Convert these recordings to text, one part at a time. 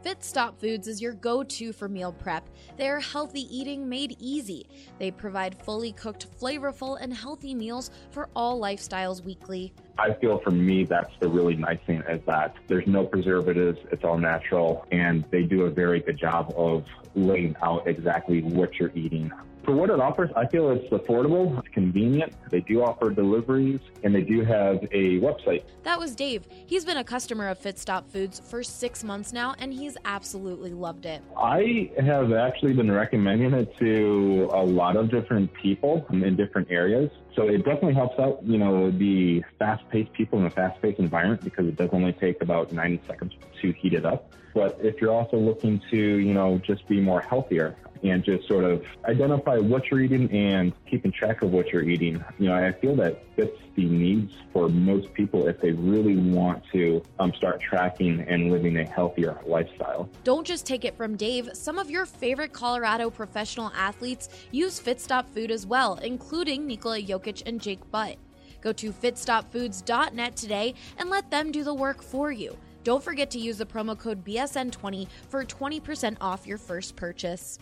Fit Stop Foods is your go-to for meal prep. They are healthy eating made easy. They provide fully cooked, flavorful, and healthy meals for all lifestyles weekly. I feel for me, that's the really nice thing is that there's no preservatives, it's all natural, and they do a very good job of laying out exactly what you're eating. For what it offers, I feel it's affordable, it's convenient. They do offer deliveries, and they do have a website. That was Dave. He's been a customer of Fit Stop Foods for 6 months now, and he's absolutely loved it. I have actually been recommending it to a lot of different people in different areas. So it definitely helps out, the fast-paced people in a fast-paced environment because it does only take about 90 seconds to heat it up. But if you're also looking to, just be more healthier and just sort of identify what you're eating and keeping track of what you're eating, I feel that fits the needs for most people if they really want to start tracking and living a healthier lifestyle. Don't just take it from Dave. Some of your favorite Colorado professional athletes use Fit Stop Food as well, including Nikola Jokic and Jake Butt. Go to fitstopfoods.net today and let them do the work for you. Don't forget to use the promo code BSN20 for 20% off your first purchase.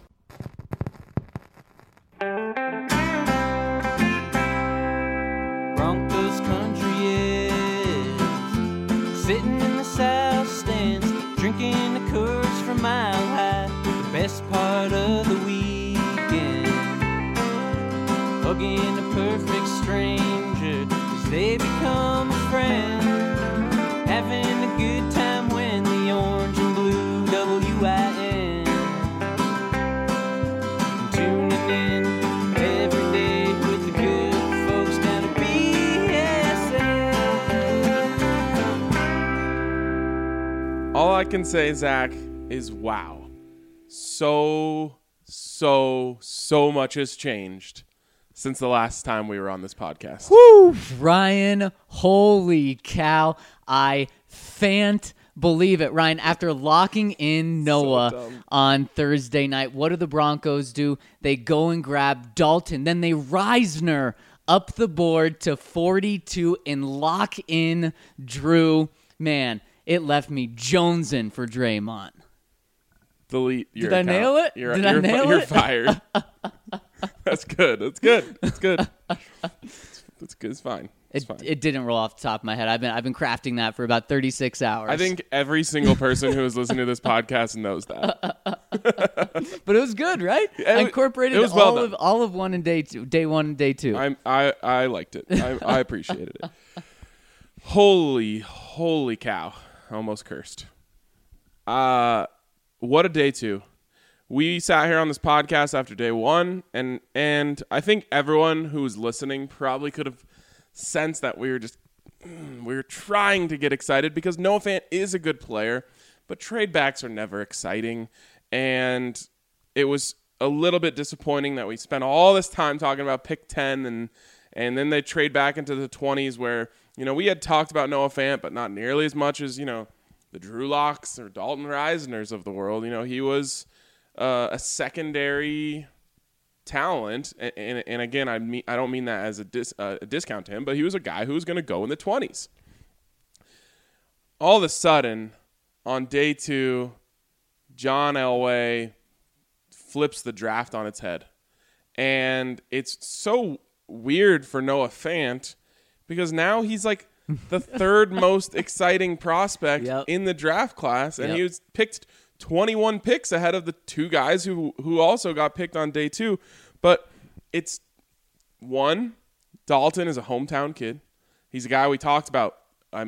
Broncos country is sitting in the south stands, drinking the Coors from Mile High. The best part of the weekend, hugging a perfect stranger as they become a friend, having a good time when the orange and blue WIN, tuning in every day with the good folks down at BSN. All I can say, Zach, is wow. So much has changed since the last time we were on this podcast. Woo! Ryan, holy cow. I can't believe it. Ryan, after locking in Noah on Thursday night, what do the Broncos do? They go and grab Dalton. Then they Reisner up the board to 42 and lock in Drew. Man, it left me jonesing for Draymond. Delete your account. Did I nail it? You're fired. That's good. It's good. It's fine. It didn't roll off the top of my head. I've been crafting that for about 36 hours. I think every single person who is listening to this podcast knows that. But it was good, right? I incorporated all of one and day two, day one and day two. I liked it. I appreciated it. Holy cow! I almost cursed. What a day two. We sat here on this podcast after day one, and I think everyone who was listening probably could have sensed that we were trying to get excited because Noah Fant is a good player, but trade backs are never exciting, and it was a little bit disappointing that we spent all this time talking about pick 10 and then they trade back into the 20s where, we had talked about Noah Fant, but not nearly as much as, the Drew Locks or Dalton Reisners of the world. He was a secondary talent, and again, I don't mean that as a discount to him, but he was a guy who was going to go in the 20s. All of a sudden, on day two, John Elway flips the draft on its head, and it's so weird for Noah Fant because now he's like the third most exciting prospect in the draft class, and he was picked 21 picks ahead of the two guys who also got picked on day two. But it's one, Dalton is a hometown kid. He's a guy we talked about,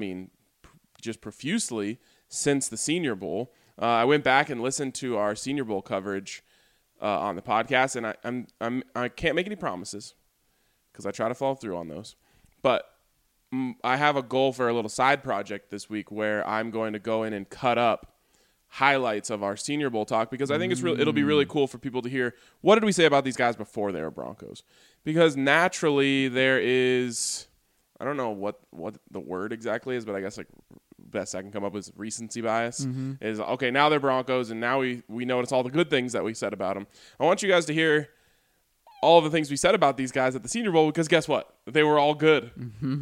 just profusely since the Senior Bowl. I went back and listened to our Senior Bowl coverage on the podcast, and I can't make any promises because I try to follow through on those. But I have a goal for a little side project this week where I'm going to go in and cut up highlights of our Senior Bowl talk because I think it'll be really cool for people to hear what did we say about these guys before they were Broncos, because naturally there is, I don't know what the word exactly is, but I guess like best I can come up with is recency bias. Is okay, now they're Broncos and now we notice all the good things that we said about them. I want you guys to hear all of the things we said about these guys at the Senior Bowl because guess what? They were all good.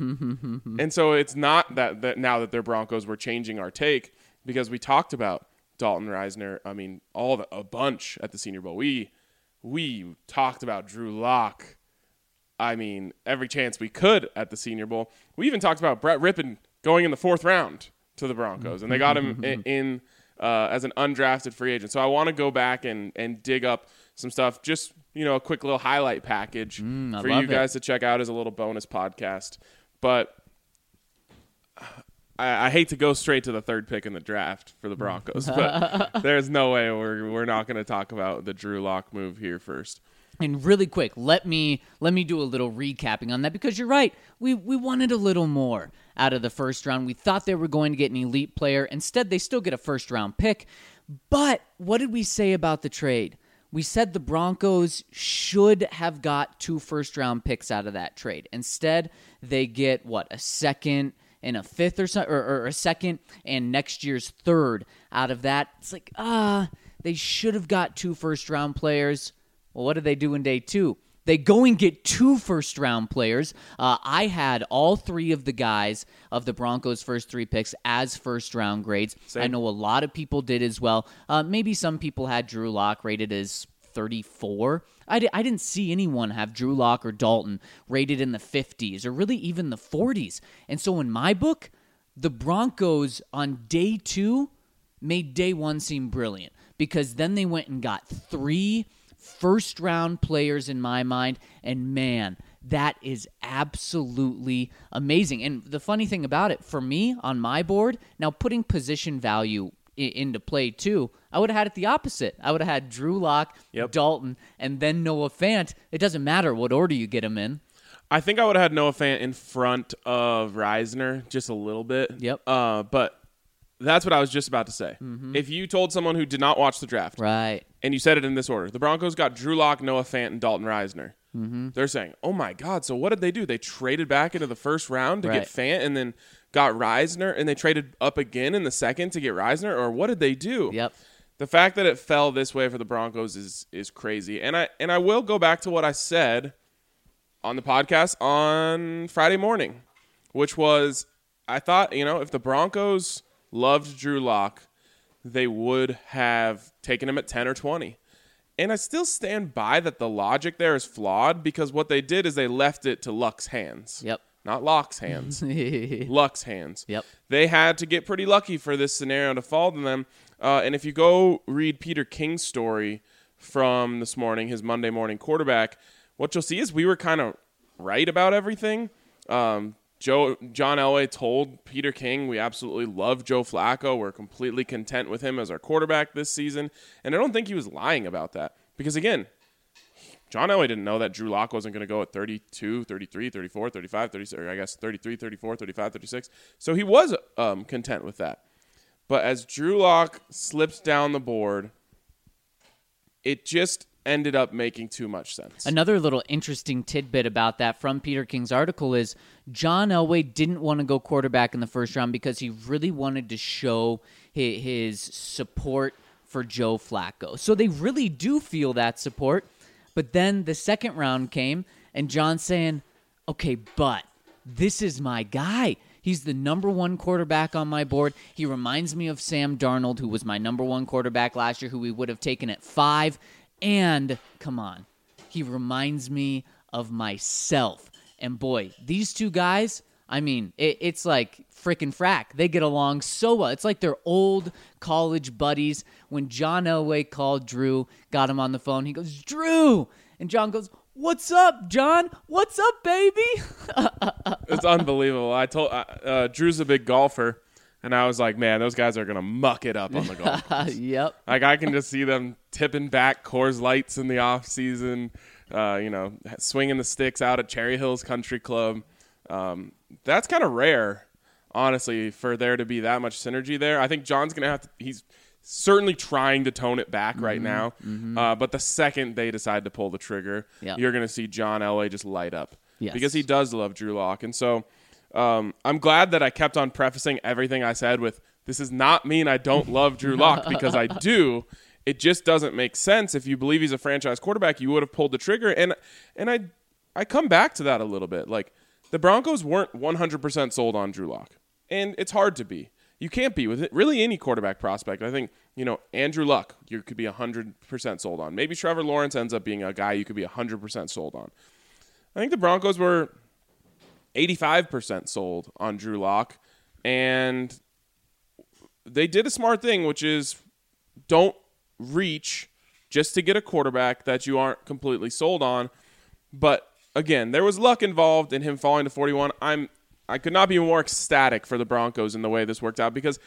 And so it's not that now that they're Broncos we're changing our take, because we talked about Dalton Risner. I mean, a bunch at the Senior Bowl. We talked about Drew Lock. I mean, every chance we could at the Senior Bowl. We even talked about Brett Rippon going in the 4th round to the Broncos, and they got him in as an undrafted free agent. So I want to go back and dig up some stuff, just, a quick little highlight package for you guys to check out as a little bonus podcast. But I hate to go straight to the 3rd pick in the draft for the Broncos, but there's no way we're not going to talk about the Drew Lock move here first. And really quick, let me do a little recapping on that, because you're right. We wanted a little more out of the first round. We thought they were going to get an elite player. Instead, they still get a first-round pick. But what did we say about the trade? We said the Broncos should have got 2 first-round picks out of that trade. Instead, they get, a second and a 5th or so, or a second and next year's 3rd out of that. It's like, they should have got 2 first-round players. Well, what did they do in day 2? They go and get 2 first-round players. I had all 3 of the guys of the Broncos' first 3 picks as first-round grades. Same. I know a lot of people did as well. Maybe some people had Drew Lock rated as 34. I didn't see anyone have Drew Lock or Dalton rated in the 50s or really even the 40s. And so in my book, the Broncos on day 2 made day 1 seem brilliant, because then they went and got 3 first-round players in my mind, and man, that is absolutely amazing. And the funny thing about it, for me, on my board, now putting position value into play too, I would have had it the opposite. I would have had Drew Lock, Dalton, and then Noah Fant. It doesn't matter what order you get them in. I think I would have had Noah Fant in front of Risner just a little bit. Yep. But that's what I was just about to say. Mm-hmm. If you told someone who did not watch the draft, right, and you said it in this order, the Broncos got Drew Lock, Noah Fant, and Dalton Risner. Mm-hmm. They're saying, oh my God, so what did they do? They traded back into the first round to get Fant, and then got Risner, and they traded up again in the second to get Risner, or what did they do? Yep. The fact that it fell this way for the Broncos is crazy. And I will go back to what I said on the podcast on Friday morning, which was, I thought, if the Broncos loved Drew Lock, they would have taken him at 10 or 20. And I still stand by that the logic there is flawed, because what they did is they left it to Luck's hands. Yep. Not Lock's hands. Luck's hands. Yep. They had to get pretty lucky for this scenario to fall to them. And if you go read Peter King's story from this morning, his Monday morning quarterback, what you'll see is we were kind of right about everything. John Elway told Peter King, we absolutely love Joe Flacco. We're completely content with him as our quarterback this season. And I don't think he was lying about that. Because, again, John Elway didn't know that Drew Lock wasn't going to go at 32, 33, 34, 35, 36, or I guess 33, 34, 35, 36. So he was content with that. But as Drew Lock slipped down the board, it just ended up making too much sense. Another little interesting tidbit about that from Peter King's article is John Elway didn't want to go quarterback in the first round because he really wanted to show his support for Joe Flacco. So they really do feel that support. But then the second round came, and John's saying, okay, but this is my guy. He's the number 1 quarterback on my board. He reminds me of Sam Darnold, who was my number 1 quarterback last year, who we would have taken at 5. And, come on, he reminds me of myself. And boy, these two guys, I mean, it's like frickin' frack. They get along so well. It's like they're old college buddies. When John Elway called Drew, got him on the phone, he goes, Drew! And John goes, what's up, John? What's up, baby? It's unbelievable. I told Drew's a big golfer, and I was like, man, those guys are going to muck it up on the golf course. Yep. Like, I can just see them tipping back Coors Lights in the off season, swinging the sticks out at Cherry Hills Country Club. That's kind of rare, honestly, for there to be that much synergy there. I think John's going to have to – he's certainly trying to tone it back right now. Mm-hmm. But the second they decide to pull the trigger, you're going to see John Elway just light up. Yes. Because he does love Drew Lock. And so I'm glad that I kept on prefacing everything I said with, this does not mean I don't love Drew Lock, because I do. It just doesn't make sense. If you believe he's a franchise quarterback, you would have pulled the trigger. And I come back to that a little bit. Like, the Broncos weren't 100% sold on Drew Lock. And it's hard to be. You can't be with it. Really any quarterback prospect. I think, Andrew Luck, you could be 100% sold on. Maybe Trevor Lawrence ends up being a guy you could be 100% sold on. I think the Broncos were 85% sold on Drew Lock, and they did a smart thing, which is don't reach just to get a quarterback that you aren't completely sold on. But again, there was luck involved in him falling to 41. I could not be more ecstatic for the Broncos in the way this worked out, because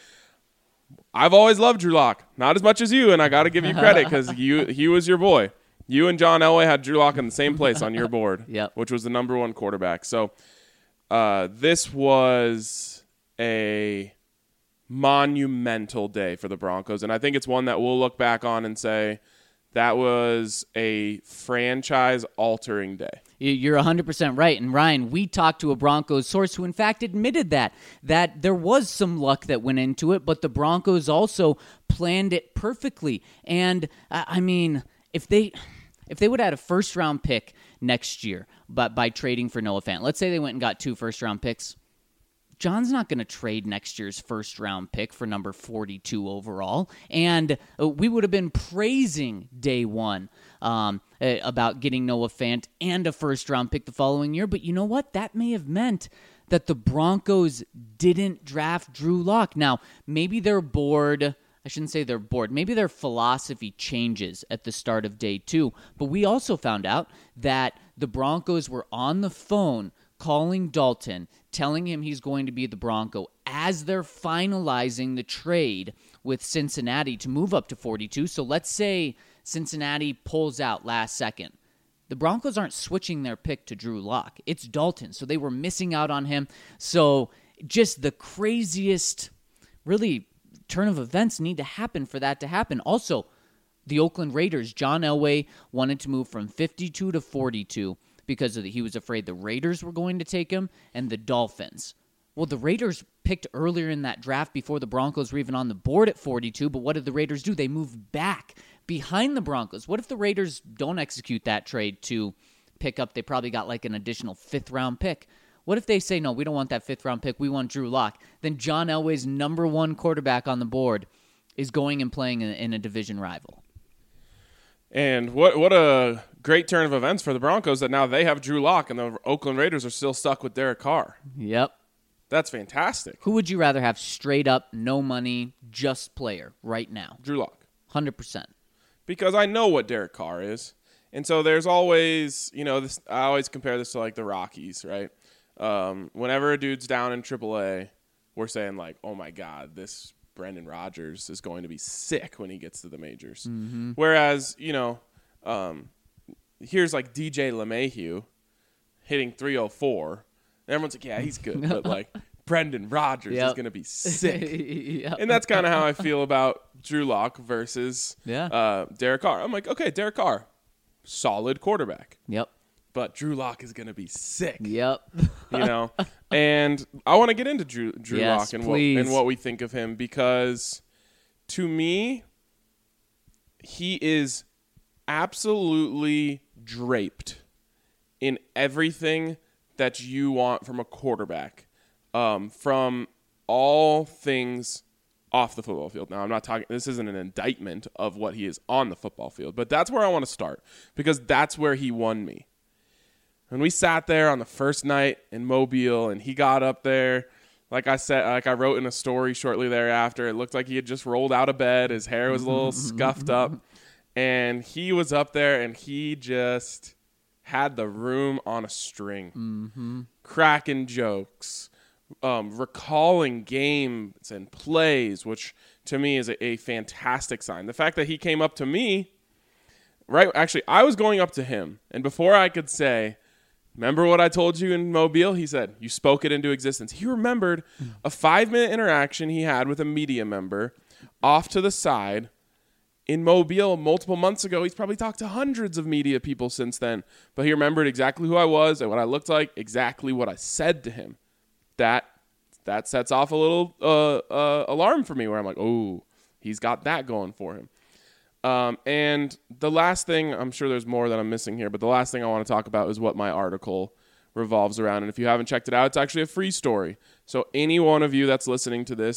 I've always loved Drew Lock, not as much as you, and I got to give you credit because he was your boy. You and John Elway had Drew Lock in the same place on your board, Yep. which was the number one quarterback. So this was a monumental day for the Broncos, and I think it's one that we'll look back on and say that was a franchise-altering day. You're 100% right. And Ryan, we talked to a Broncos source who in fact admitted that there was some luck that went into it, but the Broncos also planned it perfectly. And I mean, if they would have had a first-round pick next year but by trading for Noah Fant, let's say they went and got 2 first-round picks, John's not going to trade next year's first-round pick for number 42 overall. And we would have been praising day one about getting Noah Fant and a first-round pick the following year. But you know what? That may have meant that the Broncos didn't draft Drew Lock. Now, maybe they're bored. I shouldn't say they're bored. Maybe their philosophy changes at the start of day 2. But we also found out that the Broncos were on the phone calling Dalton, telling him he's going to be the Bronco as they're finalizing the trade with Cincinnati to move up to 42. So let's say Cincinnati pulls out last second. The Broncos aren't switching their pick to Drew Lock. It's Dalton, so they were missing out on him. So just the craziest, really, turn of events need to happen for that to happen. Also, the Oakland Raiders, John Elway wanted to move from 52 to 42 because he was afraid the Raiders were going to take him and the Dolphins. Well, the Raiders picked earlier in that draft before the Broncos were even on the board at 42, but what did the Raiders do? They moved back behind the Broncos. What if the Raiders don't execute that trade to pick up? They probably got like an additional 5th-round pick. What if they say, no, we don't want that 5th-round pick, we want Drew Lock? Then John Elway's number 1 quarterback on the board is going and playing in a division rival. And what a great turn of events for the Broncos that now they have Drew Lock and the Oakland Raiders are still stuck with Derek Carr. Yep. That's fantastic. Who would you rather have straight up, no money, just player right now? Drew Lock. 100%. Because I know what Derek Carr is. And so there's always, this. I always compare this to like the Rockies, right? Whenever a dude's down in AAA, we're saying like, oh my God, this Brendan Rodgers is going to be sick when he gets to the majors. Mm-hmm. Whereas, here's like DJ LeMahieu hitting 304. And everyone's like, yeah, he's good. But like Brendan Rodgers is going to be sick. Yep. And that's kind of how I feel about Drew Lock versus Derek Carr. I'm like, okay, Derek Carr, solid quarterback. Yep. But Drew Lock is going to be sick. Yep. And I want to get into Drew yes, Lock and what we think of him, because to me, he is absolutely draped in everything that you want from a quarterback, from all things off the football field. Now, I'm not talking, this isn't an indictment of what he is on the football field, but that's where I want to start, because that's where he won me. When we sat there on the first night in Mobile and he got up there, like I said, like I wrote in a story shortly thereafter, it looked like he had just rolled out of bed. His hair was a little scuffed up, and he was up there and he just had the room on a string, cracking jokes, recalling games and plays, which to me is a fantastic sign. The fact that he came up to me, right? Actually, I was going up to him, and before I could say, remember what I told you in Mobile? He said, you spoke it into existence. He remembered a 5-minute interaction he had with a media member off to the side in Mobile multiple months ago. He's probably talked to hundreds of media people since then, but he remembered exactly who I was and what I looked like, exactly what I said to him. That sets off a little alarm for me, where I'm like, oh, he's got that going for him. And the last thing, I'm sure there's more that I'm missing here, but the last thing I want to talk about is what my article revolves around. And if you haven't checked it out, it's actually a free story. So any one of you that's listening to this,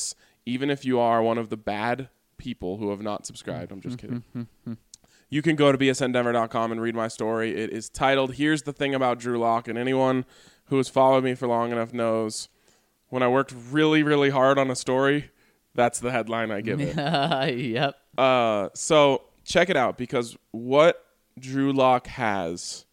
even if you are one of the bad people who have not subscribed. I'm just kidding. You can go to bsndenver.com and read my story. It is titled, Here's the Thing About Drew Lock. And anyone who has followed me for long enough knows when I worked really, really hard on a story, that's the headline I give it. Yep. So check it out, because what Drew Lock has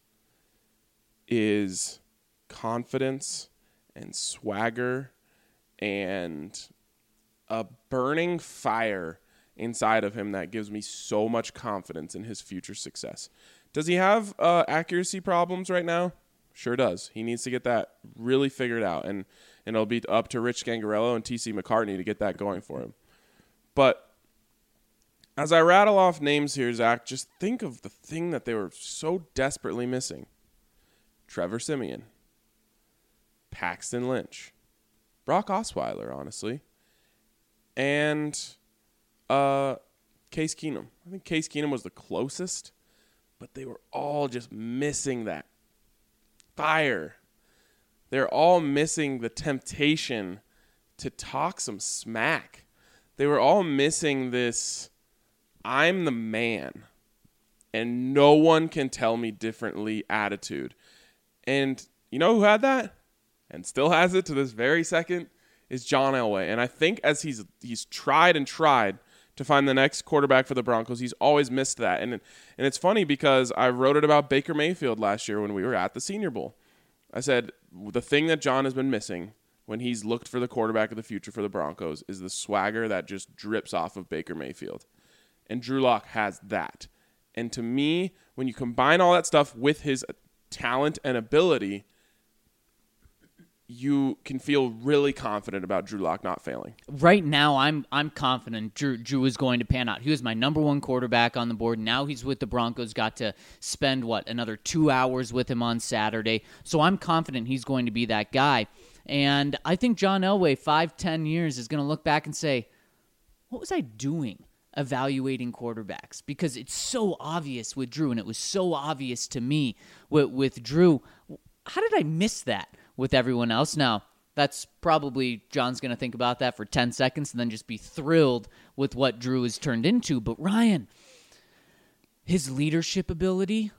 is confidence and swagger and a burning fire inside of him that gives me so much confidence in his future success. Does he have accuracy problems right now? Sure does. He needs to get that really figured out, and it'll be up to Rich Scangarello and TC McCartney to get that going for him. But as I rattle off names here, Zach, just think of the thing that they were so desperately missing. Trevor Siemian, Paxton Lynch, Brock Osweiler, honestly, and Case Keenum. I think Case Keenum was the closest, but they were all just missing that fire. They're all missing the temptation to talk some smack. They were all missing this, I'm the man, and no one can tell me differently attitude. And you know who had that and still has it to this very second is John Elway. And I think as he's tried and tried to find the next quarterback for the Broncos, he's always missed that. And it's funny because I wrote it about Baker Mayfield last year when we were at the Senior Bowl. I said the thing that John has been missing when he's looked for the quarterback of the future for the Broncos is the swagger that just drips off of Baker Mayfield. And Drew Lock has that. And to me, when you combine all that stuff with his talent and ability, you can feel really confident about Drew Lock not failing. Right now, I'm confident Drew is going to pan out. He was my number one quarterback on the board. Now he's with the Broncos. Got to spend, another 2 hours with him on Saturday. So I'm confident he's going to be that guy. And I think John Elway, 5-10 years, is going to look back and say, what was I doing evaluating quarterbacks? Because it's so obvious with Drew, and it was so obvious to me with Drew. How did I miss that with everyone else? Now, that's probably John's going to think about that for 10 seconds and then just be thrilled with what Drew has turned into. But Ryan, his leadership ability,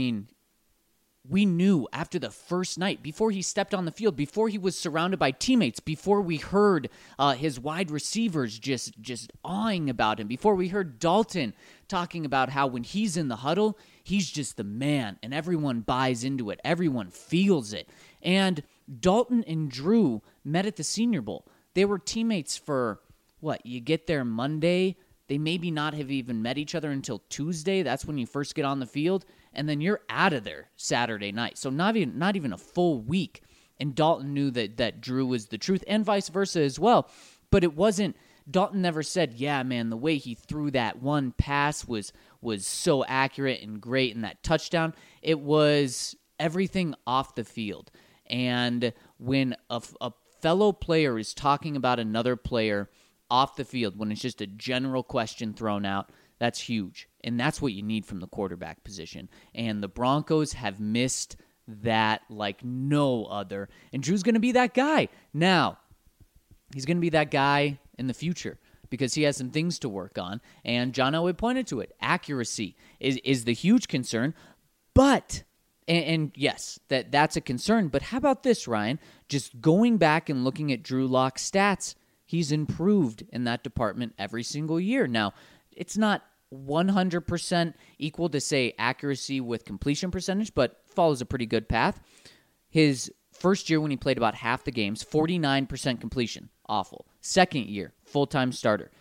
we knew after the first night, before he stepped on the field, before he was surrounded by teammates, before we heard his wide receivers just awing about him, before we heard Dalton talking about how when he's in the huddle, he's just the man, and everyone buys into it. Everyone feels it. And Dalton and Drew met at the Senior Bowl. They were teammates for, you get there Monday, they maybe not have even met each other until Tuesday. That's when you first get on the field. And then you're out of there Saturday night. So not even a full week. And Dalton knew that Drew was the truth, and vice versa as well. But it wasn't, Dalton never said, yeah, man, the way he threw that one pass was so accurate and great, and that touchdown. It was everything off the field. And when a fellow player is talking about another player off the field, when it's just a general question thrown out, that's huge. And that's what you need from the quarterback position. And the Broncos have missed that like no other. And Drew's going to be that guy. Now, he's going to be that guy in the future because he has some things to work on. And John Elway pointed to it. Accuracy is the huge concern. But, and yes, that's a concern. But how about this, Ryan? Just going back and looking at Drew Lock's stats, he's improved in that department every single year. Now, it's not 100% equal to, say, accuracy with completion percentage, but follows a pretty good path. His first year when he played about half the games, 49% completion. Awful. Second year, full-time starter,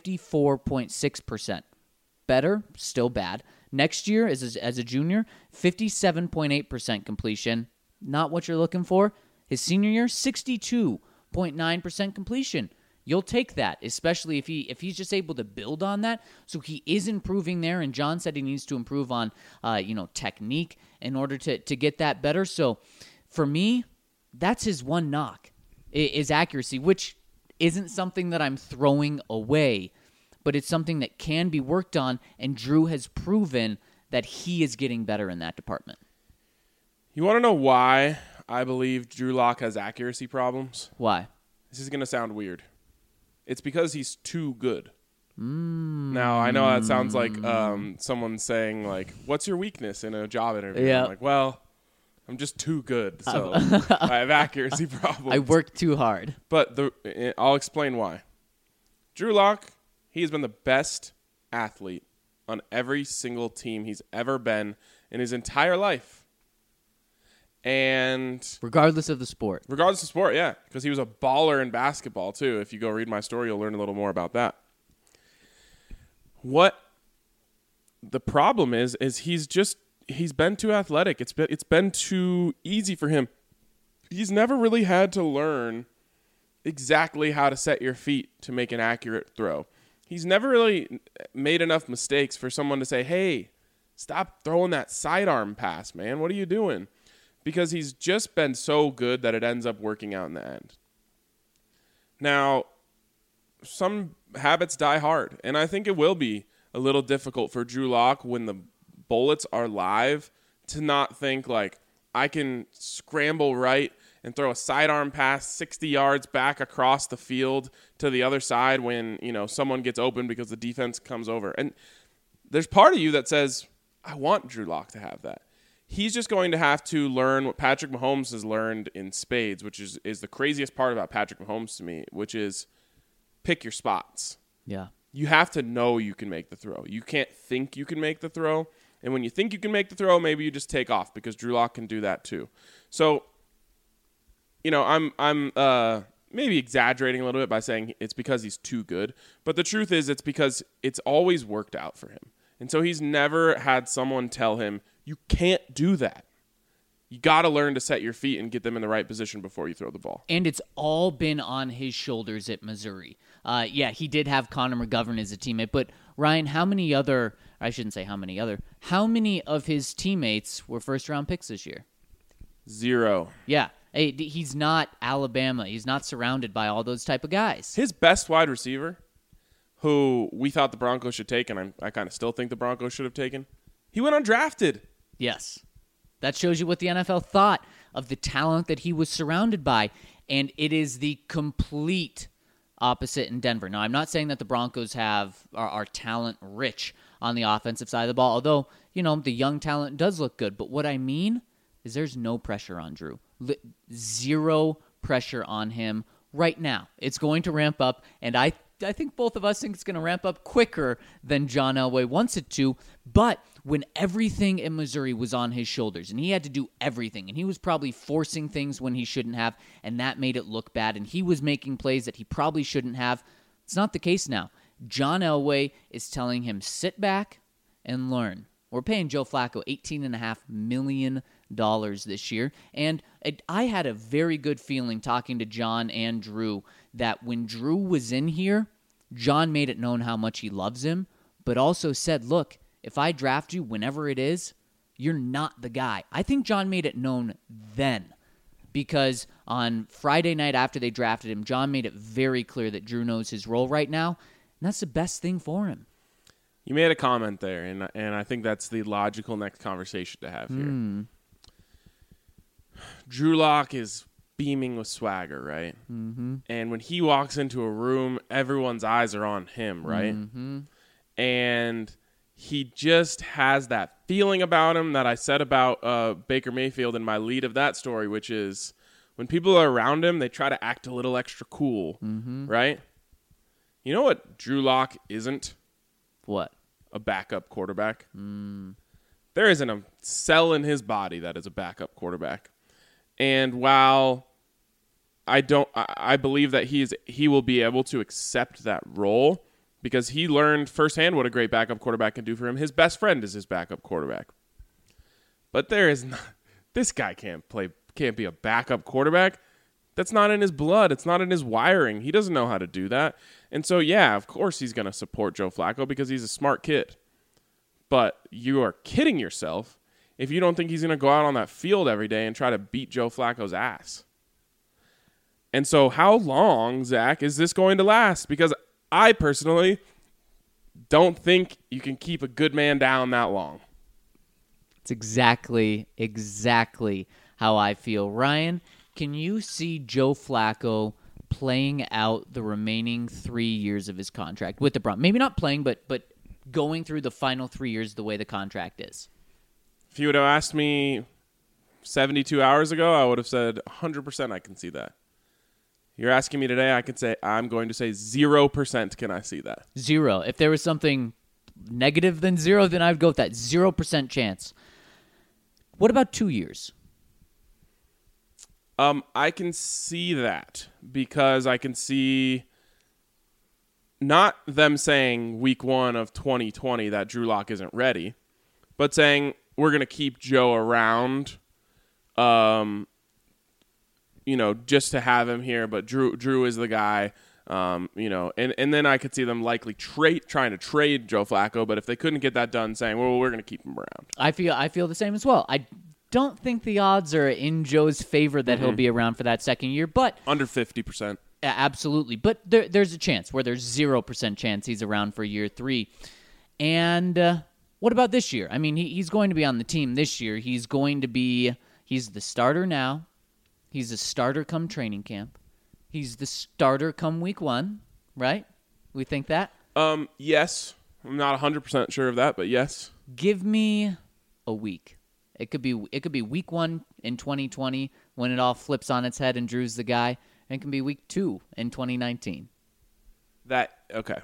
54.6%. Better, still bad. Next year, as a junior, 57.8% completion. Not what you're looking for. His senior year, 62.9% completion. You'll take that, especially if he's just able to build on that. So he is improving there, and John said he needs to improve on technique in order to get that better. So for me, that's his one knock, is accuracy, which isn't something that I'm throwing away, but it's something that can be worked on, and Drew has proven that he is getting better in that department. You want to know why I believe Drew Lock has accuracy problems? Why? This is going to sound weird. It's because he's too good. Now, I know that sounds like someone saying, like, what's your weakness in a job interview? Yeah. I'm like, well, I'm just too good, so I have accuracy problems. I work too hard. But I'll explain why. Drew Lock, he has been the best athlete on every single team he's ever been in his entire life. And Regardless of the sport. regardless of sport, yeah, because he was a baller in basketball too. If you go read my story, you'll learn a little more about that. What the problem is he's been too athletic. It's been too easy for him. He's never really had to learn exactly how to set your feet to make an accurate throw. He's never really made enough mistakes for someone to say, "Hey, stop throwing that sidearm pass, man. What are you doing?" Because he's just been so good that it ends up working out in the end. Now, some habits die hard, and I think it will be a little difficult for Drew Lock when the bullets are live to not think like, I can scramble right and throw a sidearm pass 60 yards back across the field to the other side when, someone gets open because the defense comes over. And there's part of you that says, I want Drew Lock to have that. He's just going to have to learn what Patrick Mahomes has learned in spades, which is the craziest part about Patrick Mahomes to me, which is pick your spots. Yeah. You have to know you can make the throw. You can't think you can make the throw. And when you think you can make the throw, maybe you just take off because Drew Lock can do that too. So, I'm maybe exaggerating a little bit by saying it's because he's too good. But the truth is it's because it's always worked out for him. And so he's never had someone tell him, you can't do that. You got to learn to set your feet and get them in the right position before you throw the ball. And it's all been on his shoulders at Missouri. He did have Connor McGovern as a teammate, but Ryan, how many of his teammates were first-round picks this year? 0. Yeah. Hey, he's not Alabama. He's not surrounded by all those type of guys. His best wide receiver, who we thought the Broncos should take, and I kind of still think the Broncos should have taken, he went undrafted. Yes. That shows you what the NFL thought of the talent that he was surrounded by, and it is the complete opposite in Denver. Now, I'm not saying that the Broncos are talent-rich on the offensive side of the ball, although, the young talent does look good. But what I mean is there's no pressure on Drew. Zero pressure on him right now. It's going to ramp up, and I think both of us think it's going to ramp up quicker than John Elway wants it to. But when everything in Missouri was on his shoulders and he had to do everything, and he was probably forcing things when he shouldn't have, and that made it look bad, and he was making plays that he probably shouldn't have, it's not the case now. John Elway is telling him, sit back and learn. We're paying Joe Flacco $18.5 million this year, and I had a very good feeling talking to John and Drew that when Drew was in here, John made it known how much he loves him, but also said, look, if I draft you whenever it is, you're not the guy. I think John made it known then, because on Friday night after they drafted him, John made it very clear that Drew knows his role right now, and that's the best thing for him. You made a comment there, and I think that's the logical next conversation to have here. Drew Lock is beaming with swagger, right? Mm-hmm. And when he walks into a room, everyone's eyes are on him, right? Mm-hmm. And he just has that feeling about him that I said about Baker Mayfield in my lead of that story, which is when people are around him, they try to act a little extra cool, right? You know what Drew Lock isn't? What? A backup quarterback. There isn't a cell in his body that is a backup quarterback. And while I believe that he will be able to accept that role because he learned firsthand what a great backup quarterback can do for him. His best friend is his backup quarterback. But this guy can't be a backup quarterback. That's not in his blood. It's not in his wiring. He doesn't know how to do that. And so, yeah, of course he's going to support Joe Flacco because he's a smart kid. But you are kidding yourself if you don't think he's going to go out on that field every day and try to beat Joe Flacco's ass. And so how long, Zach, is this going to last? Because I personally don't think you can keep a good man down that long. It's exactly how I feel. Ryan, can you see Joe Flacco playing out the remaining 3 years of his contract with the Broncos. Maybe not playing, but going through the final 3 years the way the contract is. If you would have asked me 72 hours ago, I would have said 100% I can see that. You're asking me today, I'm going to say 0% can I see that. 0. If there was something negative than 0, then I'd go with that. 0% chance. What about 2 years? I can see that because I can see not them saying week 1 of 2020 that Drew Lock isn't ready, but saying we're going to keep Joe around, just to have him here, but Drew is the guy, and then I could see them likely trying to trade Joe Flacco, but if they couldn't get that done, saying, well, we're going to keep him around. I feel the same as well. I don't think the odds are in Joe's favor that he'll be around for that second year, but under 50%. Absolutely. But there's a chance where there's 0% chance he's around for year 3. And what about this year? I mean, he's going to be on the team this year. He's the starter now. He's a starter come training camp. He's the starter come week 1, right? We think that? Yes. I'm not 100% sure of that, but yes. Give me a week. It could be week 1 in 2020 when it all flips on its head and Drew's the guy. And it can be week 2 in 2019. Okay.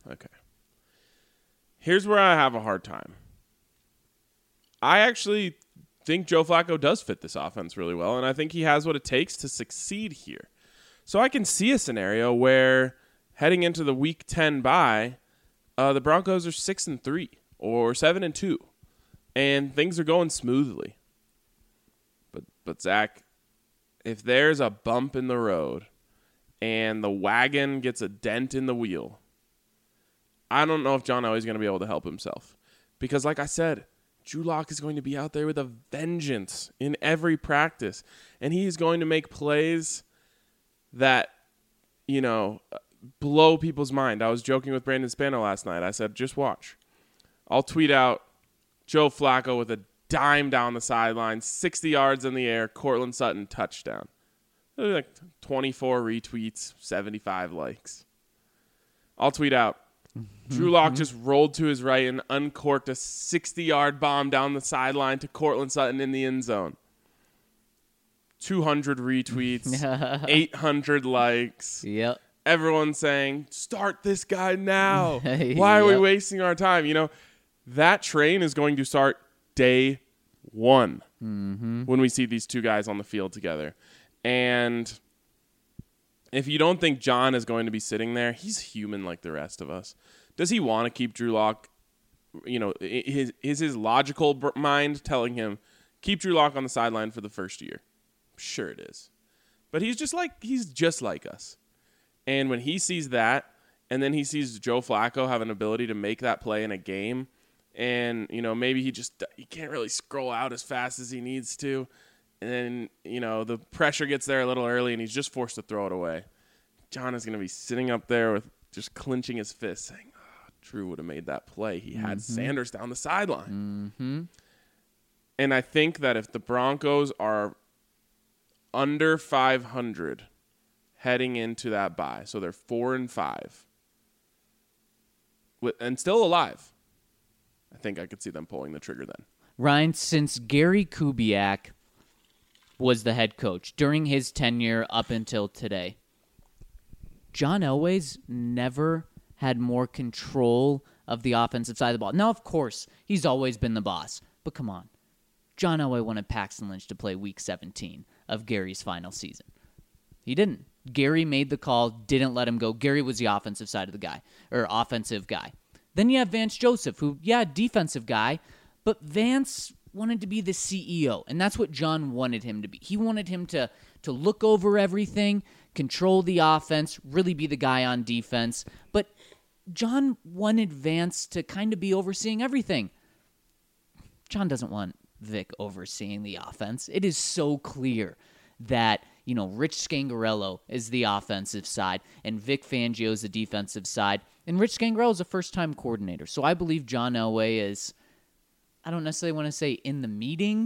Here's where I have a hard time. I actually think Joe Flacco does fit this offense really well, and I think he has what it takes to succeed here. So I can see a scenario where heading into the week 10 bye, the Broncos are 6-3 or 7-2, and things are going smoothly. But Zach, if there's a bump in the road and the wagon gets a dent in the wheel, I don't know if John Elway's going to be able to help himself. Because like I said, Drew Lock is going to be out there with a vengeance in every practice. And he's going to make plays that, blow people's mind. I was joking with Brandon Spano last night. I said, just watch. I'll tweet out Joe Flacco with a dime down the sideline, 60 yards in the air, Cortland Sutton touchdown. Like 24 retweets, 75 likes. I'll tweet out, Drew Lock just rolled to his right and uncorked a 60-yard bomb down the sideline to Cortland Sutton in the end zone. 200 retweets, 800 likes. Yep. Everyone saying, start this guy now. Why are we wasting our time? That train is going to start day 1 when we see these two guys on the field together. And if you don't think John is going to be sitting there, he's human like the rest of us. Does he want to keep Drew Lock? Is his logical mind telling him, keep Drew Lock on the sideline for the first year? Sure it is. But he's just like us. And when he sees that, and then he sees Joe Flacco have an ability to make that play in a game, and, maybe he can't really scroll out as fast as he needs to. And then, the pressure gets there a little early and he's just forced to throw it away. John is going to be sitting up there with just clenching his fist saying, Drew would have made that play. He had Sanders down the sideline. And I think that if the Broncos are under 500 heading into that bye, so they're 4-5, and still alive, I think I could see them pulling the trigger then. Ryan, since Gary Kubiak was the head coach during his tenure up until today, John Elway's never had more control of the offensive side of the ball. Now, of course, he's always been the boss, but come on. John Elway wanted Paxton Lynch to play Week 17 of Gary's final season. He didn't. Gary made the call, didn't let him go. Gary was the offensive side of the guy, or offensive guy. Then you have Vance Joseph, who, defensive guy, but Vance wanted to be the CEO, and that's what John wanted him to be. He wanted him to look over everything, control the offense, really be the guy on defense. But John wanted Vance to kind of be overseeing everything. John doesn't want Vic overseeing the offense. It is so clear that, Rich Scangarello is the offensive side, and Vic Fangio is the defensive side. And Rich Scangarello is a first-time coordinator. So I believe John Elway is, I don't necessarily want to say in the meetings,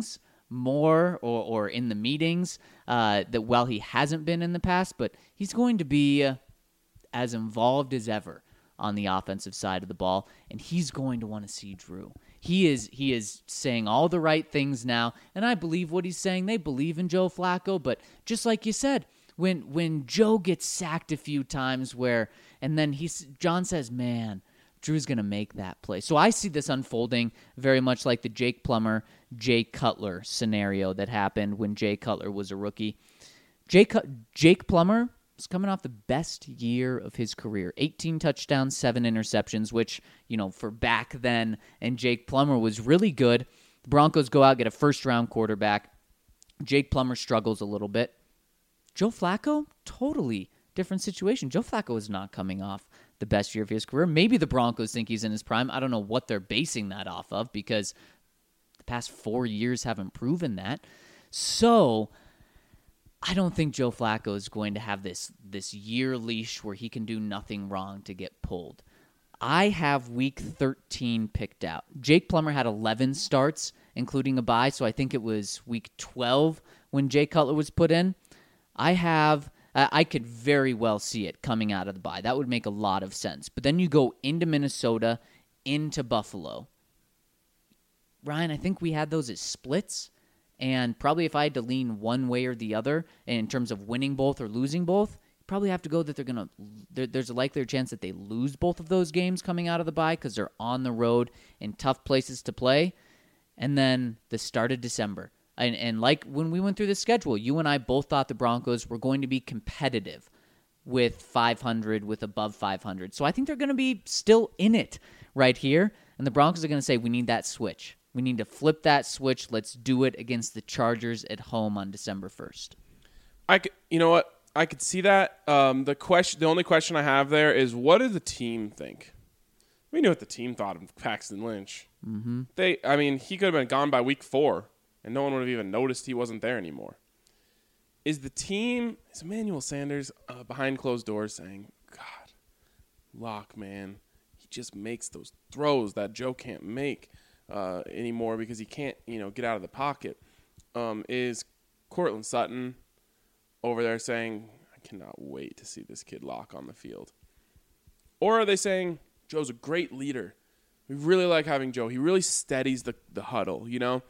more or in the meetings that while he hasn't been in the past, but he's going to be as involved as ever on the offensive side of the ball, and he's going to want to see Drew. He is saying all the right things now, and I believe what he's saying. They believe in Joe Flacco, but just like you said, when Joe gets sacked a few times and then John says, man, Drew's going to make that play. So I see this unfolding very much like the Jake Plummer, Jay Cutler scenario that happened when Jay Cutler was a rookie. Jake Plummer was coming off the best year of his career. 18 touchdowns, 7 interceptions, which, for back then, and Jake Plummer was really good. The Broncos go out, get a first-round quarterback. Jake Plummer struggles a little bit. Joe Flacco, totally different situation. Joe Flacco is not coming off the best year of his career. Maybe the Broncos think he's in his prime. I don't know what they're basing that off of because the past 4 years haven't proven that. So I don't think Joe Flacco is going to have this year leash where he can do nothing wrong to get pulled. I have week 13 picked out. Jake Plummer had 11 starts, including a bye, so I think it was week 12 when Jay Cutler was put in. I could very well see it coming out of the bye. That would make a lot of sense. But then you go into Minnesota, into Buffalo. Ryan, I think we had those as splits. And probably if I had to lean one way or the other in terms of winning both or losing both, you probably have to go that there's a likelier chance that they lose both of those games coming out of the bye because they're on the road in tough places to play. And then the start of December. And like when we went through the schedule, you and I both thought the Broncos were going to be competitive with 500, with above 500. So I think they're going to be still in it right here. And the Broncos are going to say, we need that switch. We need to flip that switch. Let's do it against the Chargers at home on December 1st. You know what? I could see that. The only question I have there is, what does the team think? We knew what the team thought of Paxton Lynch. Mm-hmm. He could have been gone by week 4. And no one would have even noticed he wasn't there anymore. Is Emmanuel Sanders behind closed doors saying, God, Locke, man, he just makes those throws that Joe can't make anymore because he can't, get out of the pocket? Is Courtland Sutton over there saying, I cannot wait to see this kid Locke on the field? Or are they saying, Joe's a great leader. We really like having Joe. He really steadies the huddle,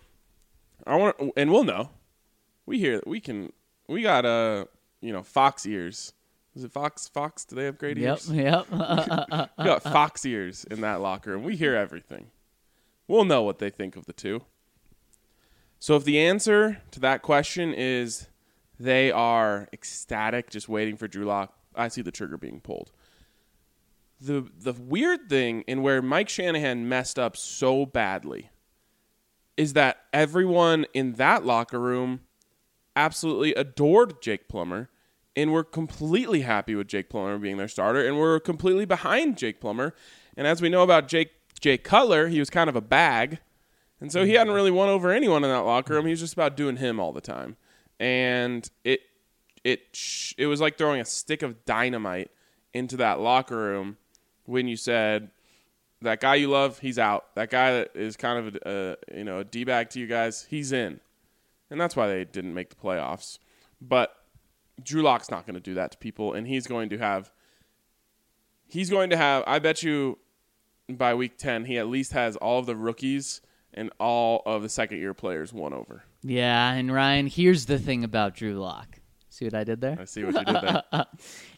and we'll know. We got Fox ears. Is it Fox? Do they have great ears? Yep. We got Fox ears in that locker room. We hear everything. We'll know what they think of the two. So if the answer to that question is they are ecstatic, just waiting for Drew Lock, I see the trigger being pulled. The weird thing, and where Mike Shanahan messed up so badly, is that everyone in that locker room absolutely adored Jake Plummer and were completely happy with Jake Plummer being their starter and were completely behind Jake Plummer. And as we know about Jake Cutler, he was kind of a bag. And so he hadn't really won over anyone in that locker room. He was just about doing him all the time. And it was like throwing a stick of dynamite into that locker room when you said, that guy you love, he's out. That guy that is kind of a D-bag to you guys, he's in. And that's why they didn't make the playoffs. But Drew Lock's not going to do that to people, and he's going to have, I bet you by week 10, he at least has all of the rookies and all of the second-year players won over. Yeah, and Ryan, here's the thing about Drew Lock. See what I did there? I see what you did there.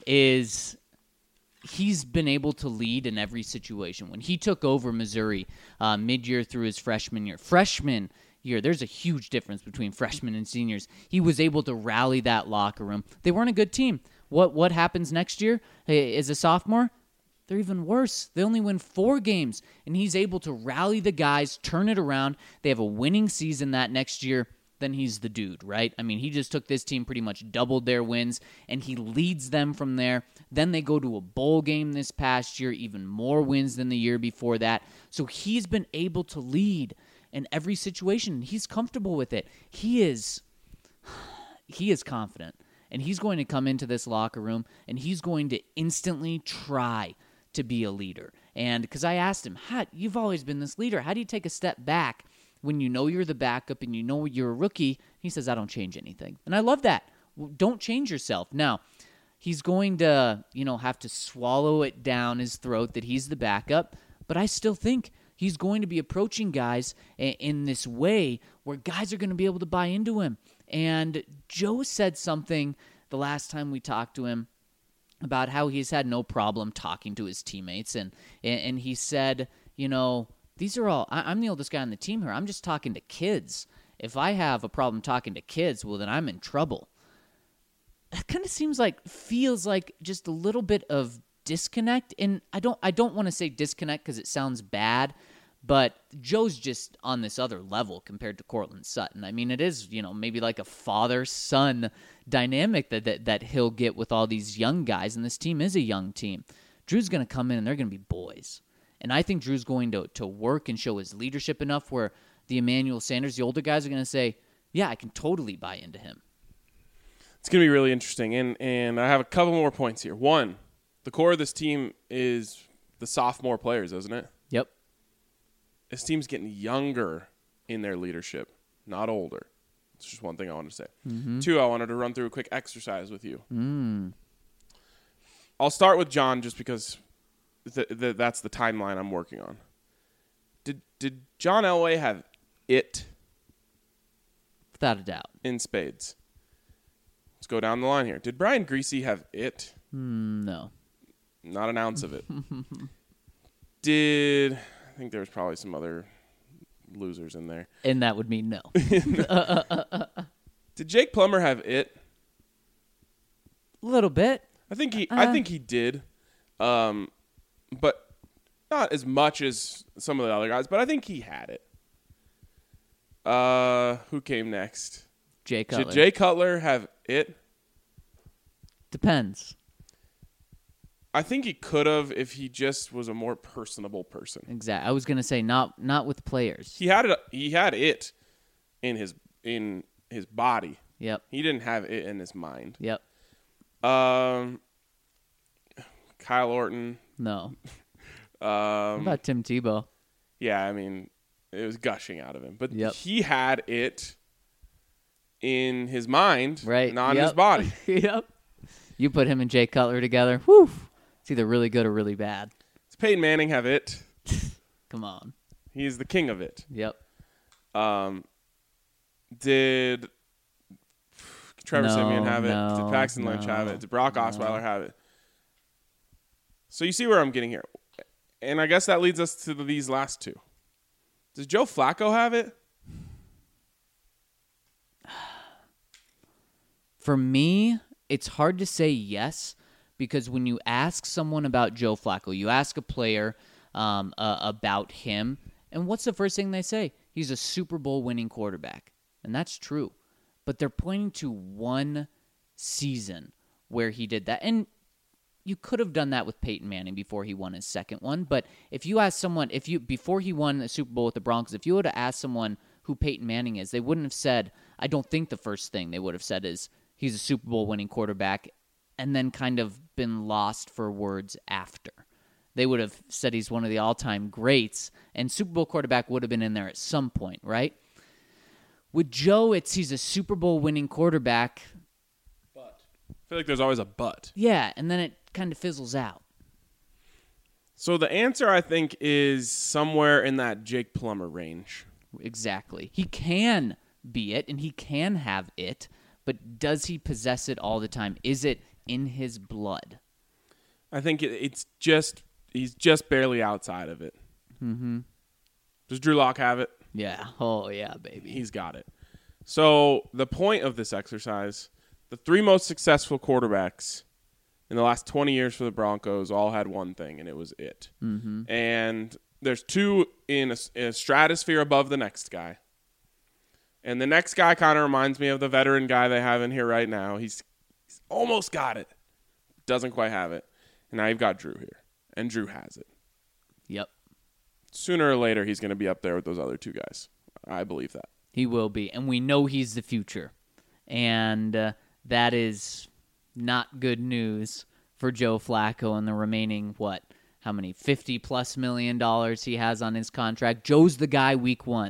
He's been able to lead in every situation. When he took over Missouri mid-year through his freshman year, there's a huge difference between freshmen and seniors. He was able to rally that locker room. They weren't a good team. What happens next year as a sophomore? They're even worse. They only win 4 games, and he's able to rally the guys, turn it around. They have a winning season that next year. Then he's the dude, right? I mean, he just took this team, pretty much doubled their wins, and he leads them from there. Then they go to a bowl game this past year, even more wins than the year before that. So he's been able to lead in every situation. He's comfortable with it. He is confident, and he's going to come into this locker room, and he's going to instantly try to be a leader. And because I asked him, you've always been this leader. How do you take a step back when you know you're the backup and you know you're a rookie, he says, I don't change anything. And I love that. Don't change yourself. Now, he's going to, have to swallow it down his throat that he's the backup, but I still think he's going to be approaching guys in this way where guys are going to be able to buy into him. And Joe said something the last time we talked to him about how he's had no problem talking to his teammates. And he said, these are all, I'm the oldest guy on the team here. I'm just talking to kids. If I have a problem talking to kids, well, then I'm in trouble. That kind of feels like just a little bit of disconnect. And I don't want to say disconnect because it sounds bad, but Joe's just on this other level compared to Courtland Sutton. I mean, it is, maybe like a father-son dynamic that he'll get with all these young guys, and this team is a young team. Drew's going to come in, and they're going to be boys. And I think Drew's going to work and show his leadership enough where the Emmanuel Sanders, the older guys, are going to say, yeah, I can totally buy into him. It's going to be really interesting, and I have a couple more points here. One, the core of this team is the sophomore players, isn't it? Yep. This team's getting younger in their leadership, not older. It's just one thing I wanted to say. Mm-hmm. Two, I wanted to run through a quick exercise with you. I'll start with John just because that's the timeline I'm working on. Did John Elway have it? Without a doubt. In spades. Let's go down the line here. Did Brian Griese have it? No. Not an ounce of it. I think there was probably some other losers in there. And that would mean no. Did Jake Plummer have it? A little bit. I think he did. But not as much as some of the other guys, but I think he had it. Who came next? Jay Cutler. Did Jay Cutler have it? Depends. I think he could have if he just was a more personable person. Exactly. I was going to say not with players. He had it in his body. Yep. He didn't have it in his mind. Yep. Kyle Orton. No. What about Tim Tebow? Yeah, I mean, it was gushing out of him. But yep. He had it in his mind, right. not in his body. Yep. You put him and Jay Cutler together, whew, it's either really good or really bad. Does Peyton Manning have it? Come on. He's the king of it. Yep. Did Trevor Siemian have it? Did Paxton Lynch have it? Did Brock Osweiler have it? So you see where I'm getting here. And I guess that leads us to these last two. Does Joe Flacco have it? For me, it's hard to say yes, because when you ask someone about Joe Flacco, you ask a player about him, and what's the first thing they say? He's a Super Bowl winning quarterback. And that's true. But they're pointing to one season where he did that. And you could have done that with Peyton Manning before he won his second one. But if you ask someone, before he won the Super Bowl with the Broncos, if you would have asked someone who Peyton Manning is, they wouldn't have said, I don't think the first thing they would have said is he's a Super Bowl winning quarterback, and then kind of been lost for words after. They would have said he's one of the all-time greats, and Super Bowl quarterback would have been in there at some point, right? With Joe, he's a Super Bowl winning quarterback. But I feel like there's always a but. Yeah, and then it kind of fizzles out. So the answer, I think, is somewhere in that Jake Plummer range. Exactly. He can be it, and he can have it, but does he possess it all the time? Is it in his blood? I think he's just barely outside of it. Mm-hmm. Does Drew Lock have it? Yeah. Oh, yeah, baby. He's got it. So the point of this exercise, the three most successful quarterbacks in the last 20 years for the Broncos all had one thing, and it was it. Mm-hmm. And there's two in a stratosphere above the next guy. And the next guy kind of reminds me of the veteran guy they have in here right now. He's almost got it. Doesn't quite have it. And now you've got Drew here. And Drew has it. Yep. Sooner or later, he's going to be up there with those other two guys. I believe that. He will be. And we know he's the future. And that is not good news for Joe Flacco and the remaining, how many, $50+ million he has on his contract. Joe's the guy week one.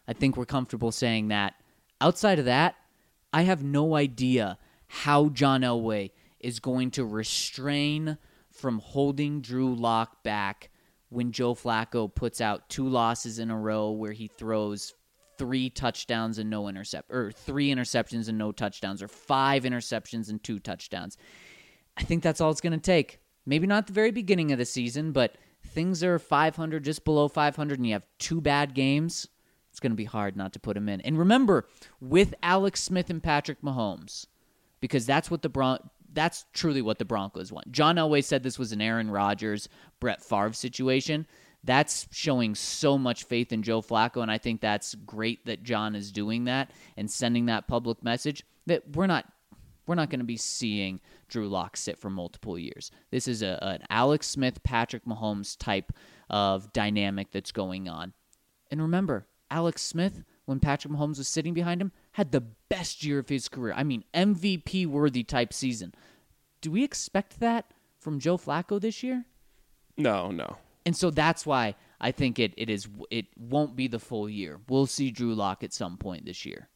I think we're comfortable saying that. Outside of that, I have no idea how John Elway is going to restrain from holding Drew Lock back when Joe Flacco puts out 2 losses in a row where he throws 3 touchdowns and no or 3 interceptions and no touchdowns, or 5 interceptions and 2 touchdowns. I think that's all it's going to take. Maybe not the very beginning of the season, but things are 500, just below 500, and you have 2 bad games. It's going to be hard not to put him in. And remember, with Alex Smith and Patrick Mahomes, because that's truly what the Broncos want. John Elway said this was an Aaron Rodgers, Brett Favre situation. That's showing so much faith in Joe Flacco, and I think that's great that John is doing that and sending that public message that we're not going to be seeing Drew Lock sit for multiple years. This is an Alex Smith, Patrick Mahomes type of dynamic that's going on. And remember, Alex Smith, when Patrick Mahomes was sitting behind him, had the best year of his career. I mean, MVP-worthy type season. Do we expect that from Joe Flacco this year? No. And so that's why I think it won't be the full year. We'll see Drew Lock at some point this year.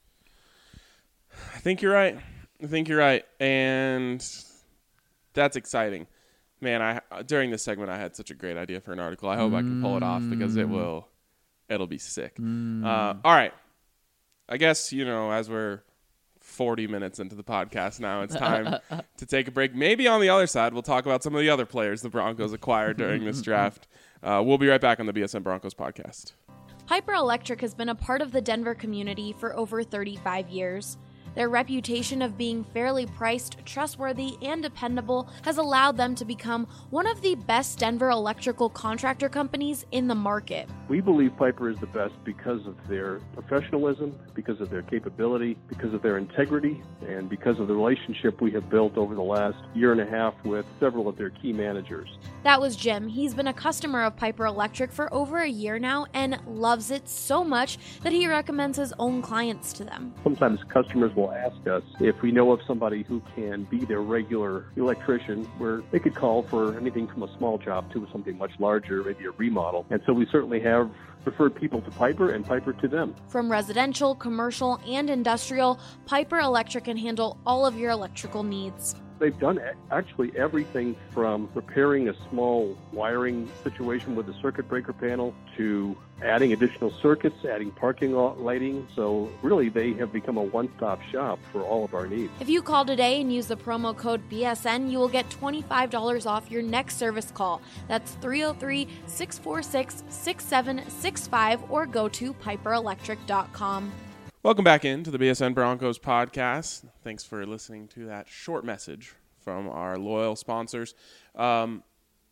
I think you're right. And that's exciting. Man, during this segment I had such a great idea for an article. I hope I can pull it off because it'll be sick. All right. I guess, as we're 40 minutes into the podcast now, it's time to take a break. Maybe on the other side, we'll talk about some of the other players the Broncos acquired during this draft. We'll be right back on the BSN Broncos podcast. Piper Electric has been a part of the Denver community for over 35 years. Their reputation of being fairly priced, trustworthy, and dependable has allowed them to become one of the best Denver electrical contractor companies in the market. We believe Piper is the best because of their professionalism, because of their capability, because of their integrity, and because of the relationship we have built over the last year and a half with several of their key managers. That was Jim. He's been a customer of Piper Electric for over a year now and loves it so much that he recommends his own clients to them. Sometimes customers will ask us if we know of somebody who can be their regular electrician, where they could call for anything from a small job to something much larger, maybe a remodel. And so we certainly have referred people to Piper and Piper to them. From residential, commercial, and industrial, Piper Electric can handle all of your electrical needs. They've done actually everything from repairing a small wiring situation with a circuit breaker panel to adding additional circuits, adding parking lot lighting. So really, they have become a one-stop shop for all of our needs. If you call today and use the promo code BSN, you will get $25 off your next service call. That's 303-646-6765 or go to piperelectric.com. Welcome back into the BSN Broncos podcast. Thanks for listening to that short message from our loyal sponsors. It's kind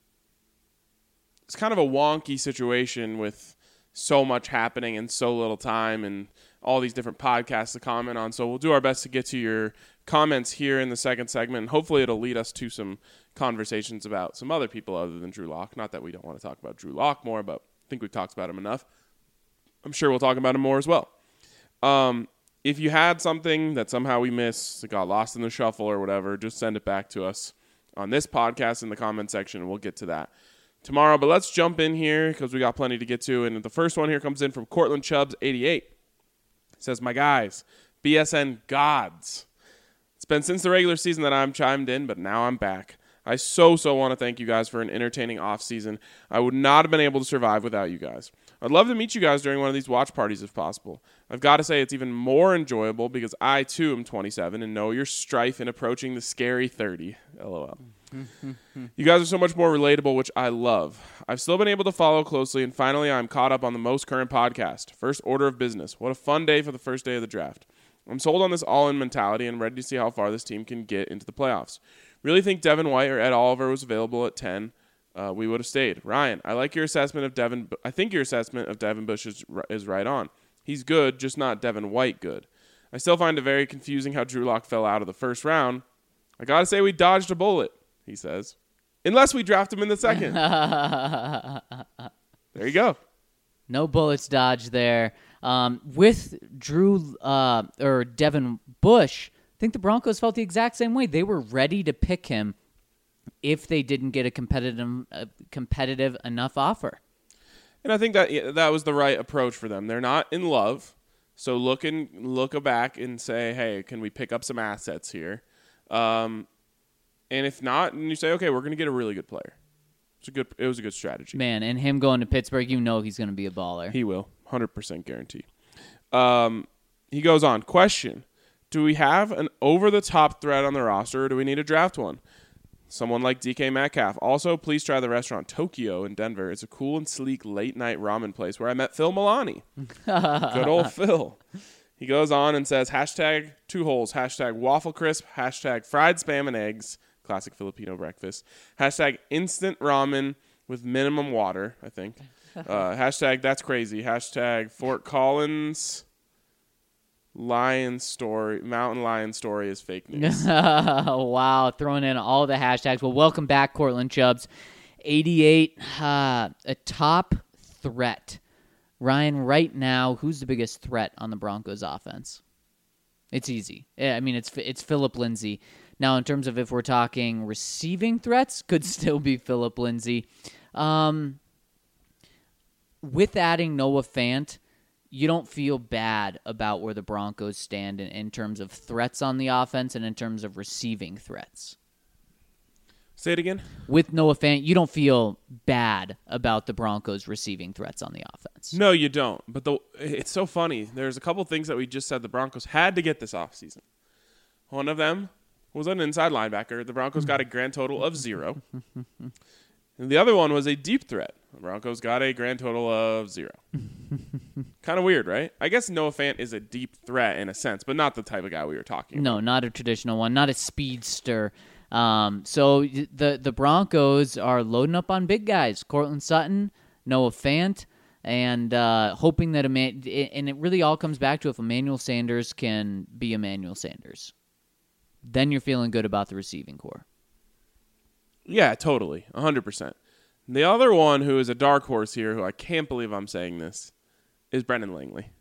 of a wonky situation with so much happening in so little time and all these different podcasts to comment on. So we'll do our best to get to your comments here in the second segment, and hopefully it'll lead us to some conversations about some other people other than Drew Lock. Not that we don't want to talk about Drew Lock more, but I think we've talked about him enough. I'm sure we'll talk about him more as well. If you had something that somehow we missed, that got lost in the shuffle or whatever, just send it back to us on this podcast in the comment section, and we'll get to that tomorrow. But let's jump in here because we got plenty to get to. And the first one here comes in from Cortland Chubbs, 88. It says, my guys, BSN gods. It's been since the regular season that I'm chimed in, but now I'm back. I so want to thank you guys for an entertaining offseason. I would not have been able to survive without you guys. I'd love to meet you guys during one of these watch parties if possible. I've got to say it's even more enjoyable because I, too, am 27 and know your strife in approaching the scary 30. LOL. You guys are so much more relatable, which I love. I've still been able to follow closely, and finally I'm caught up on the most current podcast, First Order of Business. What a fun day for the first day of the draft. I'm sold on this all-in mentality and ready to see how far this team can get into the playoffs. Really think Devin White or Ed Oliver was available at 10. We would have stayed. Ryan, I like your assessment of Devin. I think your assessment of Devin Bush is right on. He's good, just not Devin White good. I still find it very confusing how Drew Lock fell out of the first round. I got to say we dodged a bullet, he says. Unless we draft him in the second. There you go. No bullets dodged there. With Drew or Devin Bush, I think the Broncos felt the exact same way. They were ready to pick him if they didn't get a competitive enough offer. And I think that was the right approach for them. They're not in love, so look back and say, hey, can we pick up some assets here? And if not, and you say, okay, we're going to get a really good player. It was a good strategy. Man, and him going to Pittsburgh, you know he's going to be a baller. He will, 100% guarantee. He goes on. Question: do we have an over-the-top threat on the roster, or do we need to draft one? Someone like DK Metcalf. Also, please try the restaurant Tokyo in Denver. It's a cool and sleek late-night ramen place where I met Phil Milani. Good old Phil. He goes on and says, hashtag 2 holes, hashtag waffle crisp, hashtag fried Spam and eggs, classic Filipino breakfast, hashtag instant ramen with minimum water, I think. Hashtag that's crazy, hashtag Fort Collins mountain lion story is fake news. Wow, throwing in all the hashtags. Well, welcome back, Cortland Chubbs. 88, a top threat. Ryan, right now, who's the biggest threat on the Broncos offense? It's easy. I mean, it's Phillip Lindsay. Now, in terms of if we're talking receiving threats, could still be Phillip Lindsay. With adding Noah Fant, you don't feel bad about where the Broncos stand in terms of threats on the offense and in terms of receiving threats. Say it again. With Noah Fant, you don't feel bad about the Broncos receiving threats on the offense. No, you don't. But it's so funny. There's a couple things that we just said the Broncos had to get this offseason. One of them was an inside linebacker. The Broncos got a grand total of 0. And the other one was a deep threat. The Broncos got a grand total of 0. Kind of weird, right? I guess Noah Fant is a deep threat in a sense, but not the type of guy we were talking about. No, not a traditional one, not a speedster. So the Broncos are loading up on big guys. Courtland Sutton, Noah Fant, and hoping that and it really all comes back to if Emmanuel Sanders can be Emmanuel Sanders. Then you're feeling good about the receiving core. Yeah, totally. 100%. The other one who is a dark horse here, who I can't believe I'm saying this, is Brendan Langley.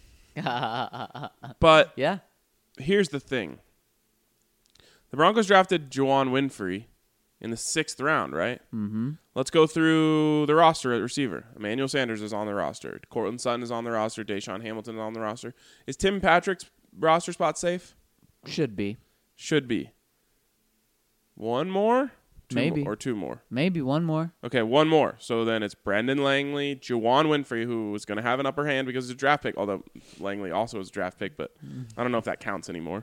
But yeah, here's the thing. The Broncos drafted Juwann Winfree in the 6th round, right? Mm-hmm. Let's go through the roster at receiver. Emmanuel Sanders is on the roster. Courtland Sutton is on the roster. Deshaun Hamilton is on the roster. Is Tim Patrick's roster spot safe? Should be. Should be. One more? Maybe. Or 2 more? Maybe one more. Okay, 1 more. So then it's Brendan Langley, Juwann Winfree, who was going to have an upper hand because it's a draft pick, although Langley also is a draft pick, but I don't know if that counts anymore.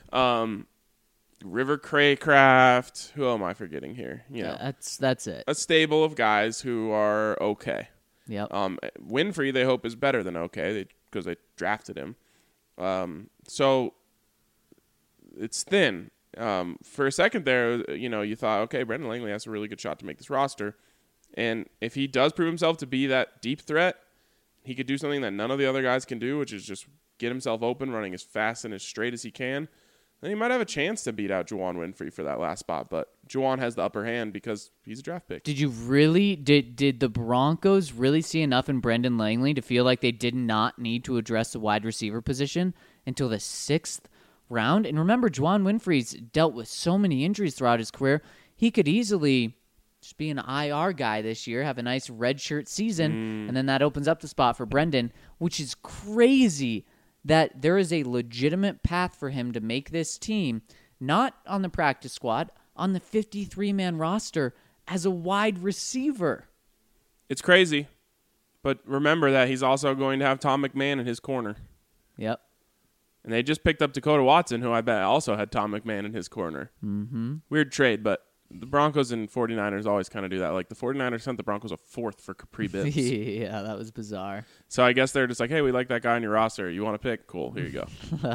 River Craycraft. Who am I forgetting here? That's it. A stable of guys who are okay. Yep. Winfree, they hope, is better than okay because they drafted him. So it's thin. For a second there, you thought, okay, Brendan Langley has a really good shot to make this roster. And if he does prove himself to be that deep threat, he could do something that none of the other guys can do, which is just get himself open, running as fast and as straight as he can. Then he might have a chance to beat out Juwann Winfree for that last spot. But Juwann has the upper hand because he's a draft pick. Did the Broncos really see enough in Brendan Langley to feel like they did not need to address the wide receiver position until the 6th round? And remember, Juwann Winfree's dealt with so many injuries throughout his career. He could easily just be an IR guy this year, have a nice redshirt season, and then that opens up the spot for Brendan, which is crazy that there is a legitimate path for him to make this team, not on the practice squad, on the 53-man roster as a wide receiver. It's crazy, but remember that he's also going to have Tom McMahon in his corner. Yep. And they just picked up Dakota Watson, who I bet also had Tom McMahon in his corner. Mm-hmm. Weird trade, but the Broncos and 49ers always kind of do that. Like the 49ers sent the Broncos a 4th for Capri Bibbs. Yeah, that was bizarre. So I guess they're just like, hey, we like that guy on your roster. You want to pick? Cool, here you go.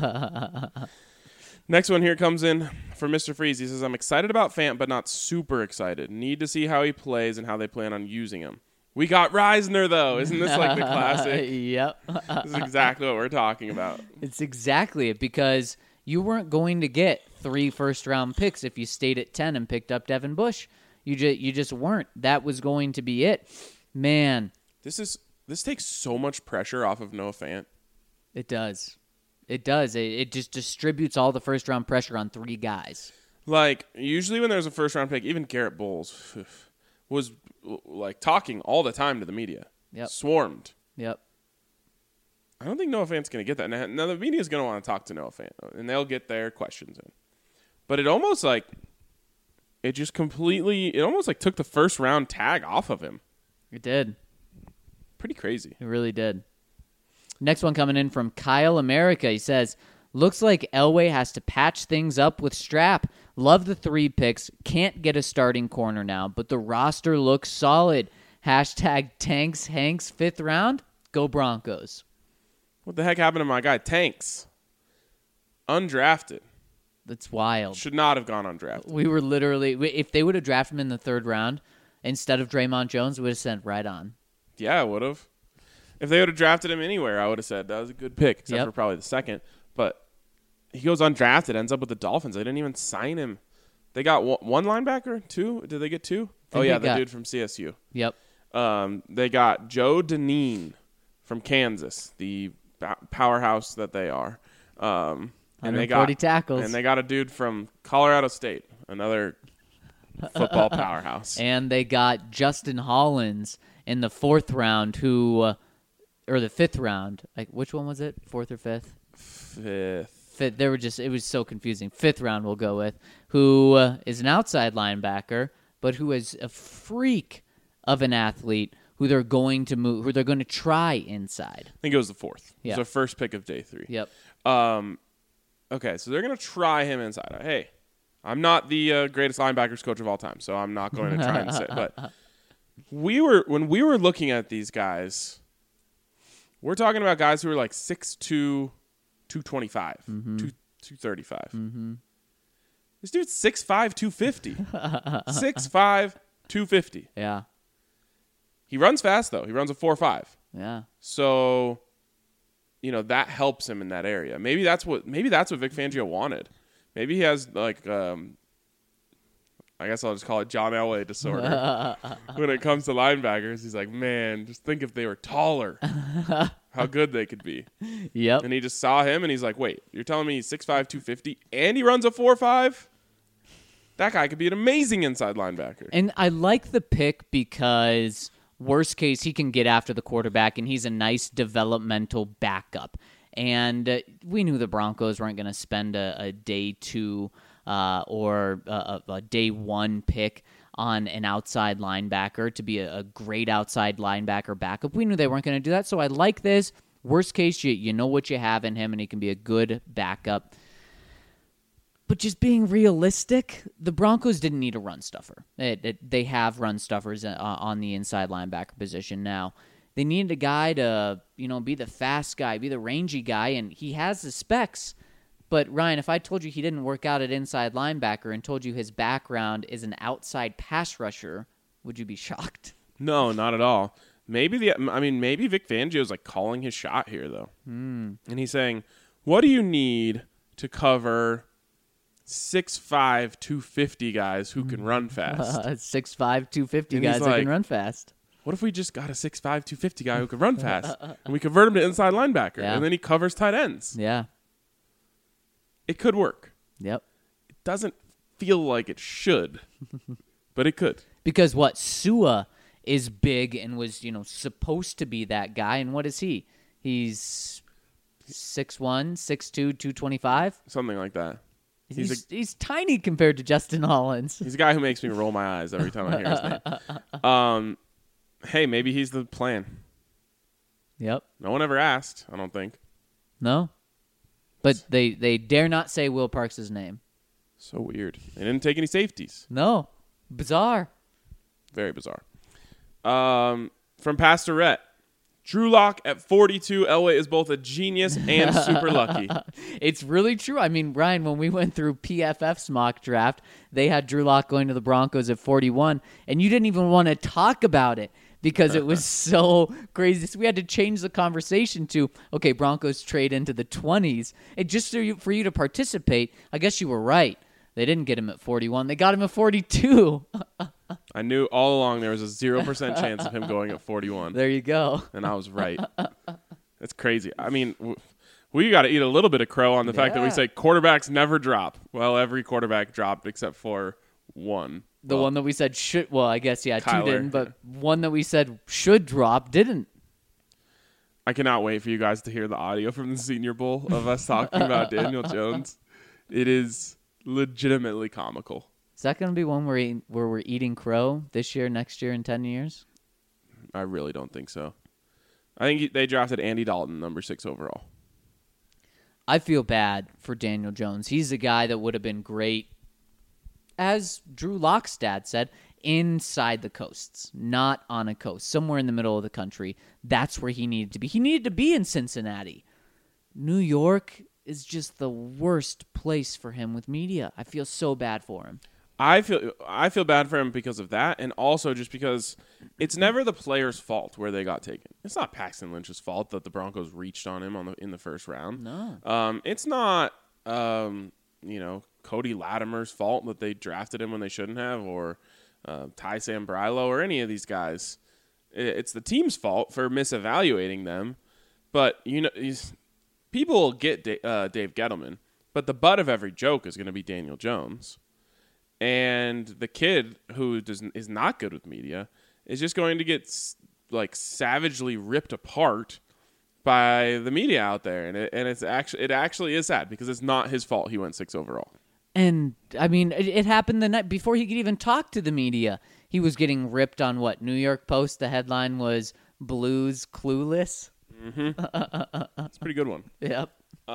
Next one here comes in from Mr. Freeze. He says, I'm excited about Fant, but not super excited. Need to see how he plays and how they plan on using him. We got Reisner, though. Isn't this like the classic? Yep. This is exactly what we're talking about. It's exactly it, because you weren't going to get 3 first-round picks if you stayed at 10 and picked up Devin Bush. You just weren't. That was going to be it. Man. This takes so much pressure off of Noah Fant. It does. It does. It just distributes all the first-round pressure on 3 guys. Like, usually when there's a first-round pick, even Garrett Bowles was like talking all the time to the media. Yep. Swarmed. Yep. I don't think Noah Fant's going to get that. Now the media's going to want to talk to Noah Fant, and they'll get their questions in. But it almost like it almost like took the first round tag off of him. It did. Pretty crazy. It really did. Next one coming in from Kyle America. He says, looks like Elway has to patch things up with Strap. Love the 3 picks. Can't get a starting corner now, but the roster looks solid. Hashtag Tanks Hanks 5th round. Go Broncos. What the heck happened to my guy Tanks? Undrafted. That's wild. Should not have gone undrafted. We were literally, if they would have drafted him in the 3rd round instead of Draymond Jones, we would have sent right on. Yeah, I would have. If they would have drafted him anywhere, I would have said that was a good pick, except for probably the 2nd. But he goes undrafted, ends up with the Dolphins. They didn't even sign him. They got one linebacker? 2? Did they get 2? Oh, yeah, the dude from CSU. Yep. They got Joe Dineen from Kansas, the powerhouse that they are. And they got tackles. And they got a dude from Colorado State, another football powerhouse. And they got Justin Hollins in the 4th round, or the 5th round. Like, which one was it? 4th or 5th? 5th. They were it was so confusing. 5th round we'll go with, who is an outside linebacker, but who is a freak of an athlete who they're going to move, who they're going to try inside. I think it was the 4th. Yeah. It was the first pick of day 3. Yep. Okay, so they're going to try him inside. Hey, I'm not the greatest linebackers coach of all time, so I'm not going to try and say. But when we were looking at these guys, we're talking about guys who are like 6'2", 225, 235. Mm-hmm. This dude's 6'5", 250. 6'5", 250. Yeah. He runs fast, though. He runs a 4.5. Yeah. So, that helps him in that area. Maybe that's what Vic Fangio wanted. Maybe he has, like, I guess I'll just call it John Elway disorder. When it comes to linebackers, he's like, man, just think if they were taller, how good they could be. Yep. And he just saw him, and he's like, wait, you're telling me he's 6'5", 250, and he runs a 4.5? That guy could be an amazing inside linebacker. And I like the pick because, worst case, he can get after the quarterback, and he's a nice developmental backup. And we knew the Broncos weren't going to spend a day 2 or a day 1 pick on an outside linebacker to be a great outside linebacker backup. We knew they weren't going to do that, so I like this. Worst case, you know what you have in him, and he can be a good backup. But just being realistic, the Broncos didn't need a run stuffer. They have run stuffers on the inside linebacker position now. They needed a guy to, be the fast guy, be the rangy guy, and he has the specs. But, Ryan, if I told you he didn't work out at inside linebacker and told you his background is an outside pass rusher, would you be shocked? No, not at all. Maybe Vic Fangio's like calling his shot here, though. And he's saying, what do you need to cover 6'5", 250 guys who can run fast? 6'5", 250 and guys that can run fast. What if we just got a 6'5", 250 guy who can run fast, and we convert him to inside linebacker, and then he covers tight ends? Yeah. It could work. Yep. It doesn't feel like it should, but it could. Because Sua is big and was, supposed to be that guy, and what is he? He's 6'1", 6'2", 225? Something like that. He's tiny compared to Justin Hollins. He's a guy who makes me roll my eyes every time I hear his name. Hey, maybe he's the plan. Yep. No one ever asked, I don't think. No. But they dare not say Will Parks' name. So weird. They didn't take any safeties. No. Bizarre. Very bizarre. From Pastorette. Drew Lock at 42. Elway is both a genius and super lucky. It's really true. I mean, Ryan, when we went through PFF's mock draft, they had Drew Lock going to the Broncos at 41, and you didn't even want to talk about it because it was so crazy. So we had to change the conversation to, okay, Broncos trade into the 20s. And just for you to participate, I guess you were right. They didn't get him at 41. They got him at 42. I knew all along there was a 0% chance of him going at 41. There you go. And I was right. That's crazy. I mean, we got to eat a little bit of crow on the fact that we say quarterbacks never drop. Well, every quarterback dropped except for one. The one that we said should, well, I guess, yeah, Kyler, two didn't, but one that we said should drop didn't. I cannot wait for you guys to hear the audio from the Senior Bowl of us talking about Daniel Jones. It is legitimately comical. Is that going to be one where we're eating crow this year, next year, in 10 years? I really don't think so. I think they drafted Andy Dalton, number 6 overall. I feel bad for Daniel Jones. He's a guy that would have been great, as Drew Lock's dad said, inside the coasts, not on a coast, somewhere in the middle of the country. That's where he needed to be. He needed to be in Cincinnati. New York is just the worst place for him with media. I feel so bad for him. I feel bad for him because of that, and also just because it's never the player's fault where they got taken. It's not Paxton Lynch's fault that the Broncos reached on him in the first round. No. It's not Cody Latimer's fault that they drafted him when they shouldn't have, or Ty Sambrailo or any of these guys. It's the team's fault for misevaluating them. But people will get Dave Gettleman, but the butt of every joke is going to be Daniel Jones. And the kid who is not good with media is just going to get savagely ripped apart by the media out there, and it actually is sad because it's not his fault he went 6 overall. And I mean, it happened the night before he could even talk to the media. He was getting ripped on what? New York Post. The headline was "Blues Clueless." Mm-hmm. That's a pretty good one. Yep.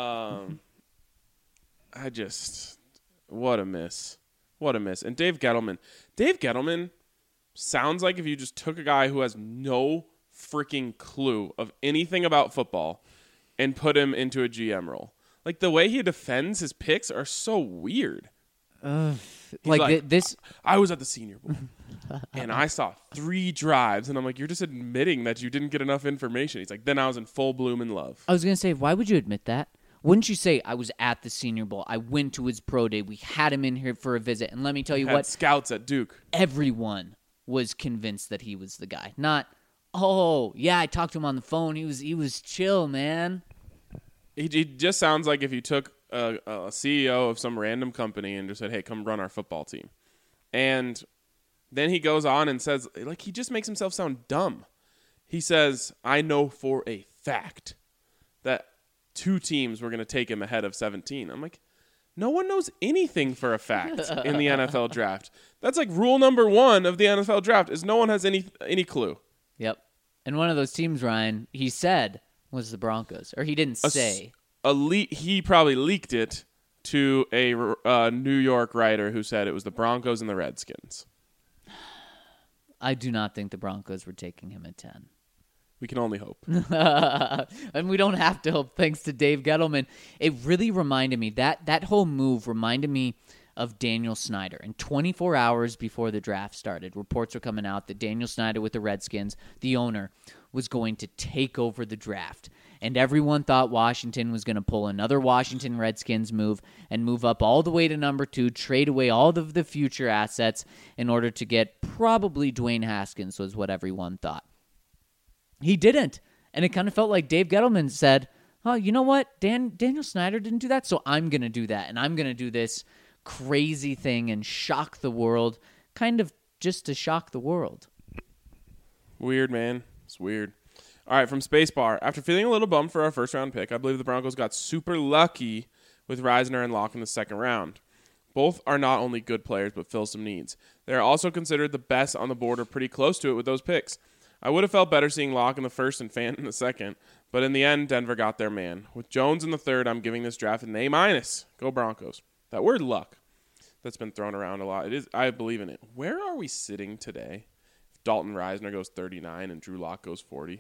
What a miss. What a miss. And Dave Gettleman sounds like if you just took a guy who has no freaking clue of anything about football and put him into a GM role. Like, the way he defends his picks are so weird. This. I was at the Senior Bowl, and I saw 3 drives, and I'm like, you're just admitting that you didn't get enough information. He's like, then I was in full bloom and love. I was going to say, why would you admit that? Wouldn't you say, I was at the Senior Bowl, I went to his pro day, we had him in here for a visit, and let me tell you what. Scouts at Duke. Everyone was convinced that he was the guy. Not, oh, yeah, I talked to him on the phone. He was chill, man. He just sounds like if you took a CEO of some random company and just said, hey, come run our football team. And then he goes on and says, like, he just makes himself sound dumb. He says, I know for a fact that 2 teams were going to take him ahead of 17. I'm like, no one knows anything for a fact in the NFL draft. That's like rule number 1 of the NFL draft is no one has any clue. Yep. And one of those teams, Ryan, he said was the Broncos. Or he didn't say. He probably leaked it to a New York writer who said it was the Broncos and the Redskins. I do not think the Broncos were taking him at 10. We can only hope. And we don't have to hope, thanks to Dave Gettleman. It really reminded me, that whole move reminded me of Daniel Snyder. And 24 hours before the draft started, reports were coming out that Daniel Snyder with the Redskins, the owner, was going to take over the draft. And everyone thought Washington was going to pull another Washington Redskins move and move up all the way to number 2, trade away all of the future assets in order to get probably Dwayne Haskins, was what everyone thought. He didn't. And it kind of felt like Dave Gettleman said, oh, you know what? Daniel Snyder didn't do that, so I'm going to do that. And I'm going to do this crazy thing and shock the world, kind of just to shock the world. Weird, man. It's weird. All right, from Spacebar. After feeling a little bummed for our first-round pick, I believe the Broncos got super lucky with Reisner and Locke in the second round. Both are not only good players, but fill some needs. They are also considered the best on the board or pretty close to it with those picks. I would have felt better seeing Locke in the first and Fant in the second, but in the end, Denver got their man. With Jones in the third, I'm giving this draft an A-. Go Broncos. That word luck that's been thrown around a lot, I believe in it. Where are we sitting today if Dalton Reisner goes 39 and Drew Lock goes 40?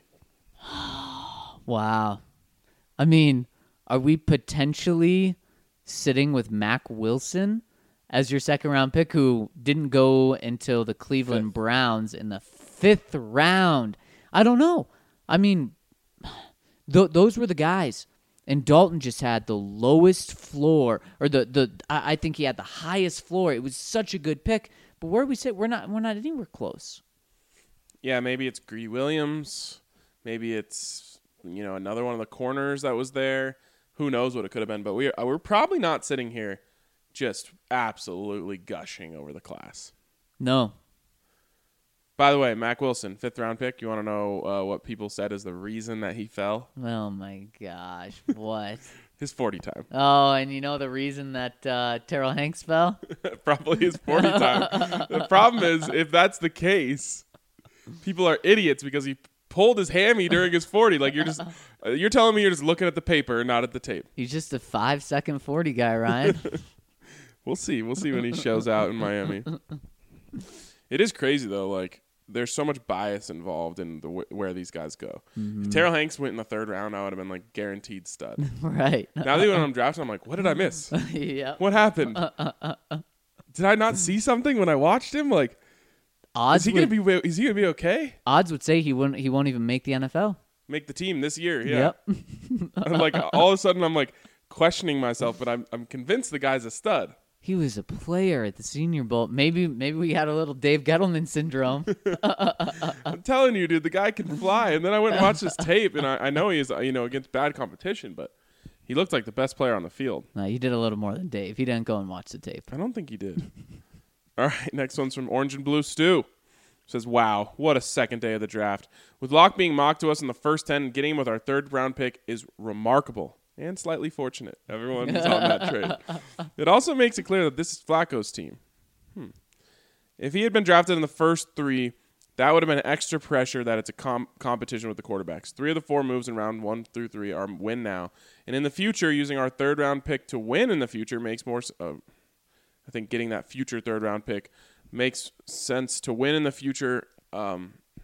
Wow. I mean, are we potentially sitting with Mack Wilson as your second-round pick, who didn't go until the Cleveland Browns in the 5th round? I don't know. I mean, those were the guys. And Dalton just had the lowest floor, or I think he had the highest floor. It was such a good pick. But where we sit, we're not anywhere close. Yeah, maybe it's Greedy Williams. Maybe it's another one of the corners that was there. Who knows what it could have been? But we're probably not sitting here just absolutely gushing over the class. No. By the way, Mac Wilson, 5th round pick. You want to know what people said is the reason that he fell? Oh, my gosh. What? His 40 time. Oh, and you know the reason that Terrell Hanks fell? Probably his 40 time. The problem is, if that's the case, people are idiots because he pulled his hammy during his 40. Like, you're telling me you're just looking at the paper and not at the tape. He's just a 5-second 40 guy, Ryan. We'll see. We'll see when he shows out in Miami. It is crazy, though. Like, there's so much bias involved in where these guys go. If Terrell Hanks went in the 3rd round, I would have been like guaranteed stud. Right. Now that when I'm drafting, I'm like, what did I miss? Yeah. What happened? Did I not see something when I watched him? Like, is he gonna be okay? Odds would say he won't even make the NFL. Make the team this year? Yeah. Yep. I'm like, all of a sudden, I'm like questioning myself, but I'm convinced the guy's a stud. He was a player at the Senior Bowl. Maybe we had a little Dave Gettleman syndrome. I'm telling you, dude, the guy can fly. And then I went and watched his tape, and I know he is, against bad competition, but he looked like the best player on the field. No, he did a little more than Dave. He didn't go and watch the tape. I don't think he did. All right, next one's from Orange and Blue Stu. Says, wow, what a second day of the draft. With Locke being mocked to us in the first 10 and getting him with our 3rd round pick is remarkable. And slightly fortunate. Everyone was on that trade. It also makes it clear that this is Flacco's team. If he had been drafted in the first 3, that would have been extra pressure that it's a competition with the quarterbacks. 3 of the 4 moves in round 1 through 3 are win now. And in the future, using our 3rd round pick to win in the future makes more I think getting that future 3rd round pick makes sense to win in the future. I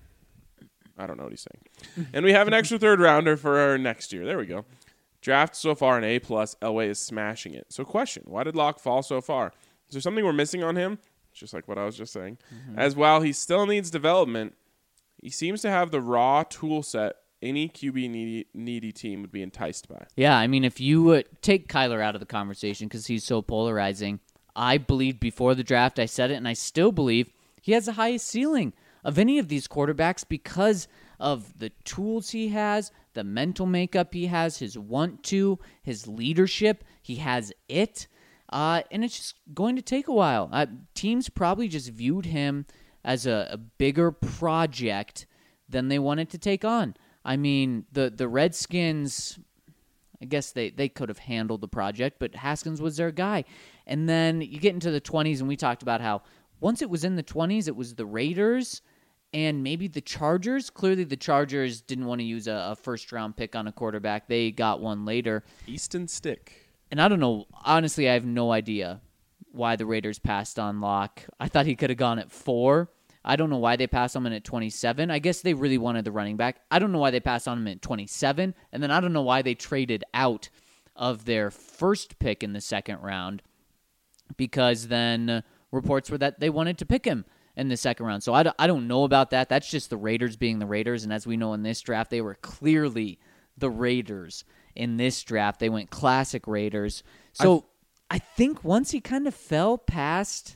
don't know what he's saying. And we have an extra 3rd rounder for our next year. There we go. Draft so far an A+. Elway is smashing it. So question, why did Locke fall so far? Is there something we're missing on him? Just like what I was just saying. As while he still needs development, he seems to have the raw tool set any QB needy team would be enticed by. Yeah, I mean, if you take Kyler out of the conversation because he's so polarizing, I believed before the draft, I said it, and I still believe he has the highest ceiling of any of these quarterbacks because of the tools he has, the mental makeup he has, his want to, his leadership. He has it. And it's just going to take a while. Teams probably just viewed him as a bigger project than they wanted to take on. I mean, the Redskins, I guess they could have handled the project, but Haskins was their guy. And then you get into the 20s, and we talked about how once it was in the 20s, it was the Raiders and maybe the Chargers. Clearly, the Chargers didn't want to use a first-round pick on a quarterback. They got one later. Easton Stick. And I don't know. Honestly, I have no idea why the Raiders passed on Locke. I thought he could have gone at 4. I don't know why they passed on him at 27. I guess they really wanted the running back. I don't know why they passed on him at 27. And then I don't know why they traded out of their first pick in the 2nd round, because then reports were that they wanted to pick him in the 2nd round. So I don't know about that. That's just the Raiders being the Raiders. And as we know in this draft, they were clearly the Raiders in this draft. They went classic Raiders. So I think once he kind of fell past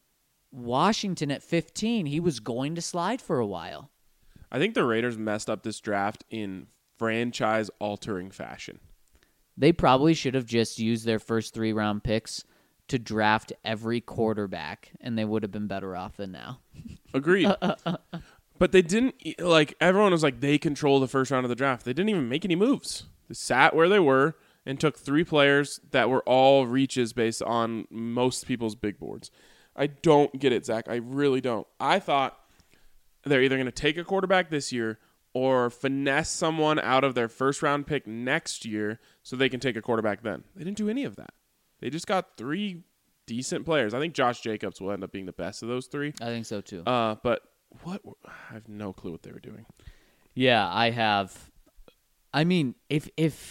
Washington at 15, he was going to slide for a while. I think the Raiders messed up this draft in franchise-altering fashion. They probably should have just used their first 3-round picks to draft every quarterback, and they would have been better off than now. Agreed. But they didn't, everyone was like, they control the first round of the draft. They didn't even make any moves. They sat where they were and took 3 players that were all reaches based on most people's big boards. I don't get it, Zach. I really don't. I thought they're either going to take a quarterback this year or finesse someone out of their first round pick next year so they can take a quarterback then. They didn't do any of that. They just got 3 decent players. I think Josh Jacobs will end up being the best of those 3. I think so too. But I have no clue what they were doing. Yeah, I have. I mean, if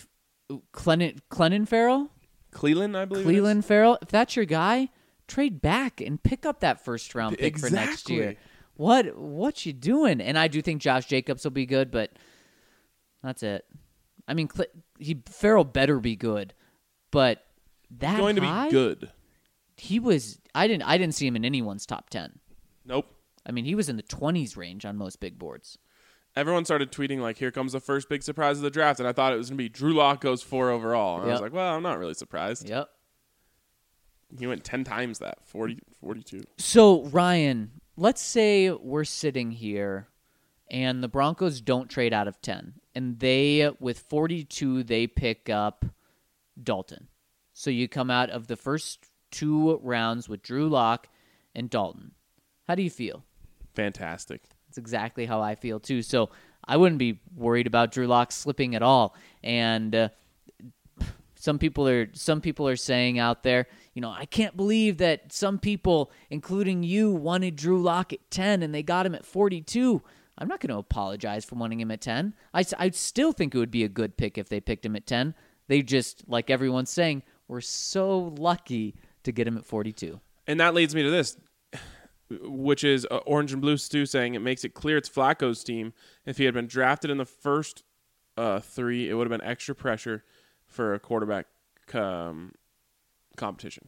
Clelin Ferrell, Cleveland, I believe. Clelin Ferrell, if that's your guy, trade back and pick up that first round pick for next year. What you doing? And I do think Josh Jacobs will be good, but that's it. I mean, Ferrell better be good, but that He's going high? to be good. He was. I didn't see him in anyone's top 10. Nope. I mean, he was in the 20s range on most big boards. Everyone started tweeting, like, here comes the first big surprise of the draft, and I thought it was going to be Drew Lock goes 4 overall. And I was like, well, I'm not really surprised. Yep. He went 10 times that, 42. So, Ryan, let's say we're sitting here and the Broncos don't trade out of 10. And with 42, they pick up Dalton. So you come out of the first 2 rounds with Drew Lock and Dalton. How do you feel? Fantastic. That's exactly how I feel, too. So I wouldn't be worried about Drew Lock slipping at all. And some people are saying out there, I can't believe that some people, including you, wanted Drew Lock at 10 and they got him at 42. I'm not going to apologize for wanting him at 10. I still think it would be a good pick if they picked him at 10. They just, like everyone's saying, were so lucky to get him at 42. And that leads me to this, which is Orange and Blue Stu saying it makes it clear it's Flacco's team. If he had been drafted in the first 3, it would have been extra pressure for a quarterback competition.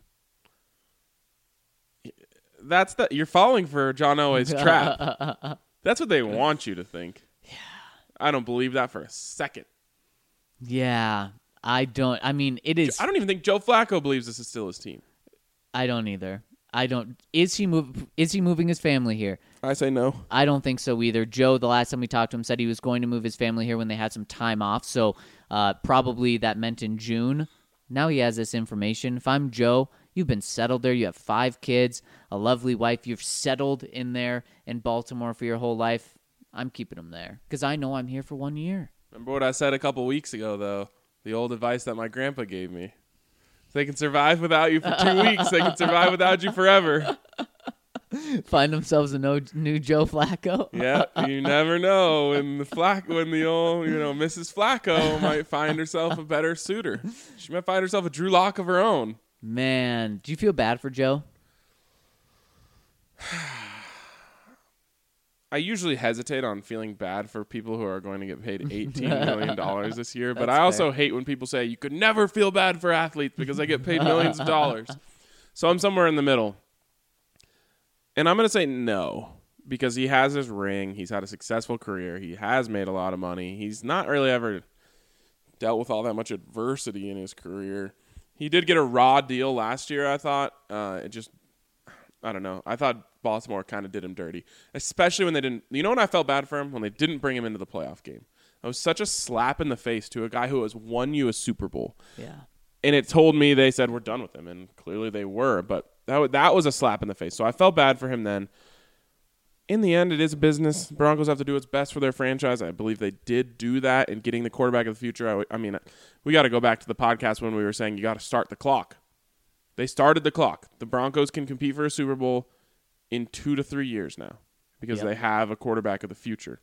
You're falling for John Elway's trap. That's what they want you to think. Yeah. I don't believe that for a second. Yeah, I don't. I mean, it is. I don't even think Joe Flacco believes this is still his team. I don't either. I don't. Is he moving his family here? I say no. I don't think so either. Joe, the last time we talked to him, said he was going to move his family here when they had some time off. So probably that meant in June. Now he has this information. If I'm Joe, you've been settled there. You have 5 kids, a lovely wife. You've settled in there in Baltimore for your whole life. I'm keeping him there because I know I'm here for 1 year. Remember what I said a couple weeks ago, though? The old advice that my grandpa gave me. If they can survive without you for 2 weeks, they can survive without you forever. Find themselves a new Joe Flacco. Yeah, you never know when the old Mrs. Flacco might find herself a better suitor. She might find herself a Drew Lock of her own. Man, do you feel bad for Joe? I usually hesitate on feeling bad for people who are going to get paid $18 million this year, but I also hate when people say you could never feel bad for athletes because they get paid millions of dollars. So I'm somewhere in the middle. And I'm going to say no, because he has his ring. He's had a successful career. He has made a lot of money. He's not really ever dealt with all that much adversity in his career. He did get a raw deal last year, I thought. I don't know. I thought Baltimore kind of did him dirty, especially when they didn't. You know what I felt bad for him? When they didn't bring him into the playoff game. That was such a slap in the face to a guy who has won you a Super Bowl. Yeah. And it told me they said, we're done with him. And clearly they were. But that was a slap in the face. So I felt bad for him then. In the end, it is a business. Broncos have to do what's best for their franchise. I believe they did do that in getting the quarterback of the future. I mean, we got to go back to the podcast when we were saying you got to start the clock. They started the clock. The Broncos can compete for a Super Bowl in 2 to 3 years now because they have a quarterback of the future.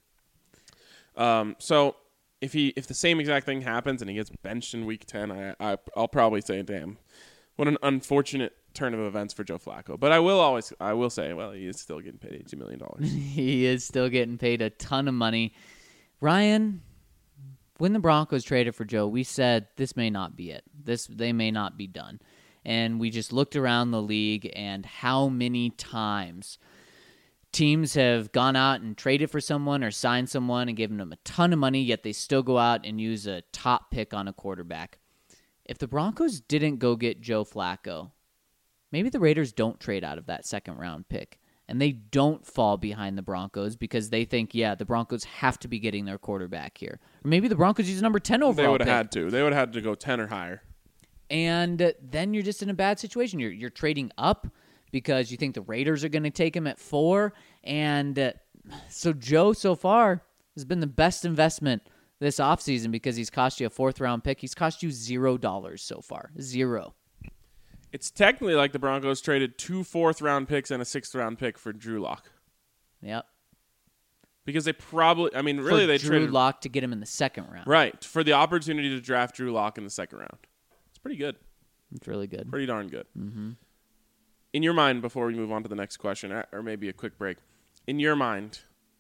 So if the same exact thing happens and he gets benched in Week 10, I'll probably say, damn, what an unfortunate turn of events for Joe Flacco. But I will say, well, he is still getting paid $80 million. He is still getting paid a ton of money. Ryan, when the Broncos traded for Joe, we said this may not be it. They may not be done. And we just looked around the league and how many times teams have gone out and traded for someone or signed someone and given them a ton of money, yet they still go out and use a top pick on a quarterback. If the Broncos didn't go get Joe Flacco, maybe the Raiders don't trade out of that second-round pick, and they don't fall behind the Broncos because they think, the Broncos have to be getting their quarterback here. Or maybe the Broncos use a number 10 overall pick. They would have had to. They would have had to go 10 or higher. And then you're just in a bad situation. You're trading up because you think the Raiders are going to take him at 4. And so Joe, so far, has been the best investment this offseason because he's cost you a 4th-round pick. He's cost you $0 so far. 0. It's technically like the Broncos traded 2 4th-round picks and a 6th-round pick for Drew Lock. Yep. Because they probably, really they Drew traded Lock to get him in the 2nd round. Right, for the opportunity to draft Drew Lock in the 2nd round. It's pretty good. It's really good. Pretty darn good. Mm-hmm. In your mind, before we move on to the next question, or maybe a quick break, in your mind,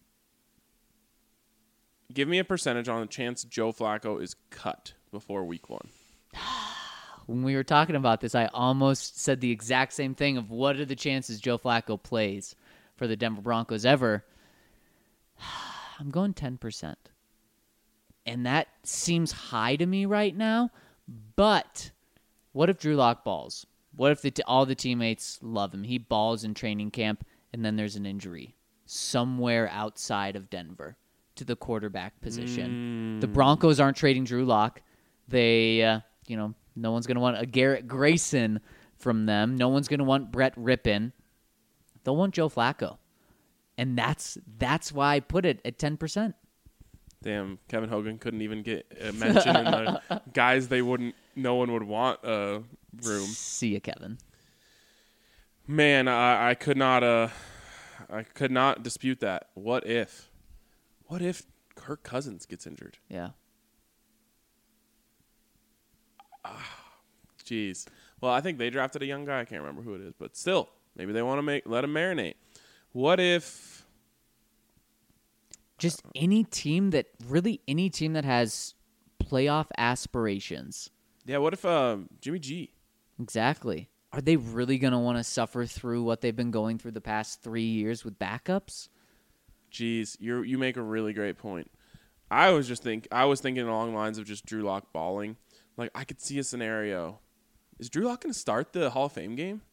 give me a percentage on the chance Joe Flacco is cut before Week 1. When we were talking about this, I almost said the exact same thing of what are the chances Joe Flacco plays for the Denver Broncos ever. I'm going 10%. And that seems high to me right now. But what if Drew Lock balls? What if all the teammates love him? He balls in training camp, and then there's an injury somewhere outside of Denver to the quarterback position. The Broncos aren't trading Drew Lock. They, no one's going to want a Garrett Grayson from them. No one's going to want Brett Rippon. They'll want Joe Flacco. And that's why I put it at 10%. Damn, Kevin Hogan couldn't even get a mention in the guys no one would want a room. See ya, Kevin. Man, I could not dispute that. What if Kirk Cousins gets injured? Yeah. Jeez. Well, I think they drafted a young guy. I can't remember who it is, but still, maybe they want to let him marinate. What if just any team that has playoff aspirations? Yeah, what if Jimmy G? Exactly. Are they really going to want to suffer through what they've been going through the past 3 years with backups? Jeez, you make a really great point. I was thinking along the lines of just Drew Lock balling. Like, I could see a scenario. Is Drew Lock going to start the Hall of Fame game?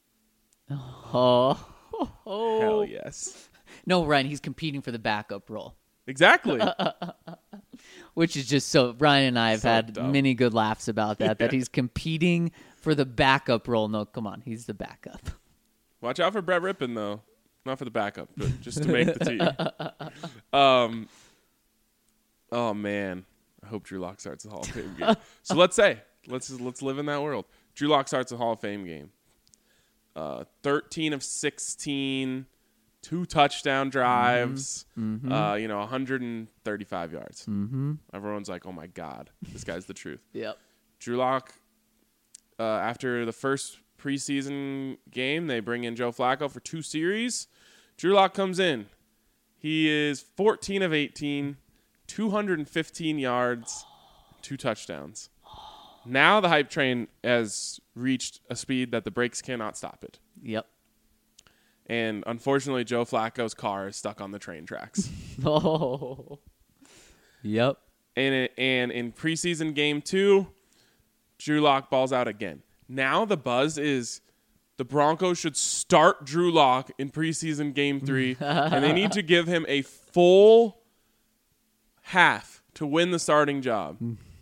Oh. Hell yes. No, Ryan, he's competing for the backup role. Exactly. Which is just so... Ryan and I have had dumb. many good laughs about that, that he's competing for the backup role. No, come on, he's the backup. Watch out for Brett Rippon, though. Not for the backup, but just to make the team. Oh, man. I hope Drew Lock starts the Hall of Fame game. So let's live in that world. Drew Lock starts the Hall of Fame game. 13 of 16, 2 touchdown drives, 135 yards. Mm-hmm. Everyone's like, oh, my God, this guy's the truth. Yep. Drew Lock, after the first preseason game, they bring in Joe Flacco for 2 series. Drew Lock comes in. He is 14 of 18, 215 yards, 2 touchdowns. Now the hype train has reached a speed that the brakes cannot stop it. Yep. And unfortunately, Joe Flacco's car is stuck on the train tracks. Oh. Yep. And in preseason game 2, Drew Lock balls out again. Now the buzz is the Broncos should start Drew Lock in preseason game 3, and they need to give him a full half to win the starting job.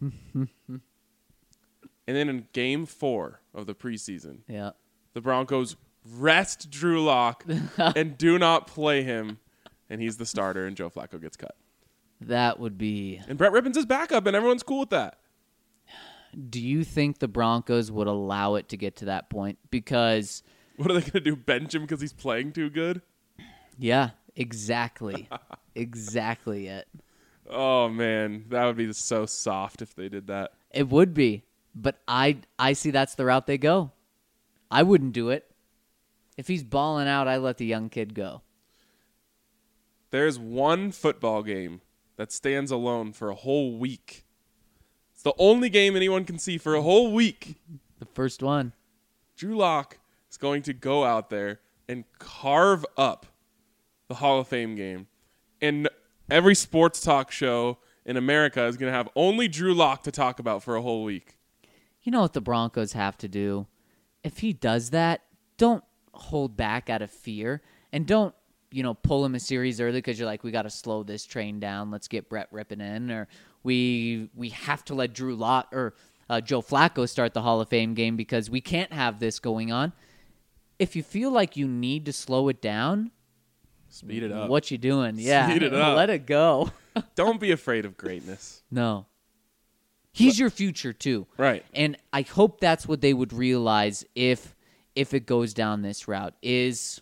And then in game 4 of the preseason, the Broncos rest Drew Lock and do not play him, and he's the starter, and Joe Flacco gets cut. That would be... And Brett Rippon's his backup, and everyone's cool with that. Do you think the Broncos would allow it to get to that point? Because... What are they going to do, bench him because he's playing too good? Yeah, exactly. Exactly it. Oh, man. That would be so soft if they did that. It would be. But I see that's the route they go. I wouldn't do it. If he's balling out, I let the young kid go. There's one football game that stands alone for a whole week. It's the only game anyone can see for a whole week. The first one. Drew Lock is going to go out there and carve up the Hall of Fame game. And every sports talk show in America is going to have only Drew Lock to talk about for a whole week. You know what the Broncos have to do? If he does that, don't hold back out of fear. And don't, pull him a series early because you're like, we got to slow this train down. Let's get Brett Rippon in. Or we have to let Drew Lock or Joe Flacco start the Hall of Fame game because we can't have this going on. If you feel like you need to slow it down, speed it up. What you doing? Yeah, speed it up. Let it go. Don't be afraid of greatness. No. He's your future too. Right. And I hope that's what they would realize if it goes down this route. If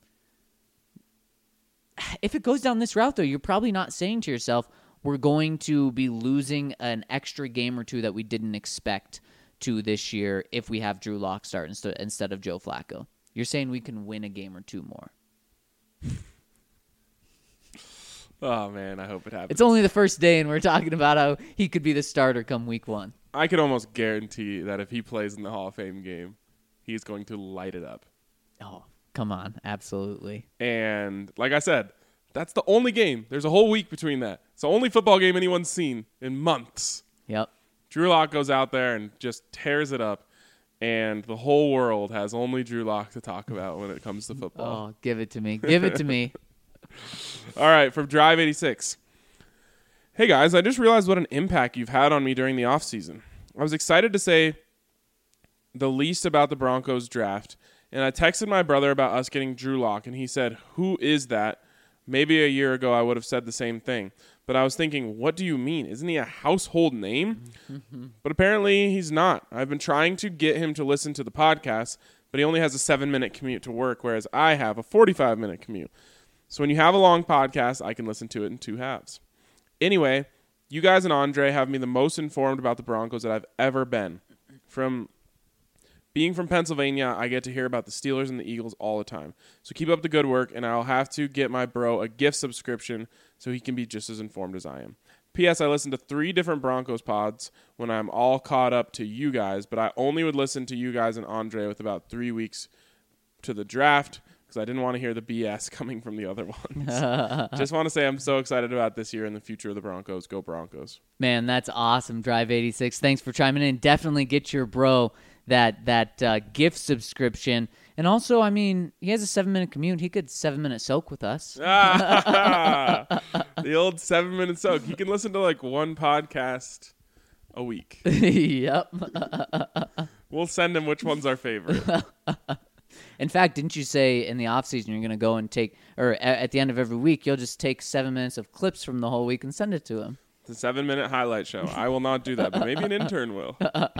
it goes down this route, though, you're probably not saying to yourself, we're going to be losing an extra game or two that we didn't expect to this year if we have Drew Lock start instead of Joe Flacco. You're saying we can win a game or two more. Oh, man, I hope it happens. It's only the first day, and we're talking about how he could be the starter come week 1. I could almost guarantee that if he plays in the Hall of Fame game, he's going to light it up. Oh, come on. Absolutely. And like I said, that's the only game. There's a whole week between that. It's the only football game anyone's seen in months. Yep. Drew Lock goes out there and just tears it up. and the whole world has only Drew Lock to talk about when it comes to football. Oh, give it to me. Give it to me. All right, from Drive 86. Hey, guys, I just realized what an impact you've had on me during the offseason. I was excited to say the least about the Broncos draft, and I texted my brother about us getting Drew Lock, and he said, "Who is that?" Maybe a year ago I would have said the same thing. But I was thinking, what do you mean? Isn't he a household name? But apparently he's not. I've been trying to get him to listen to the podcast, but he only has a 7-minute commute to work, whereas I have a 45-minute commute. So when you have a long podcast, I can listen to it in 2 halves. Anyway, you guys and Andre have me the most informed about the Broncos that I've ever been. Being from Pennsylvania, I get to hear about the Steelers and the Eagles all the time. So keep up the good work, and I'll have to get my bro a gift subscription so he can be just as informed as I am. P.S. I listen to 3 different Broncos pods when I'm all caught up to you guys, but I only would listen to you guys and Andre with about 3 weeks to the draft because I didn't want to hear the BS coming from the other ones. Just want to say I'm so excited about this year and the future of the Broncos. Go Broncos. Man, that's awesome, Drive 86. Thanks for chiming in. Definitely get your bro that gift subscription. And also, I mean, he has a 7-minute commute. He could 7-minute soak with us. The old 7-minute soak. He can listen to like 1 podcast a week. Yep. We'll send him which one's our favorite. In fact, didn't you say in the offseason you're going to go and take, or at the end of every week, you'll just take 7 minutes of clips from the whole week and send it to him? It's a 7-minute highlight show. I will not do that, but maybe an intern will.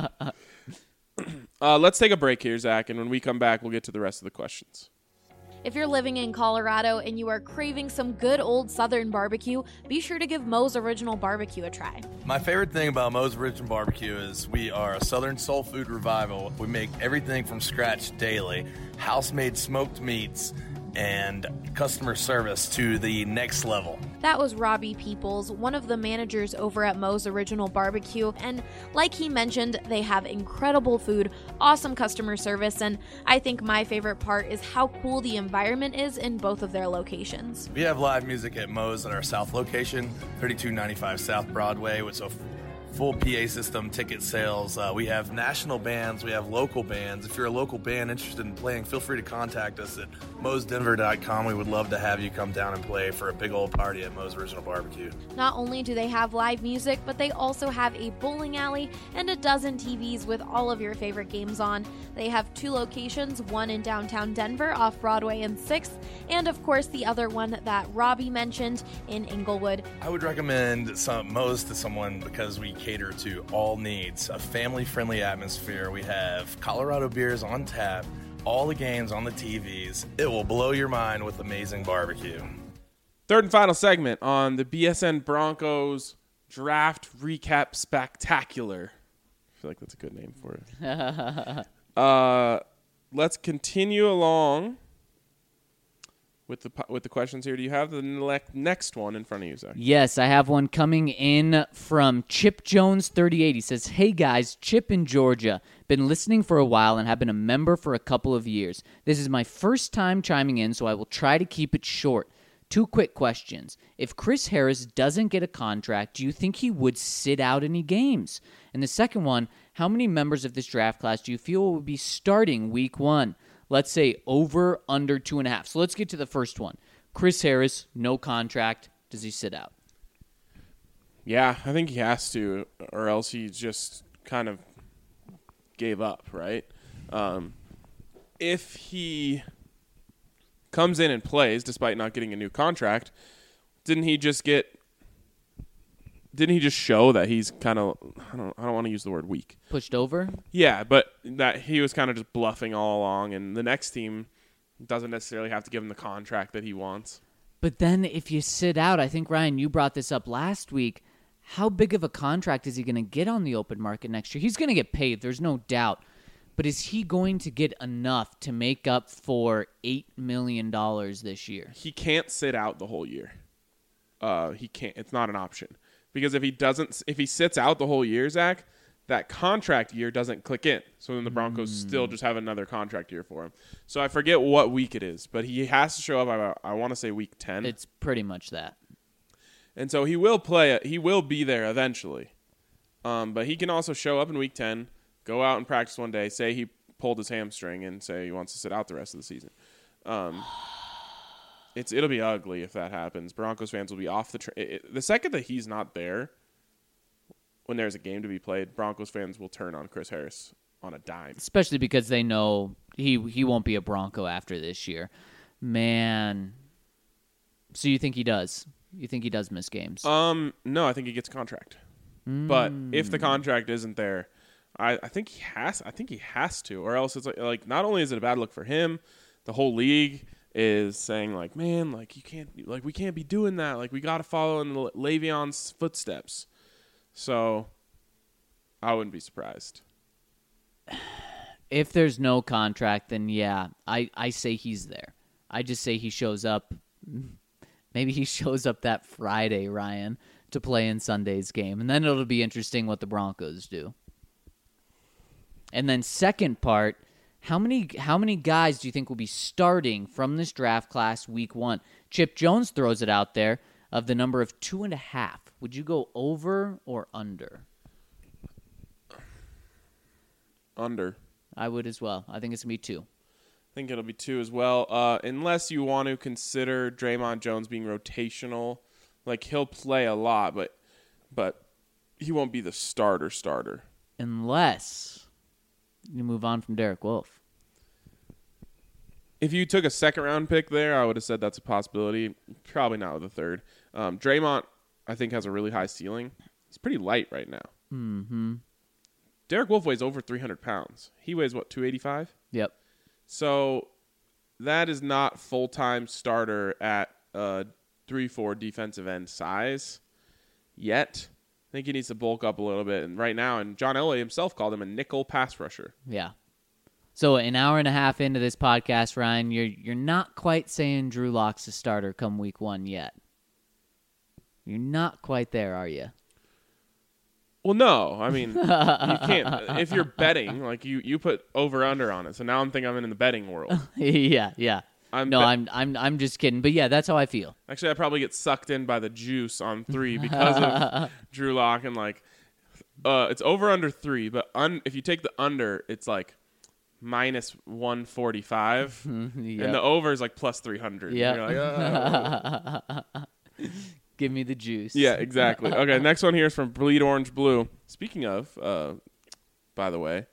Let's take a break here, Zach, and when we come back, we'll get to the rest of the questions. If you're living in Colorado and you are craving some good old Southern barbecue, be sure to give Moe's Original Barbecue a try. My favorite thing about Moe's Original Barbecue is we are a Southern soul food revival. We make everything from scratch daily, house-made smoked meats, and customer service to the next level. That was Robbie Peoples, one of the managers over at Moe's Original Barbecue, and like he mentioned, they have incredible food, awesome customer service, and I think my favorite part is how cool the environment is in both of their locations. We have live music at Moe's at our South location, 3295 South Broadway, with a full PA system, ticket sales. We have national bands. We have local bands. If you're a local band interested in playing, feel free to contact us at moesdenver.com. We would love to have you come down and play for a big old party at Moe's Original Barbecue. Not only do they have live music, but they also have a bowling alley and a dozen TVs with all of your favorite games on. They have 2 locations, one in downtown Denver off Broadway and 6th, and of course the other one that Robbie mentioned in Inglewood. I would recommend Moe's to someone because we cater to all needs, a family-friendly atmosphere. We have Colorado beers on tap, all the games on the TVs. It will blow your mind with amazing barbecue. Third and final segment on the BSN Broncos Draft Recap Spectacular. I feel like that's a good name for it. Let's continue along with the questions here. Do you have the next one in front of you, Zach? Yes, I have one coming in from Chip Jones 38. He says, "Hey guys, Chip in Georgia. Been listening for a while and have been a member for a couple of years. This is my first time chiming in, so I will try to keep it short. 2 quick questions. If Chris Harris doesn't get a contract, do you think he would sit out any games? And the second one, how many members of this draft class do you feel will be starting week 1? Let's say over, under 2.5. So let's get to the first one. Chris Harris, no contract. Does he sit out? Yeah, I think he has to, or else he just kind of gave up, right? If he comes in and plays despite not getting a new contract, didn't he just show that he's kind of, I don't want to use the word weak. Pushed over? Yeah, but that he was kind of just bluffing all along, and the next team doesn't necessarily have to give him the contract that he wants. But then if you sit out, I think, Ryan, you brought this up last week, how big of a contract is he going to get on the open market next year? He's going to get paid, there's no doubt. But is he going to get enough to make up for $8 million this year? He can't sit out the whole year. He can't. It's not an option. Because if he sits out the whole year, Zach, that contract year doesn't click in. So then the Broncos still just have another contract year for him. So I forget what week it is, but he has to show up, I want to say week 10. It's pretty much that. And so he will play. He will be there eventually. But he can also show up in week 10, go out and practice one day, say he pulled his hamstring, and say he wants to sit out the rest of the season. It'll be ugly if that happens. Broncos fans will be off the train. The second that he's not there, when there's a game to be played, Broncos fans will turn on Chris Harris on a dime. Especially because they know he won't be a Bronco after this year. Man. So you think he does? You think he does miss games? No, I think he gets a contract. But if the contract isn't there, I think he has. I think he has to, or else it's like not only is it a bad look for him, the whole league is saying like, man, like you can't, like we can't be doing that. Like we got to follow in Le'Veon's footsteps. So I wouldn't be surprised. If there's no contract, then yeah, I say he's there. I just say he shows up. Maybe he shows up that Friday, Ryan, to play in Sunday's game. And then it'll be interesting what the Broncos do. And then second part, how many guys do you think will be starting from this draft class week 1? Chip Jones throws it out there of the number of 2.5. Would you go over or under? Under. I would as well. I think it's going to be 2. I think it'll be 2 as well, unless you want to consider Draymond Jones being rotational. Like, he'll play a lot, but he won't be the starter. Unless you move on from Derek Wolfe. If you took a second-round pick there, I would have said that's a possibility. Probably not with a third. Draymond, I think, has a really high ceiling. He's pretty light right now. Mm-hmm. Derek Wolfe weighs over 300 pounds. He weighs, 285? Yep. So that is not full-time starter at 3-4 defensive end size yet. I think he needs to bulk up a little bit. And right now, and John Elway himself called him a nickel pass rusher. Yeah. So an hour and a half into this podcast, Ryan, you're not quite saying Drew Lock's a starter come week 1 yet. You're not quite there, are you? Well, no. I mean, you can't. If you're betting, like you put over under on it. So now I'm in the betting world. Yeah. I'm just kidding. But yeah, that's how I feel. Actually, I probably get sucked in by the juice on 3 because of Drew Lock and it's over under 3. But if you take the under, it's like minus 145, Yep. and the over is like plus 300. Yeah. You're like, oh. Give me the juice. Yeah, exactly. Okay, next one here is from Bleed Orange Blue. Speaking of, by the way,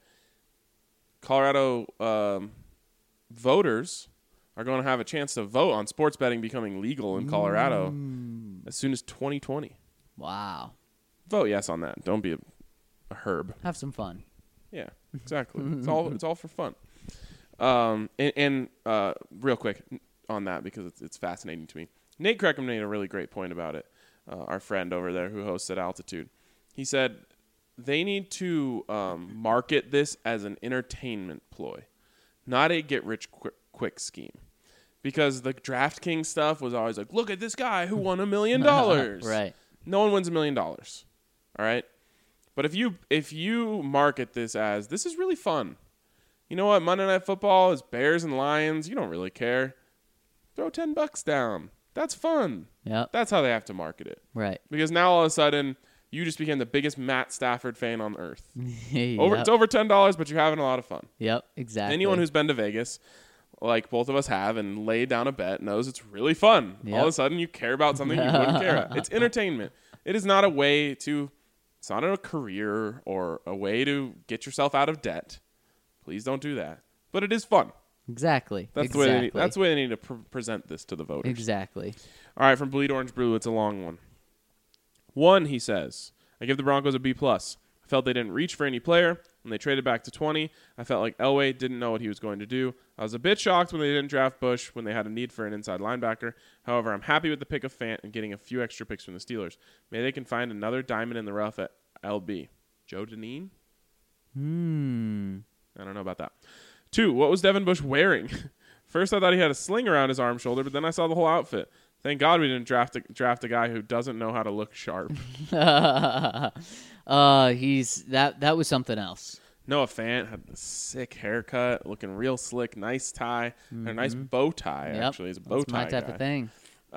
Colorado voters are going to have a chance to vote on sports betting becoming legal in Colorado as soon as 2020. Wow. Vote yes on that. Don't be a herb. Have some fun. Yeah, exactly. It's all for fun. And real quick on that, because it's fascinating to me. Nate Creckham made a really great point about it. Our friend over there who hosts at Altitude. He said they need to market this as an entertainment ploy, not a get-rich-quick scheme. Because the DraftKings stuff was always like, look at this guy who won $1 million. Right. No one wins $1 million. All right? But if you market this as, this is really fun. You know what? Monday Night Football is Bears and Lions. You don't really care. Throw $10 down. That's fun. Yep. That's how they have to market it. Right. Because now all of a sudden, you just became the biggest Matt Stafford fan on earth. Yep. It's over $10, but you're having a lot of fun. Yep, exactly. Anyone who's been to Vegas, like both of us have, and laid down a bet knows it's really fun. Yep. All of a sudden, you care about something you wouldn't care about. It's entertainment. It is not a way to... It's not a career or a way to get yourself out of debt. Please don't do that. But it is fun. Exactly. That's the way they need to present this to the voters. Exactly. All right, from Bleed Orange Blue, it's a long one. 1, he says, I give the Broncos a B+. I felt they didn't reach for any player. When they traded back to 20, I felt like Elway didn't know what he was going to do. I was a bit shocked when they didn't draft Bush when they had a need for an inside linebacker. However, I'm happy with the pick of Fant and getting a few extra picks from the Steelers. Maybe they can find another diamond in the rough at LB. Joe Deneen? I don't know about that. 2, what was Devin Bush wearing? First, I thought he had a sling around his arm shoulder, but then I saw the whole outfit. Thank God we didn't draft a guy who doesn't know how to look sharp. That was something else. Noah Fant had a sick haircut, looking real slick, nice tie, and a nice bow tie. Yep. Actually, he's a bow tie That's my type guy. of thing.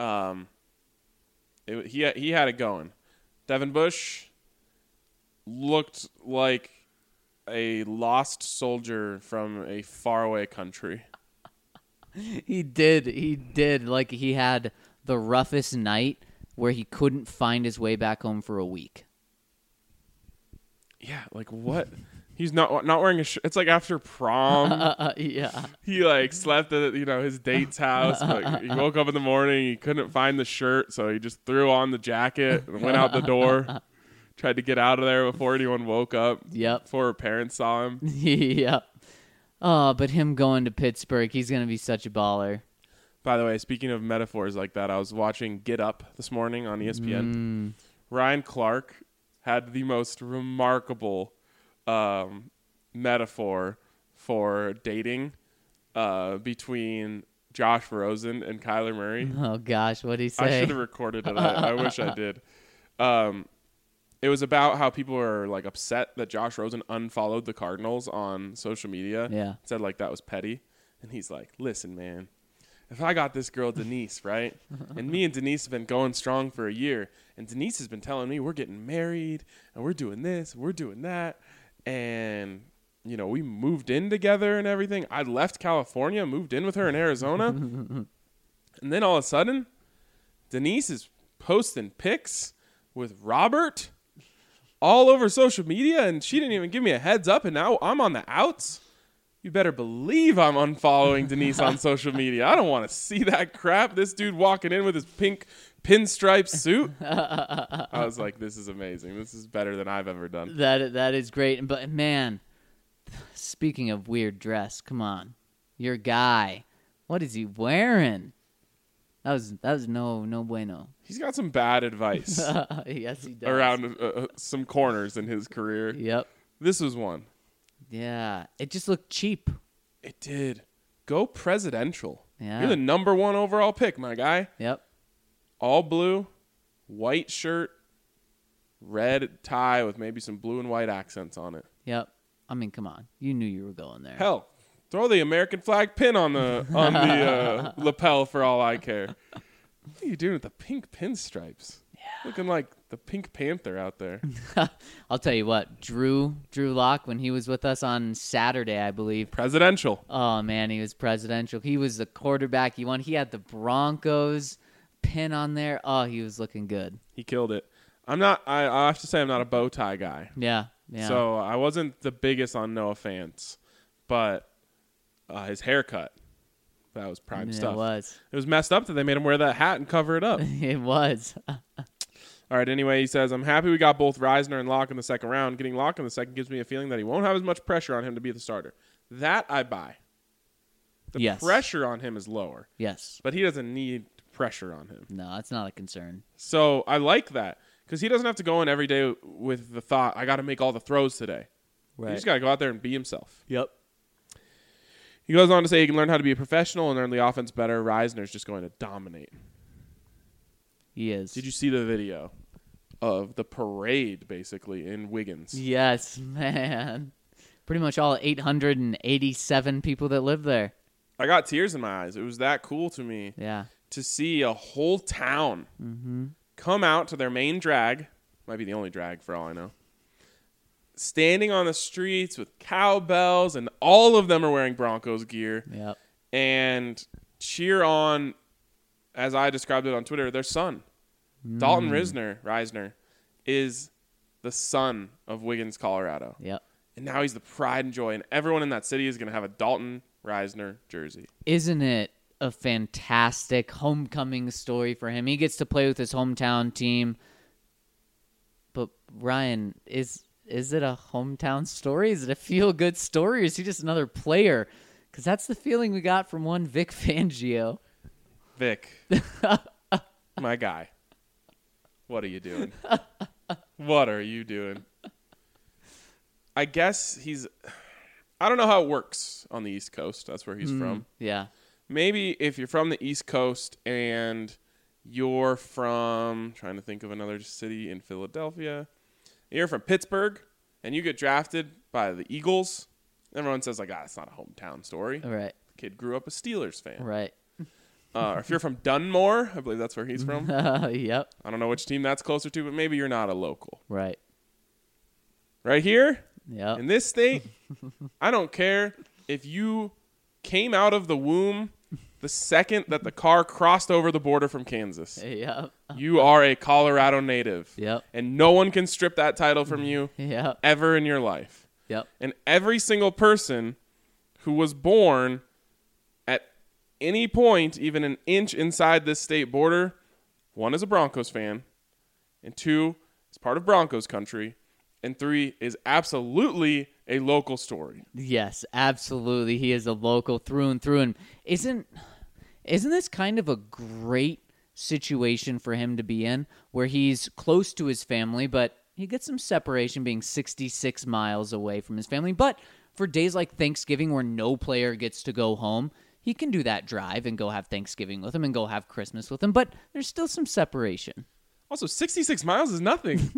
He had it going. Devin Bush looked like a lost soldier from a faraway country. He did. Like, he had the roughest night where he couldn't find his way back home for a week. Yeah, like what? He's not wearing a shirt. It's like after prom. Yeah. He like slept at his date's house, but he woke up in the morning. He couldn't find the shirt, so he just threw on the jacket and went out the door. Tried to get out of there before anyone woke up. Yep. Before her parents saw him. Yep. Oh, but him going to Pittsburgh, he's gonna be such a baller. By the way, speaking of metaphors like that, I was watching Get Up this morning on ESPN. Ryan Clark had the most remarkable metaphor for dating between Josh Rosen and Kyler Murray. Oh gosh, what'd he say? I should have recorded it. I wish I did. It was about how people were like upset that Josh Rosen unfollowed the Cardinals on social media. Yeah. Said like that was petty. And he's like, listen, man, if I got this girl Denise, right? And me and Denise have been going strong for a year. And Denise has been telling me we're getting married and we're doing this, we're doing that. And, we moved in together and everything. I left California, moved in with her in Arizona. And then all of a sudden, Denise is posting pics with Robert all over social media. And she didn't even give me a heads up. And now I'm on the outs. You better believe I'm unfollowing Denise on social media. I don't want to see that crap. This dude walking in with his pink pinstripe suit. I was like, this is amazing. This is better than I've ever done. That is great. But man, speaking of weird dress, come on, your guy, what is he wearing? That was no bueno. He's got some bad advice. Yes, he does. Around some corners in his career. Yep. This was one. Yeah, it just looked cheap. It did. Go presidential. Yeah. You're the number 1 overall pick, my guy. Yep. All blue, white shirt, red tie with maybe some blue and white accents on it. Yep. I mean, come on. You knew you were going there. Hell, throw the American flag pin on the lapel for all I care. What are you doing with the pink pinstripes? Yeah. Looking like the Pink Panther out there. I'll tell you what, Drew Lock, when he was with us on Saturday, I believe. Presidential. Oh, man, he was presidential. He was the quarterback. He had the Broncos pin on there. Oh, he was looking good. He killed it. I have to say I'm not a bow tie guy. Yeah. So I wasn't the biggest on Noah Fant, but his haircut, that was prime stuff. It was messed up that they made him wear that hat and cover it up. It was. All right, anyway, he says, I'm happy we got both Reisner and Locke in the second round. Getting Locke in the second gives me a feeling that he won't have as much pressure on him to be the starter. That I buy. The pressure on him is lower. Yes. But he doesn't need pressure on him. No, that's not a concern. So I like that because he doesn't have to go in every day with the thought, I got to make all the throws today. Right. He just got to go out there and be himself. Yep. He goes on to say he can learn how to be a professional and learn the offense better. Reisner's just going to dominate. He is. Did you see the video of the parade, basically, in Wiggins? Yes, man. Pretty much all 887 people that live there. I got tears in my eyes. It was that cool to me. Yeah. To see a whole town come out to their main drag. Might be the only drag for all I know. Standing on the streets with cowbells, and all of them are wearing Broncos gear. Yep. And cheer on, as I described it on Twitter, their son. Dalton Reisner is the son of Wiggins, Colorado. Yep. And now he's the pride and joy, and everyone in that city is going to have a Dalton Reisner jersey. Isn't it a fantastic homecoming story for him? He gets to play with his hometown team. But Ryan, is it a hometown story? Is it a feel-good story? Or is he just another player? Because that's the feeling we got from one Vic Fangio. Vic, my guy. What are you doing? What are you doing? I guess I don't know how it works on the East Coast. That's where he's from. Yeah. Maybe if you're from the East Coast and you're from, trying to think of another city in Philadelphia, you're from Pittsburgh and you get drafted by the Eagles, everyone says like, it's not a hometown story. Right. The kid grew up a Steelers fan. Right. Or if you're from Dunmore, I believe that's where he's from. Yep. I don't know which team that's closer to, but maybe you're not a local. Right. Right here, Yep. In this state, I don't care if you came out of the womb the second that the car crossed over the border from Kansas. Yep. You are a Colorado native. Yep. And no one can strip that title from you Yep. ever in your life. Yep. And every single person who was born at any point, even an inch inside this state border, one is a Broncos fan, and two is part of Broncos country, and three is absolutely a local story. Yes, absolutely. He is a local through and through. And isn't this kind of a great situation for him to be in, where he's close to his family, but he gets some separation being 66 miles away from his family. But for days like Thanksgiving where no player gets to go home, he can do that drive and go have Thanksgiving with him and go have Christmas with him. But there's still some separation. Also, 66 miles is nothing.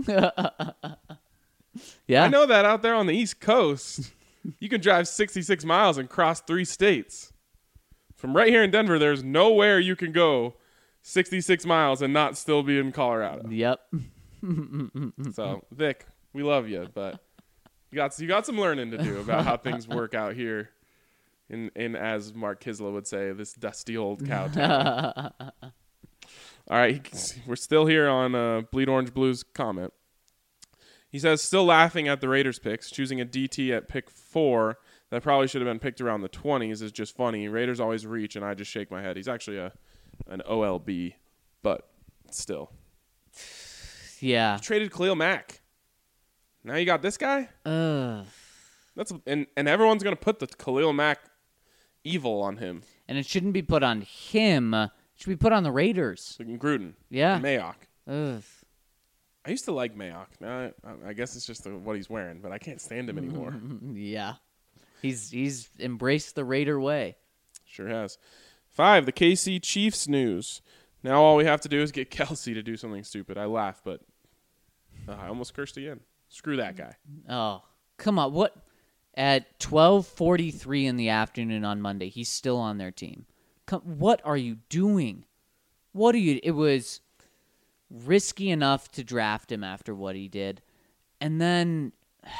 Yeah. I know that out there on the East Coast, you can drive 66 miles and cross 3 states. From right here in Denver, there's nowhere you can go 66 miles and not still be in Colorado. Yep. So, Vic, we love you, but you got some learning to do about how things work out here in as Mark Kisla would say, this dusty old cow town. All right, we're still here on Bleed Orange Blues comment. He says, still laughing at the Raiders picks. Choosing a DT at pick 4 that probably should have been picked around the 20s is just funny. Raiders always reach, and I just shake my head. He's actually an OLB, but still. Yeah. You traded Khalil Mack. Now you got this guy? That's and everyone's going to put the Khalil Mack evil on him. And it shouldn't be put on him. It should be put on the Raiders. Like Gruden. Yeah. And Mayock. Ugh. I used to like Mayock. Now I guess it's just what he's wearing, but I can't stand him anymore. Yeah. He's embraced the Raider way. Sure has. 5, the KC Chiefs news. Now all we have to do is get Kelsey to do something stupid. I laugh, but I almost cursed again. Screw that guy. Oh, come on. What? At 12:43 in the afternoon on Monday, he's still on their team. What are you doing? It was risky enough to draft him after what he did. And then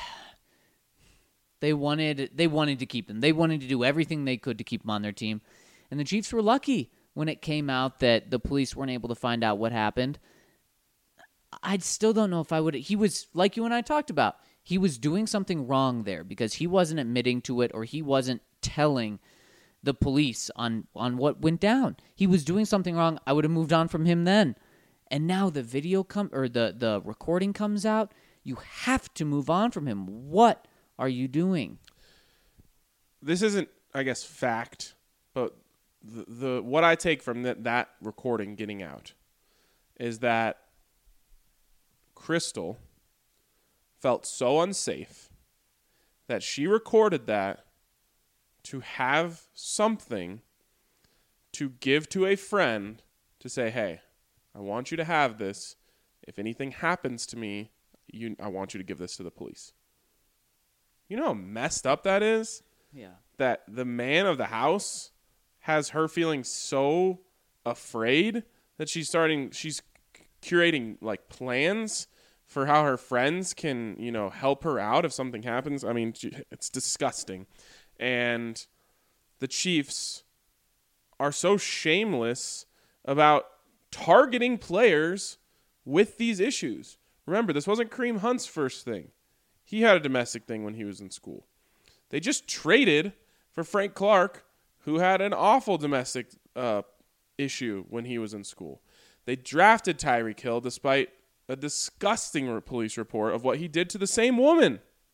they wanted to keep him. They wanted to do everything they could to keep him on their team. And the Chiefs were lucky when it came out that the police weren't able to find out what happened. I still don't know if I would. He was, like you and I talked about, he was doing something wrong there because he wasn't admitting to it or he wasn't telling the police on what went down. He was doing something wrong. I would have moved on from him then. And now the video the recording comes out. You have to move on from him. What are you doing? This isn't, I guess, fact, but the what I take from that recording getting out is that Crystal felt so unsafe that she recorded that to have something to give to a friend to say, hey, I want you to have this. If anything happens to me, I want you to give this to the police. You know how messed up that is? Yeah. That the man of the house has her feeling so afraid that she's curating like plans for how her friends can, help her out if something happens. I mean, it's disgusting. And the Chiefs are so shameless about targeting players with these issues. Remember, this wasn't Kareem Hunt's first thing. He had a domestic thing when he was in school. They just traded for Frank Clark, who had an awful domestic issue when he was in school. They drafted Tyreek Hill despite a disgusting police report of what he did to the same woman.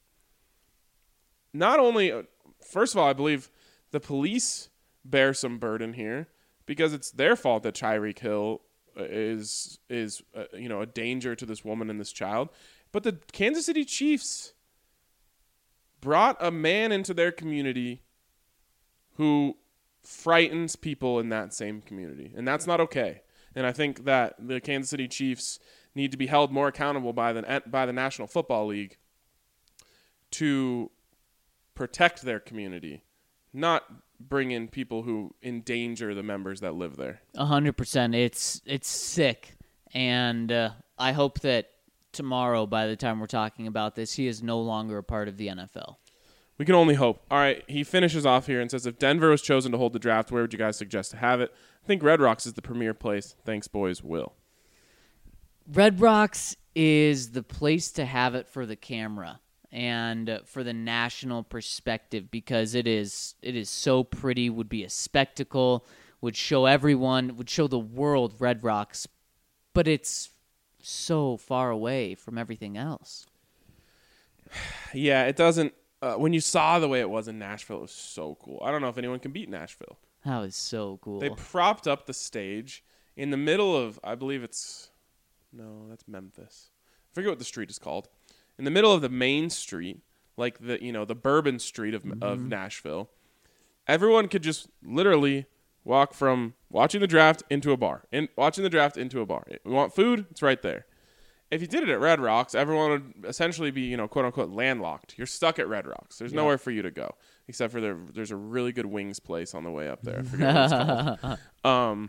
Not only, first of all, I believe the police bear some burden here because it's their fault that Tyreek Hill is a danger to this woman and this child. But the Kansas City Chiefs brought a man into their community who frightens people in that same community. And that's not okay. And I think that the Kansas City Chiefs need to be held more accountable by the National Football League to protect their community, not bring in people who endanger the members that live there. 100%. It's sick. And I hope that tomorrow by the time we're talking about this, he is no longer a part of the NFL. We can only hope. All right, he finishes off here and says, if Denver was chosen to hold the draft, where would you guys suggest to have it? I think Red Rocks is the premier place. Thanks, boys. Will. Red Rocks is the place to have it for the camera and for the national perspective because it is so pretty, would be a spectacle, would show everyone, would show the world Red Rocks, but it's so far away from everything else. Yeah, it doesn't. When you saw the way it was in Nashville, it was so cool. I don't know if anyone can beat Nashville. That was so cool. They propped up the stage in the middle of, I believe that's Memphis. I forget what the street is called. In the middle of the main street, like the Bourbon Street of Nashville, everyone could just literally walk from watching the draft into a bar. Watching the draft into a bar. We want food, it's right there. If you did it at Red Rocks, everyone would essentially be, quote unquote, landlocked. You're stuck at Red Rocks. There's nowhere for you to go, except for there's a really good wings place on the way up there. I forget what it's called.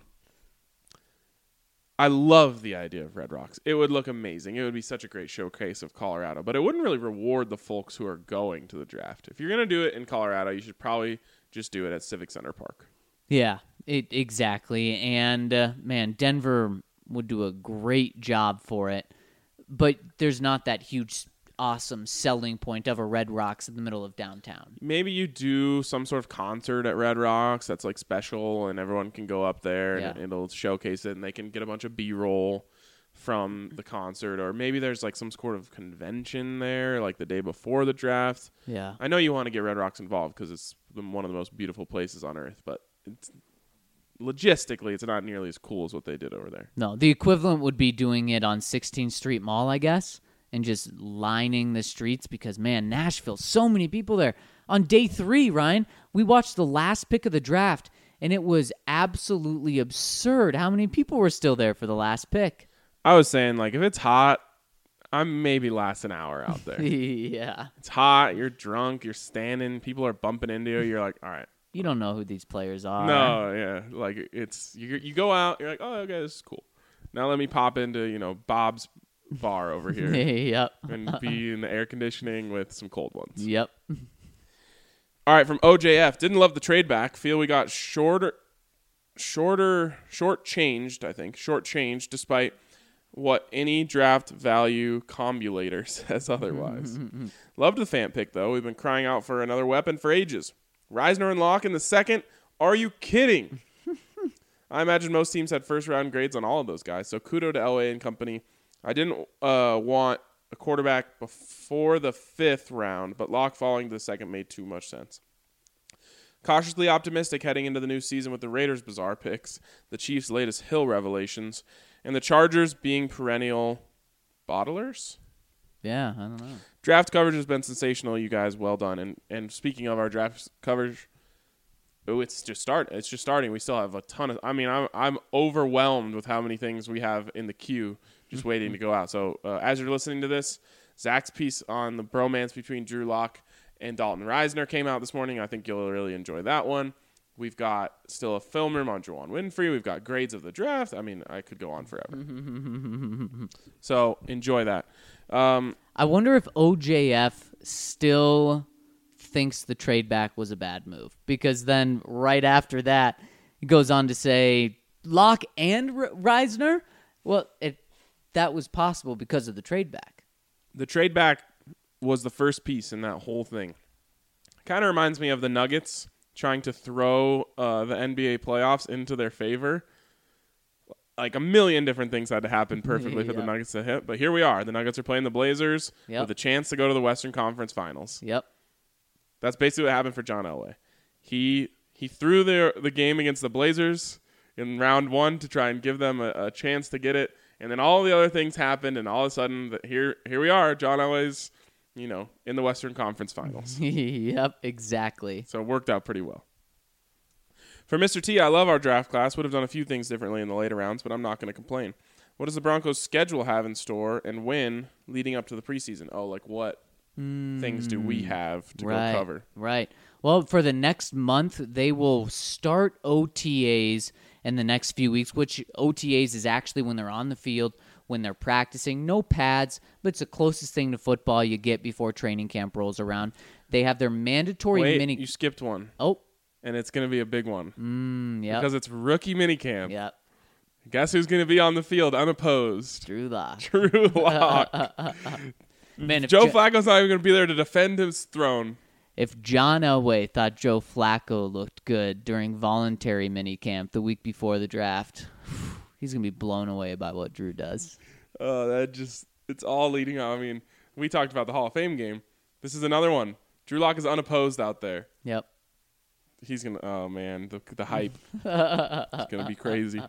I love the idea of Red Rocks. It would look amazing. It would be such a great showcase of Colorado, but it wouldn't really reward the folks who are going to the draft. If you're going to do it in Colorado, you should probably just do it at Civic Center Park. Yeah, exactly. And, man, Denver would do a great job for it. But there's not that huge, awesome selling point of a Red Rocks in the middle of downtown. Maybe you do some sort of concert at Red Rocks that's like special and everyone can go up there and it'll showcase it and they can get a bunch of B-roll from the concert. Or maybe there's like some sort of convention there like the day before the draft. Yeah. I know you want to get Red Rocks involved because it's one of the most beautiful places on earth, but logistically, it's not nearly as cool as what they did over there. No, the equivalent would be doing it on 16th Street Mall, I guess, and just lining the streets because, man, Nashville, so many people there. On day 3, Ryan, we watched the last pick of the draft, and it was absolutely absurd how many people were still there for the last pick. I was saying, like, if it's hot, I'm maybe last an hour out there. Yeah. It's hot, you're drunk, you're standing, people are bumping into you, you're like, all right. You don't know who these players are. No, yeah. Like, it's you go out, you're like, oh, okay, this is cool. Now let me pop into, Bob's bar over here. Yep. And be in the air conditioning with some cold ones. Yep. All right, from OJF. Didn't love the trade back. Feel we got short-changed despite what any draft value combulator says otherwise. Loved the Fant pick, though. We've been crying out for another weapon for ages. Reisner and Locke in the second? Are you kidding? I imagine most teams had first-round grades on all of those guys, so kudo to Elway and company. I didn't want a quarterback before the 5th round, but Locke falling to the second made too much sense. Cautiously optimistic heading into the new season with the Raiders' bizarre picks, the Chiefs' latest Hill revelations, and the Chargers being perennial bottlers? Yeah, I don't know. Draft coverage has been sensational, you guys. Well done. And speaking of our draft coverage, it's just starting. We still have a ton of. I mean, I'm overwhelmed with how many things we have in the queue, just waiting to go out. So as you're listening to this, Zach's piece on the bromance between Drew Lock and Dalton Reisner came out this morning. I think you'll really enjoy that one. We've got still a film room on Juwan Winfrey. We've got grades of the draft. I mean, I could go on forever. So enjoy that. I wonder if OJF still thinks the trade back was a bad move, because then right after that, he goes on to say Locke and Reisner. Well, that was possible because of the trade back. The trade back was the first piece in that whole thing. Kind of reminds me of the Nuggets trying to throw the NBA playoffs into their favor. Like a million different things had to happen perfectly for the Nuggets to hit. But here we are. The Nuggets are playing the Blazers with a chance to go to the Western Conference Finals. Yep. That's basically what happened for John Elway. He threw the game against the Blazers in round 1 to try and give them a chance to get it. And then all the other things happened, and all of a sudden, here we are. John Elway's, in the Western Conference Finals. Yep, exactly. So it worked out pretty well. For Mr. T, I love our draft class. Would have done a few things differently in the later rounds, but I'm not going to complain. What does the Broncos' schedule have in store and when leading up to the preseason? Oh, like what things do we have to go cover? Right. Well, for the next month, they will start OTAs in the next few weeks, which OTAs is actually when they're on the field when they're practicing. No pads, but it's the closest thing to football you get before training camp rolls around. They have their mandatory Wait, you skipped one. Oh. And it's going to be a big one. Yeah. Because it's rookie minicamp. Yep. Guess who's going to be on the field unopposed? Drew Lock. Drew Lock. Man, if Joe Flacco's not even going to be there to defend his throne. If John Elway thought Joe Flacco looked good during voluntary minicamp the week before the draft, he's going to be blown away by what Drew does. It's all leading up. I mean, we talked about the Hall of Fame game. This is another one. Drew Lock is unopposed out there. Yep. He's going to, oh man, the hype. It's going to be crazy.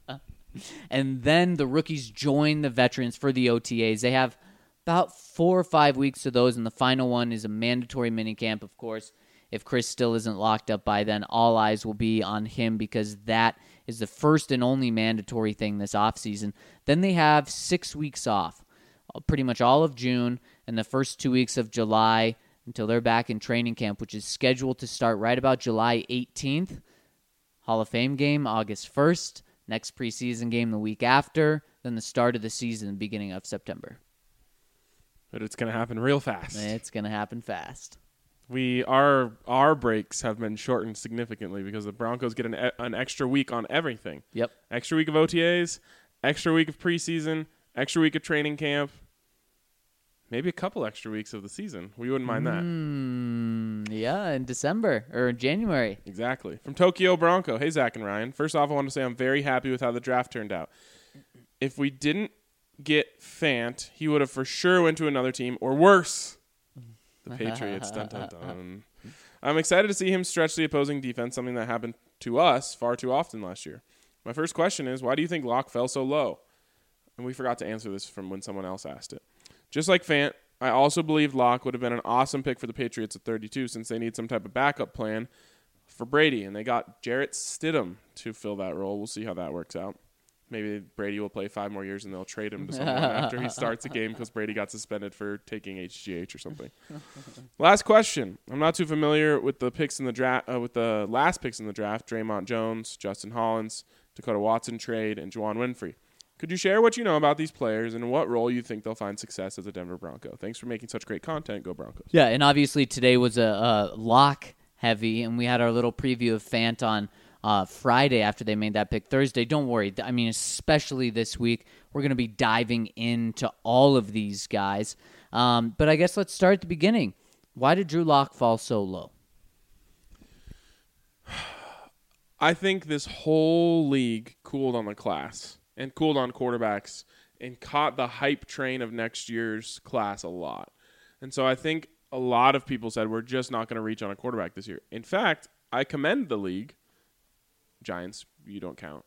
And then the rookies join the veterans for the OTAs. They have about 4 or 5 weeks of those, and the final one is a mandatory minicamp, of course. If Chris still isn't locked up by then, all eyes will be on him because that is the first and only mandatory thing this offseason. Then they have 6 weeks off, pretty much all of June and the first 2 weeks of July until they're back in training camp, which is scheduled to start right about July 18th. Hall of Fame game, August 1st. Next preseason game the week after. Then the start of the season, beginning of September. But it's going to happen real fast. It's going to happen fast. Our breaks have been shortened significantly because the Broncos get an extra week on everything. Yep. Extra week of OTAs, extra week of preseason, extra week of training camp, maybe a couple extra weeks of the season. We wouldn't mind that. Yeah, in December or in January. Exactly. From Tokyo Bronco. Hey, Zach and Ryan. First off, I want to say I'm very happy with how the draft turned out. If we didn't get Fant, he would have for sure went to another team or worse, the Patriots. Dun, dun, dun. I'm excited to see him stretch the opposing defense, something that happened to us far too often last year. My first question is, why do you think Locke fell so low? And we forgot to answer this from when someone else asked it. Just like Fant, I also believe Locke would have been an awesome pick for the Patriots at 32 since they need some type of backup plan for Brady, and they got Jarrett Stidham to fill that role. We'll see how that works out. Maybe Brady will play 5 more years and they'll trade him to someone after he starts a game because Brady got suspended for taking HGH or something. Last question. I'm not too familiar with the picks in the draft. With the last picks in the draft: Draymond Jones, Justin Hollins, Dakota Watson trade, and Juwan Winfrey. Could you share what you know about these players and what role you think they'll find success as a Denver Bronco? Thanks for making such great content. Go Broncos. Yeah, and obviously today was a lock heavy, and we had our little preview of Fant on Friday after they made that pick Thursday. Don't worry. I mean, especially this week, we're going to be diving into all of these guys. But I guess let's start at the beginning. Why did Drew Lock fall so low? I think this whole league cooled on the class and cooled on quarterbacks and caught the hype train of next year's class a lot. And so I think a lot of people said we're just not going to reach on a quarterback this year. In fact, I commend the league, Giants, you don't count,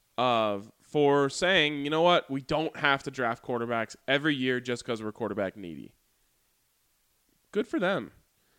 for saying, you know what, we don't have to draft quarterbacks every year just because we're quarterback needy. Good for them.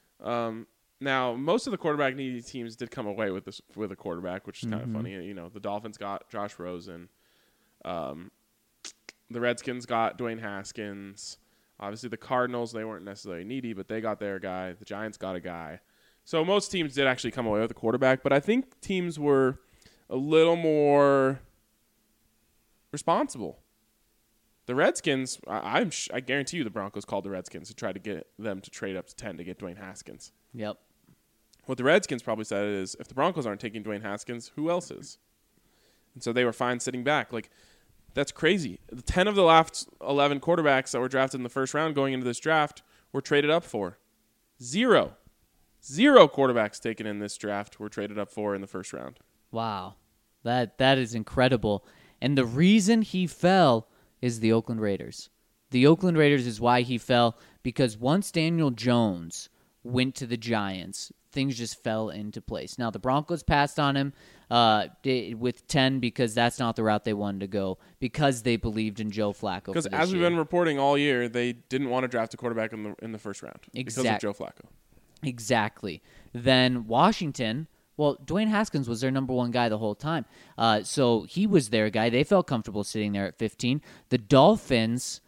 Now, most of the quarterback needy teams did come away with a quarterback, which is kind of funny. You know, the Dolphins got Josh Rosen. The Redskins got Dwayne Haskins. Obviously, the Cardinals, they weren't necessarily needy, but they got their guy. The Giants got a guy. So most teams did actually come away with a quarterback, but I think teams were a little more responsible. The Redskins, I guarantee you the Broncos called the Redskins to try to get them to trade up to 10 to get Dwayne Haskins. Yep. What the Redskins probably said is, if the Broncos aren't taking Dwayne Haskins, who else is? And so they were fine sitting back. Like, that's crazy. 10 of the last 11 quarterbacks that were drafted in the first round going into this draft were traded up for. Zero quarterbacks taken in this draft were traded up for in the first round. Wow. That is incredible. And the reason he fell is the Oakland Raiders. The Oakland Raiders is why he fell, because once Daniel Jones went to the Giants, things just fell into place. Now, the Broncos passed on him with 10 because that's not the route they wanted to go, because they believed in Joe Flacco. Because as we've been reporting all year, they didn't want to draft a quarterback in the first round because of Joe Flacco. Exactly. Then Washington, well, Dwayne Haskins was their number one guy the whole time. So he was their guy. They felt comfortable sitting there at 15. The Dolphins,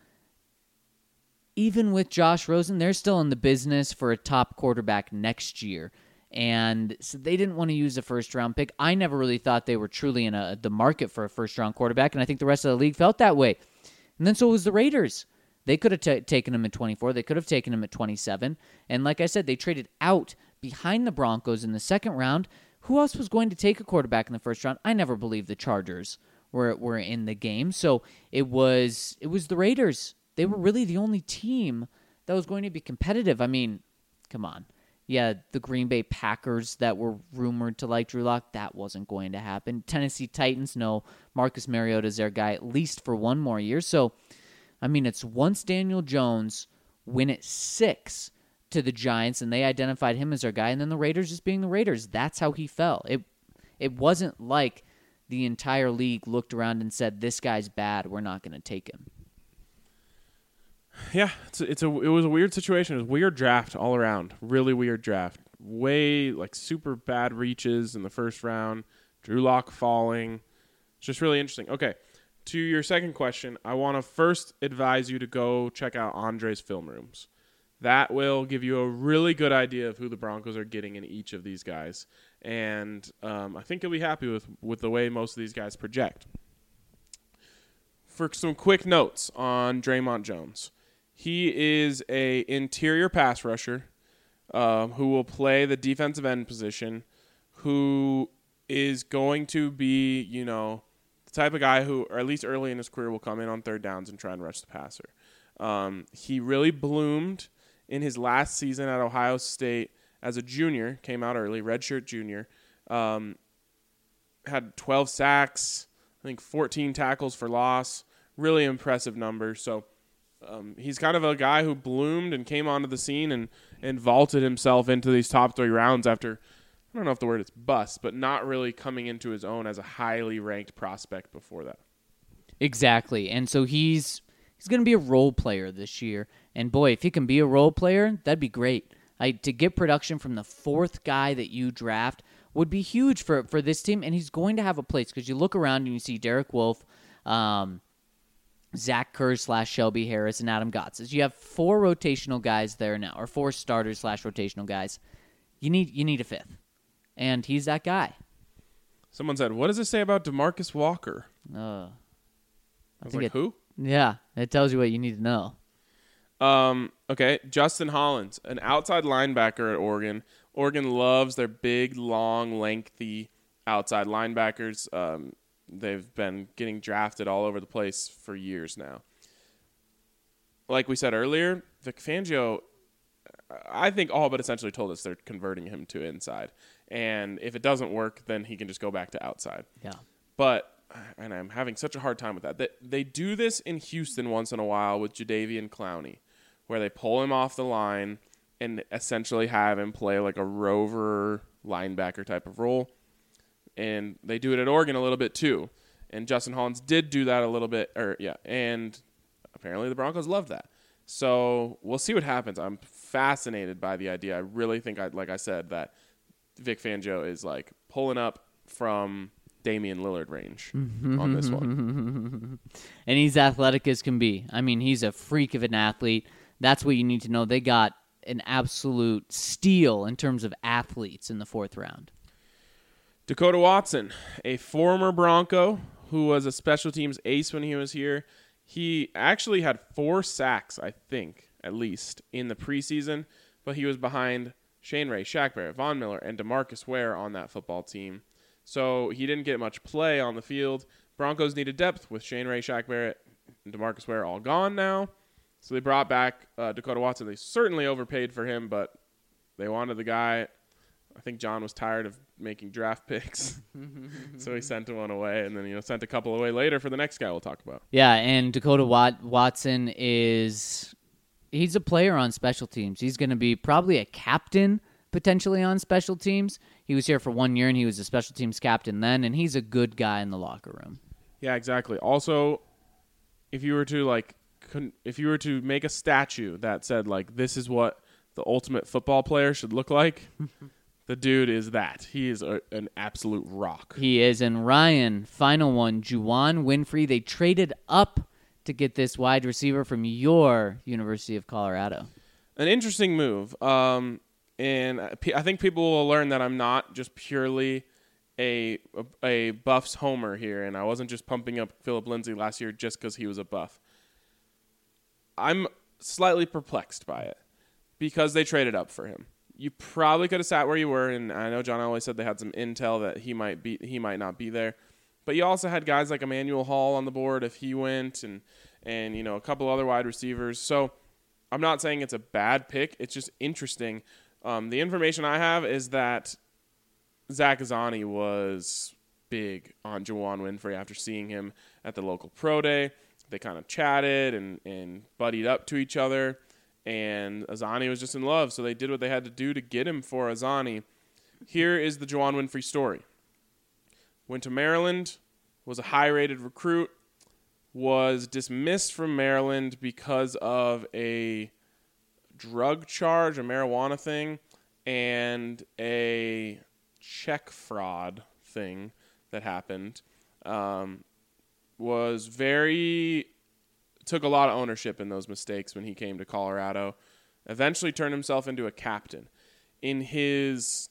even with Josh Rosen, they're still in the business for a top quarterback next year. And so they didn't want to use a first-round pick. I never really thought they were truly in the market for a first-round quarterback, and I think the rest of the league felt that way. And And then so was the Raiders. They could have taken him at 24. They could have taken him at 27. And like I said, they traded out behind the Broncos in the second round. Who else was going to take a quarterback in the first round? I never believed the Chargers were in the game. So it was the Raiders. They were really the only team that was going to be competitive. I mean, come on. Yeah, the Green Bay Packers that were rumored to like Drew Lock, that wasn't going to happen. Tennessee Titans, no. Marcus Mariota is their guy at least for one more year. So, I mean, it's once Daniel Jones win at 6 to the Giants, and they identified him as their guy, and then the Raiders just being the Raiders. That's how he fell. It wasn't like the entire league looked around and said, this guy's bad, we're not going to take him. Yeah, it was a weird situation. It was a weird draft all around. Really weird draft. Way, like, super bad reaches in the first round. Drew Lock falling. It's just really interesting. Okay, to your second question, I want to first advise you to go check out Andre's film rooms. That will give you a really good idea of who the Broncos are getting in each of these guys. And I think you'll be happy with the way most of these guys project. For some quick notes on Draymond Jones. He is a interior pass rusher who will play the defensive end position, who is going to be, the type of guy who, or at least early in his career, will come in on third downs and try and rush the passer. He really bloomed in his last season at Ohio State as a junior, came out early, redshirt junior, had 12 sacks, I think 14 tackles for loss, really impressive numbers. So he's kind of a guy who bloomed and came onto the scene and vaulted himself into these top 3 rounds after, I don't know if the word is bust, but not really coming into his own as a highly ranked prospect before that. Exactly. And so he's going to be a role player this year. And boy, if he can be a role player, that'd be great. To get production from the 4th guy that you draft would be huge for this team, and he's going to have a place because you look around and you see Derek Wolfe, Zach Kerr / Shelby Harris, and Adam Gotsis. You have 4 rotational guys there now, or 4 starters / rotational guys. You need a 5th, and he's that guy. Someone said, "What does it say about DeMarcus Walker?" I was like, who? Yeah, it tells you what you need to know. Okay, Justin Hollins, an outside linebacker at Oregon. Oregon loves their big, long, lengthy outside linebackers. They've been getting drafted all over the place for years now. Like we said earlier, Vic Fangio, I think all but essentially told us they're converting him to inside. And if it doesn't work, then he can just go back to outside. Yeah. But, and I'm having such a hard time with that. They do this in Houston once in a while with Jadeveon Clowney, where they pull him off the line and essentially have him play like a rover linebacker type of role. And they do it at Oregon a little bit too. And Justin Hollins did do that a little bit. And apparently the Broncos love that. So we'll see what happens. I'm fascinated by the idea. I really think, like I said, that Vic Fangio is like pulling up from Damian Lillard range on this one. And he's athletic as can be. I mean, he's a freak of an athlete. That's what you need to know. They got an absolute steal in terms of athletes in the 4th round. Dakota Watson, a former Bronco who was a special teams ace when he was here. He actually had 4 sacks, I think, at least, in the preseason, but he was behind Shane Ray, Shaq Barrett, Von Miller, and DeMarcus Ware on that football team. So he didn't get much play on the field. Broncos needed depth with Shane Ray, Shaq Barrett, and DeMarcus Ware all gone now. So they brought back Dakota Watson. They certainly overpaid for him, but they wanted the guy. I think John was tired of making draft picks, so he sent one away, and then sent a couple away later for the next guy we'll talk about. Yeah, and Dakota Watson he's a player on special teams. He's going to be probably a captain potentially on special teams. He was here for 1 year, and he was a special teams captain then, and he's a good guy in the locker room. Yeah, exactly. Also, if you were to make a statue that said, like, this is what the ultimate football player should look like, the dude is that. He is an absolute rock. He is. And Ryan, final one, Juwan Winfrey. They traded up to get this wide receiver from your University of Colorado. An interesting move. And I think people will learn that I'm not just purely a Buffs homer here, and I wasn't just pumping up Philip Lindsay last year just because he was a Buff. I'm slightly perplexed by it because they traded up for him. You probably could have sat where you were, and I know John Elway said they had some intel that he might not be there. But you also had guys like Emmanuel Hall on the board if he went, and a couple other wide receivers. So I'm not saying it's a bad pick. It's just interesting. The information I have is that Zach Azzanni was big on Juwann Winfree after seeing him at the local pro day. They kind of chatted and buddied up to each other, and Azzanni was just in love, so they did what they had to do to get him for Azzanni. Here is the Juwann Winfree story. Went to Maryland, was a high-rated recruit, was dismissed from Maryland because of a drug charge, a marijuana thing, and a check fraud thing that happened. Took a lot of ownership in those mistakes when he came to Colorado. Eventually turned himself into a captain. In his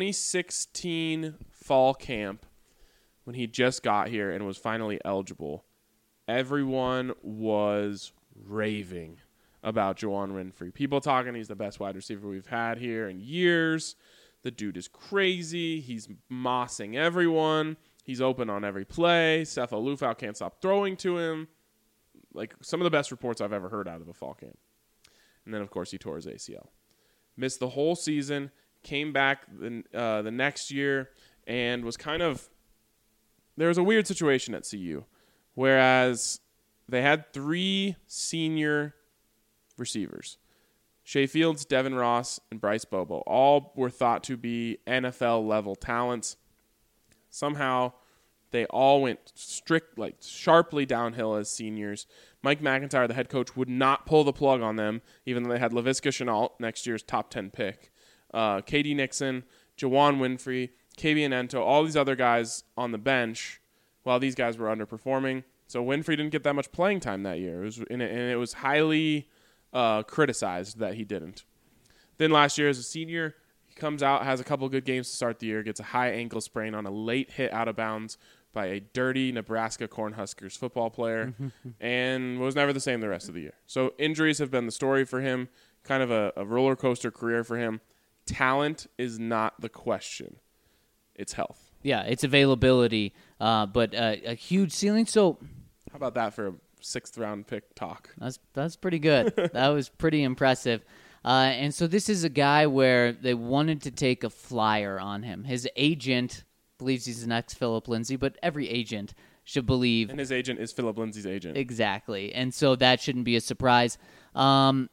2016 fall camp, when he just got here and was finally eligible, everyone was raving about Juwann Winfree. People talking he's the best wide receiver we've had here in years. The dude is crazy. He's mossing everyone. He's open on every play. Sefo Lufau can't stop throwing to him. Like some of the best reports I've ever heard out of a fall camp. And then, of course, he tore his ACL. Missed the whole season. Came back the next year and was kind of... There was a weird situation at CU. Whereas they had 3 senior receivers. Shea Fields, Devin Ross, and Bryce Bobo. All were thought to be NFL-level talents. Somehow, they all went sharply downhill as seniors. Mike McIntyre, the head coach, would not pull the plug on them, even though they had Laviska Shenault, next year's top 10 pick. K.D. Nixon, Juwann Winfree, Kabian Ento, all these other guys on the bench, while these guys were underperforming. So Winfree didn't get that much playing time that year. It was highly criticized that he didn't. Then last year as a senior, he comes out, has a couple good games to start the year, gets a high ankle sprain on a late hit out of bounds by a dirty Nebraska Cornhuskers football player, and was never the same the rest of the year. So injuries have been the story for him, kind of a roller coaster career for him. Talent is not the question. It's health. Yeah, it's availability, but a huge ceiling. So how about that for a 6th round pick talk? That's pretty good. That was pretty impressive. And so this is a guy where they wanted to take a flyer on him. His agent believes he's the next Philip Lindsay, but every agent should believe. And his agent is Philip Lindsay's agent. Exactly. And so that shouldn't be a surprise. Andre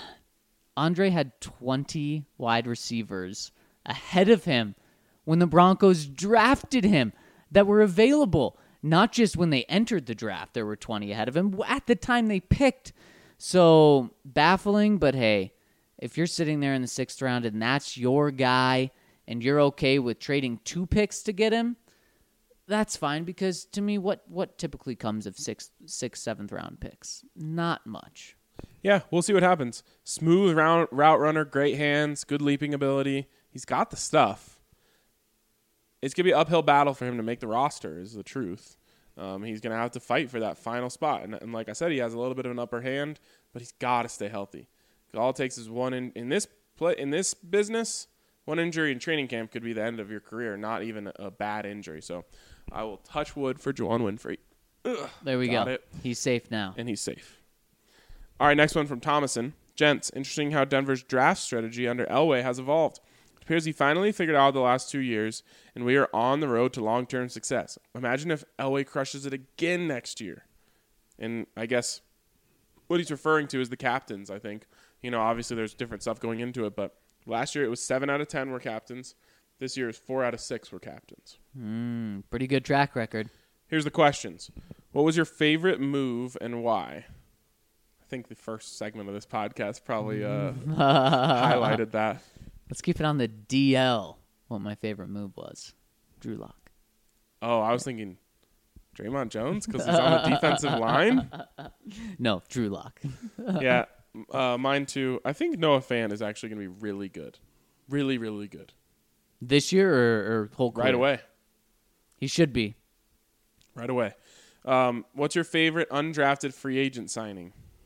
had 20 wide receivers ahead of him when the Broncos drafted him that were available. Not just when they entered the draft, there were 20 ahead of him. At the time they picked. So baffling, but hey, if you're sitting there in the 6th round and that's your guy and you're okay with trading 2 picks to get him, that's fine, because to me, what typically comes of 6th, 7th round picks? Not much. Yeah, we'll see what happens. Smooth route runner, great hands, good leaping ability. He's got the stuff. It's going to be an uphill battle for him to make the roster, is the truth. He's going to have to fight for that final spot. And like I said, he has a little bit of an upper hand, but he's got to stay healthy. All it takes is one in this business, one injury in training camp could be the end of your career, not even a bad injury. So I will touch wood for Juwann Winfree. There we go. He's safe now. And he's safe. All right, next one from Thomason. Gents, interesting how Denver's draft strategy under Elway has evolved. It appears he finally figured out the last 2 years, and we are on the road to long-term success. Imagine if Elway crushes it again next year. And I guess what he's referring to is the captains, I think. Obviously there's different stuff going into it, but last year it was 7 out of 10 were captains. This year is 4 out of 6 were captains. Pretty good track record. Here's the questions. What was your favorite move and why? I think the first segment of this podcast probably highlighted that. Let's keep it on the DL, what my favorite move was. Drew Lock. Oh, I was thinking Draymond Jones because he's on the defensive line? No, Drew Lock. Yeah, mine too. I think Noah Fant is actually going to be really good. Really, really good. This year or whole career? Right away. He should be. Right away. What's your favorite undrafted free agent signing?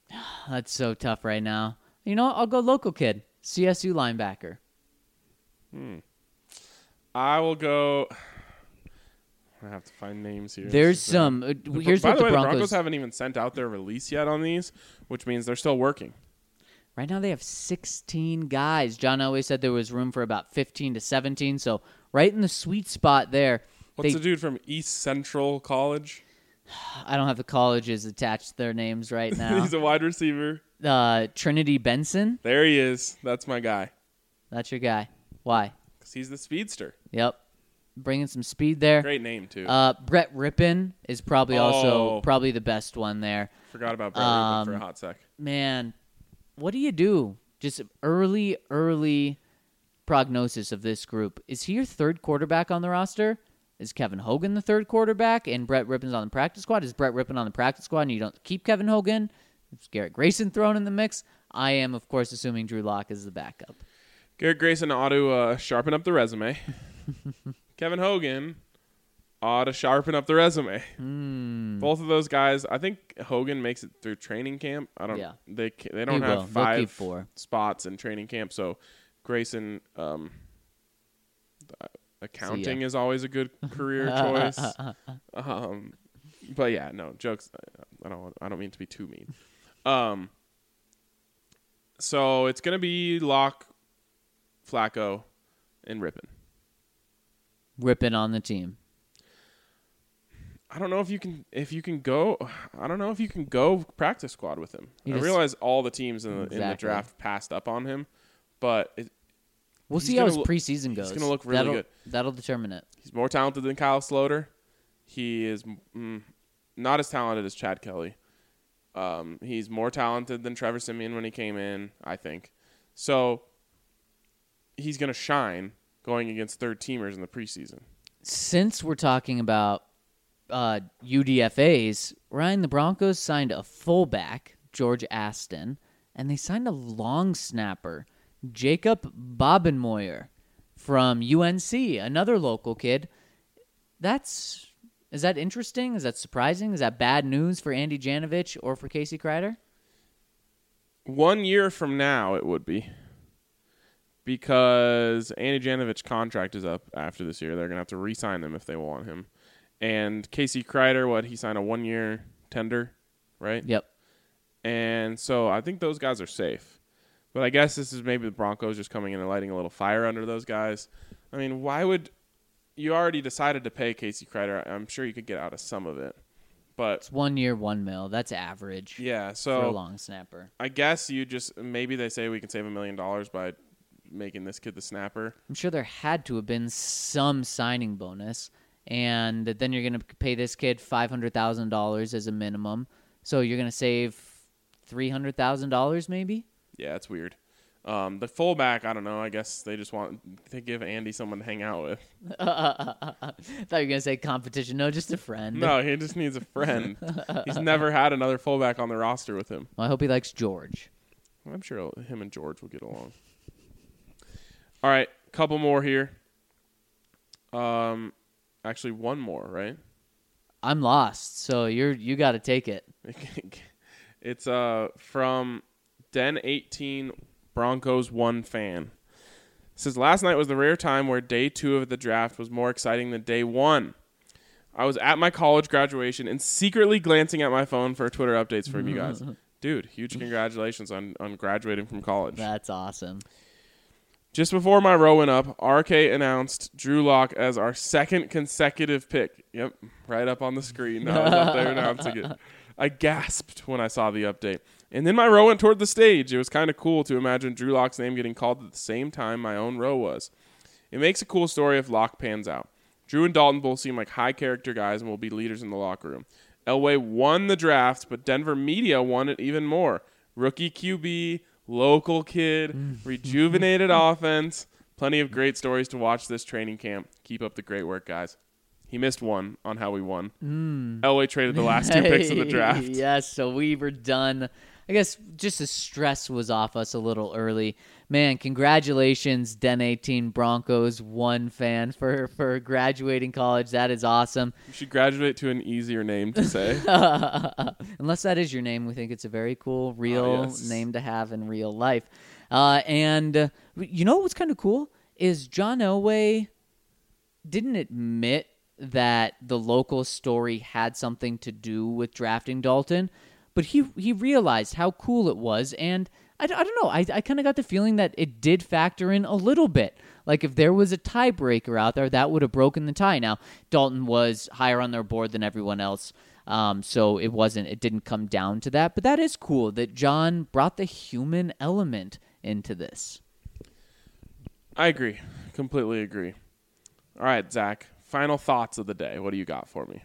That's so tough right now. You know what? I'll go local kid. CSU linebacker. I will go. I have to find names here. There's some. Here's By what the way, the Broncos Broncos haven't even sent out their release yet on these, which means they're still working. Right now they have 16 guys. John Elway said there was room for about 15 to 17, so right in the sweet spot there. What's the dude from East Central College? I don't have the colleges attached to their names right now. He's a wide receiver. Trinity Benson. There he is. That's my guy. That's your guy. Why? Because he's the speedster. Yep. Bringing some speed there. Great name, too. Brett Rippon is probably also probably the best one there. Forgot about Brett Rippon for a hot sec. Man, what do you do? Just early prognosis of this group. Is he your third quarterback on the roster? Is Kevin Hogan the third quarterback and Brett Rippon's on the practice squad? Is Brett Rippon on the practice squad and you don't keep Kevin Hogan? Is Garrett Grayson thrown in the mix? I am, of course, assuming Drew Lock is the backup. Garrett Grayson ought to sharpen up the resume. Kevin Hogan ought to sharpen up the resume. Both of those guys, I think Hogan makes it through training camp. I don't. Yeah. They don't He will. have They'll keep 5 4 spots in training camp. So Grayson, accounting is always a good career choice. But yeah, no jokes. I don't mean to be too mean. So it's gonna be Locke, Flacco, and Rippon. Rippon on the team. I don't know if you can go. I don't know if you can go practice squad with him. I realize all the teams in the draft passed up on him, but we'll see how his preseason goes. He's going to look really good. That'll determine it. He's more talented than Kyle Sloter. He is not as talented as Chad Kelly. He's more talented than Trevor Siemian when he came in, I think. So he's going to shine going against third-teamers in the preseason. Since we're talking about UDFAs, Ryan, the Broncos signed a fullback, George Aston, and they signed a long snapper, Jacob Bobenmoyer from UNC, another local kid. Is that interesting? Is that surprising? Is that bad news for Andy Janovich or for Casey Kreider? 1 year from now, it would be. Because Andy Janovich's contract is up after this year. They're going to have to re-sign him if they want him. And Casey Kreider, he signed a 1-year tender, right? Yep. And so I think those guys are safe. But I guess this is maybe the Broncos just coming in and lighting a little fire under those guys. I mean, why would you already decided to pay Casey Kreider? I'm sure you could get out of some of it. But it's 1 year, $1 million. That's average. Yeah, so for a long snapper. I guess maybe they say we can save $1 million by making this kid the snapper. I'm sure there had to have been some signing bonus, and then you're going to pay this kid $500,000 as a minimum. So you're going to save $300,000 maybe? Yeah, it's weird. The fullback, I don't know. I guess they just want to give Andy someone to hang out with. I thought you were going to say competition. No, just a friend. No, he just needs a friend. He's never had another fullback on the roster with him. Well, I hope he likes George. I'm sure him and George will get along. All right, couple more here. Actually, one more, right? I'm lost, so you got to take it. It's from Den 18 Broncos 1 fan. It says, last night was the rare time where day 2 of the draft was more exciting than day 1. I was at my college graduation and secretly glancing at my phone for Twitter updates from you guys. Dude, huge congratulations on graduating from college. That's awesome. Just before my row went up, RK announced Drew Lock as our second consecutive pick. Yep, right up on the screen. I was up there announcing it. I gasped when I saw the update. And then my row went toward the stage. It was kind of cool to imagine Drew Lock's name getting called at the same time my own row was. It makes a cool story if Lock pans out. Drew and Dalton both seem like high-character guys and will be leaders in the locker room. Elway won the draft, but Denver media won it even more. Rookie QB, local kid, rejuvenated offense. Plenty of great stories to watch this training camp. Keep up the great work, guys. He missed one on how we won. Elway traded the last 2 picks of the draft. Yes, so we were done. I guess just the stress was off us a little early. Man, congratulations, Den 18 Broncos 1 fan for graduating college. That is awesome. You should graduate to an easier name to say. Unless that is your name, we think it's a very cool, real name to have in real life. And you know what's kind of cool is John Elway didn't admit that the local story had something to do with drafting Dalton, but he realized how cool it was, and I don't know. I kind of got the feeling that it did factor in a little bit. Like if there was a tiebreaker out there, that would have broken the tie. Now, Dalton was higher on their board than everyone else, so it didn't come down to that. But that is cool that John brought the human element into this. I agree. Completely agree. All right, Zach, final thoughts of the day. What do you got for me?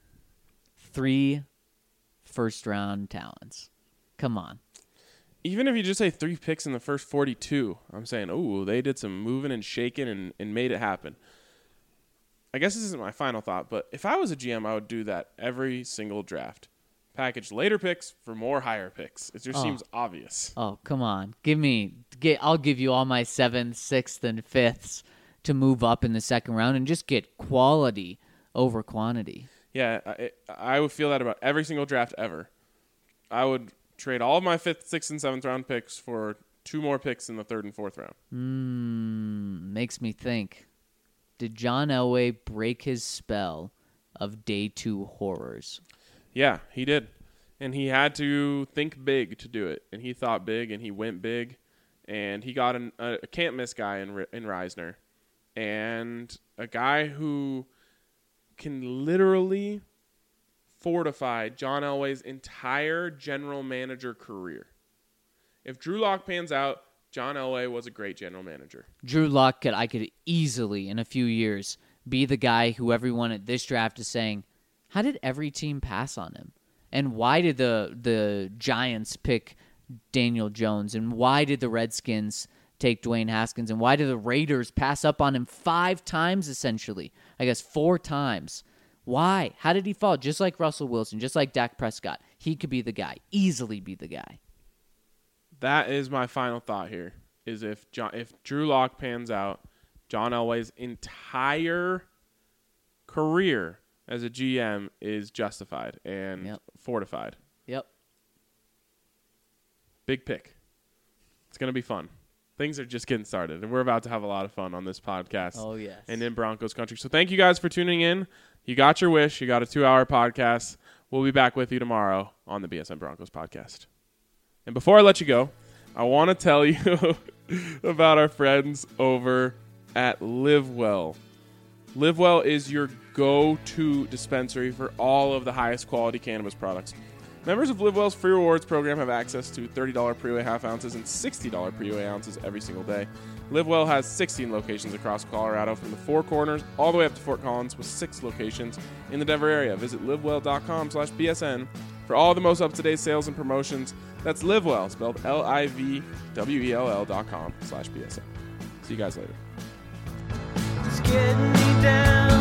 3 first-round talents. Come on. Even if you just say 3 picks in the first 42, I'm saying, oh, they did some moving and shaking and made it happen. I guess this isn't my final thought, but if I was a GM, I would do that every single draft. Package later picks for more higher picks. It just seems obvious. Oh, come on. I'll give you all my 7th, 6th, and 5ths to move up in the second round and just get quality over quantity. Yeah, I would feel that about every single draft ever. I would trade all of my 5th, 6th, and 7th round picks for 2 more picks in the 3rd and 4th round. Makes me think. Did John Elway break his spell of day 2 horrors? Yeah, he did. And he had to think big to do it. And he thought big, and he went big. And he got a can't-miss guy in Reisner. And a guy who can literally fortify John Elway's entire general manager career. If Drew Lock pans out, John Elway was a great general manager. Drew Lock I could easily, in a few years, be the guy who everyone at this draft is saying, how did every team pass on him? And why did the Giants pick Daniel Jones? And why did the Redskins take Dwayne Haskins? And why did the Raiders pass up on him 5 times, essentially? I guess 4 times. Why? How did he fall? Just like Russell Wilson, just like Dak Prescott. He could be the guy, easily be the guy. That is my final thought here, is if Drew Lock pans out, John Elway's entire career as a GM is justified and fortified. Yep. Big pick. It's going to be fun. Things are just getting started, and we're about to have a lot of fun on this podcast. Oh, yes. And in Broncos country. So thank you guys for tuning in. You got your wish. You got a 2-hour podcast. We'll be back with you tomorrow on the BSN Broncos podcast. And before I let you go, I want to tell you about our friends over at LiveWell. LiveWell is your go-to dispensary for all of the highest quality cannabis products. Members of LiveWell's free rewards program have access to $30 pre-way half ounces and $60 pre-way ounces every single day. LiveWell has 16 locations across Colorado from the Four Corners all the way up to Fort Collins with 6 locations in the Denver area. Visit livewell.com/BSN for all the most up-to-date sales and promotions. That's LiveWell, spelled LIVWELL.com/BSN. See you guys later. It's getting me down.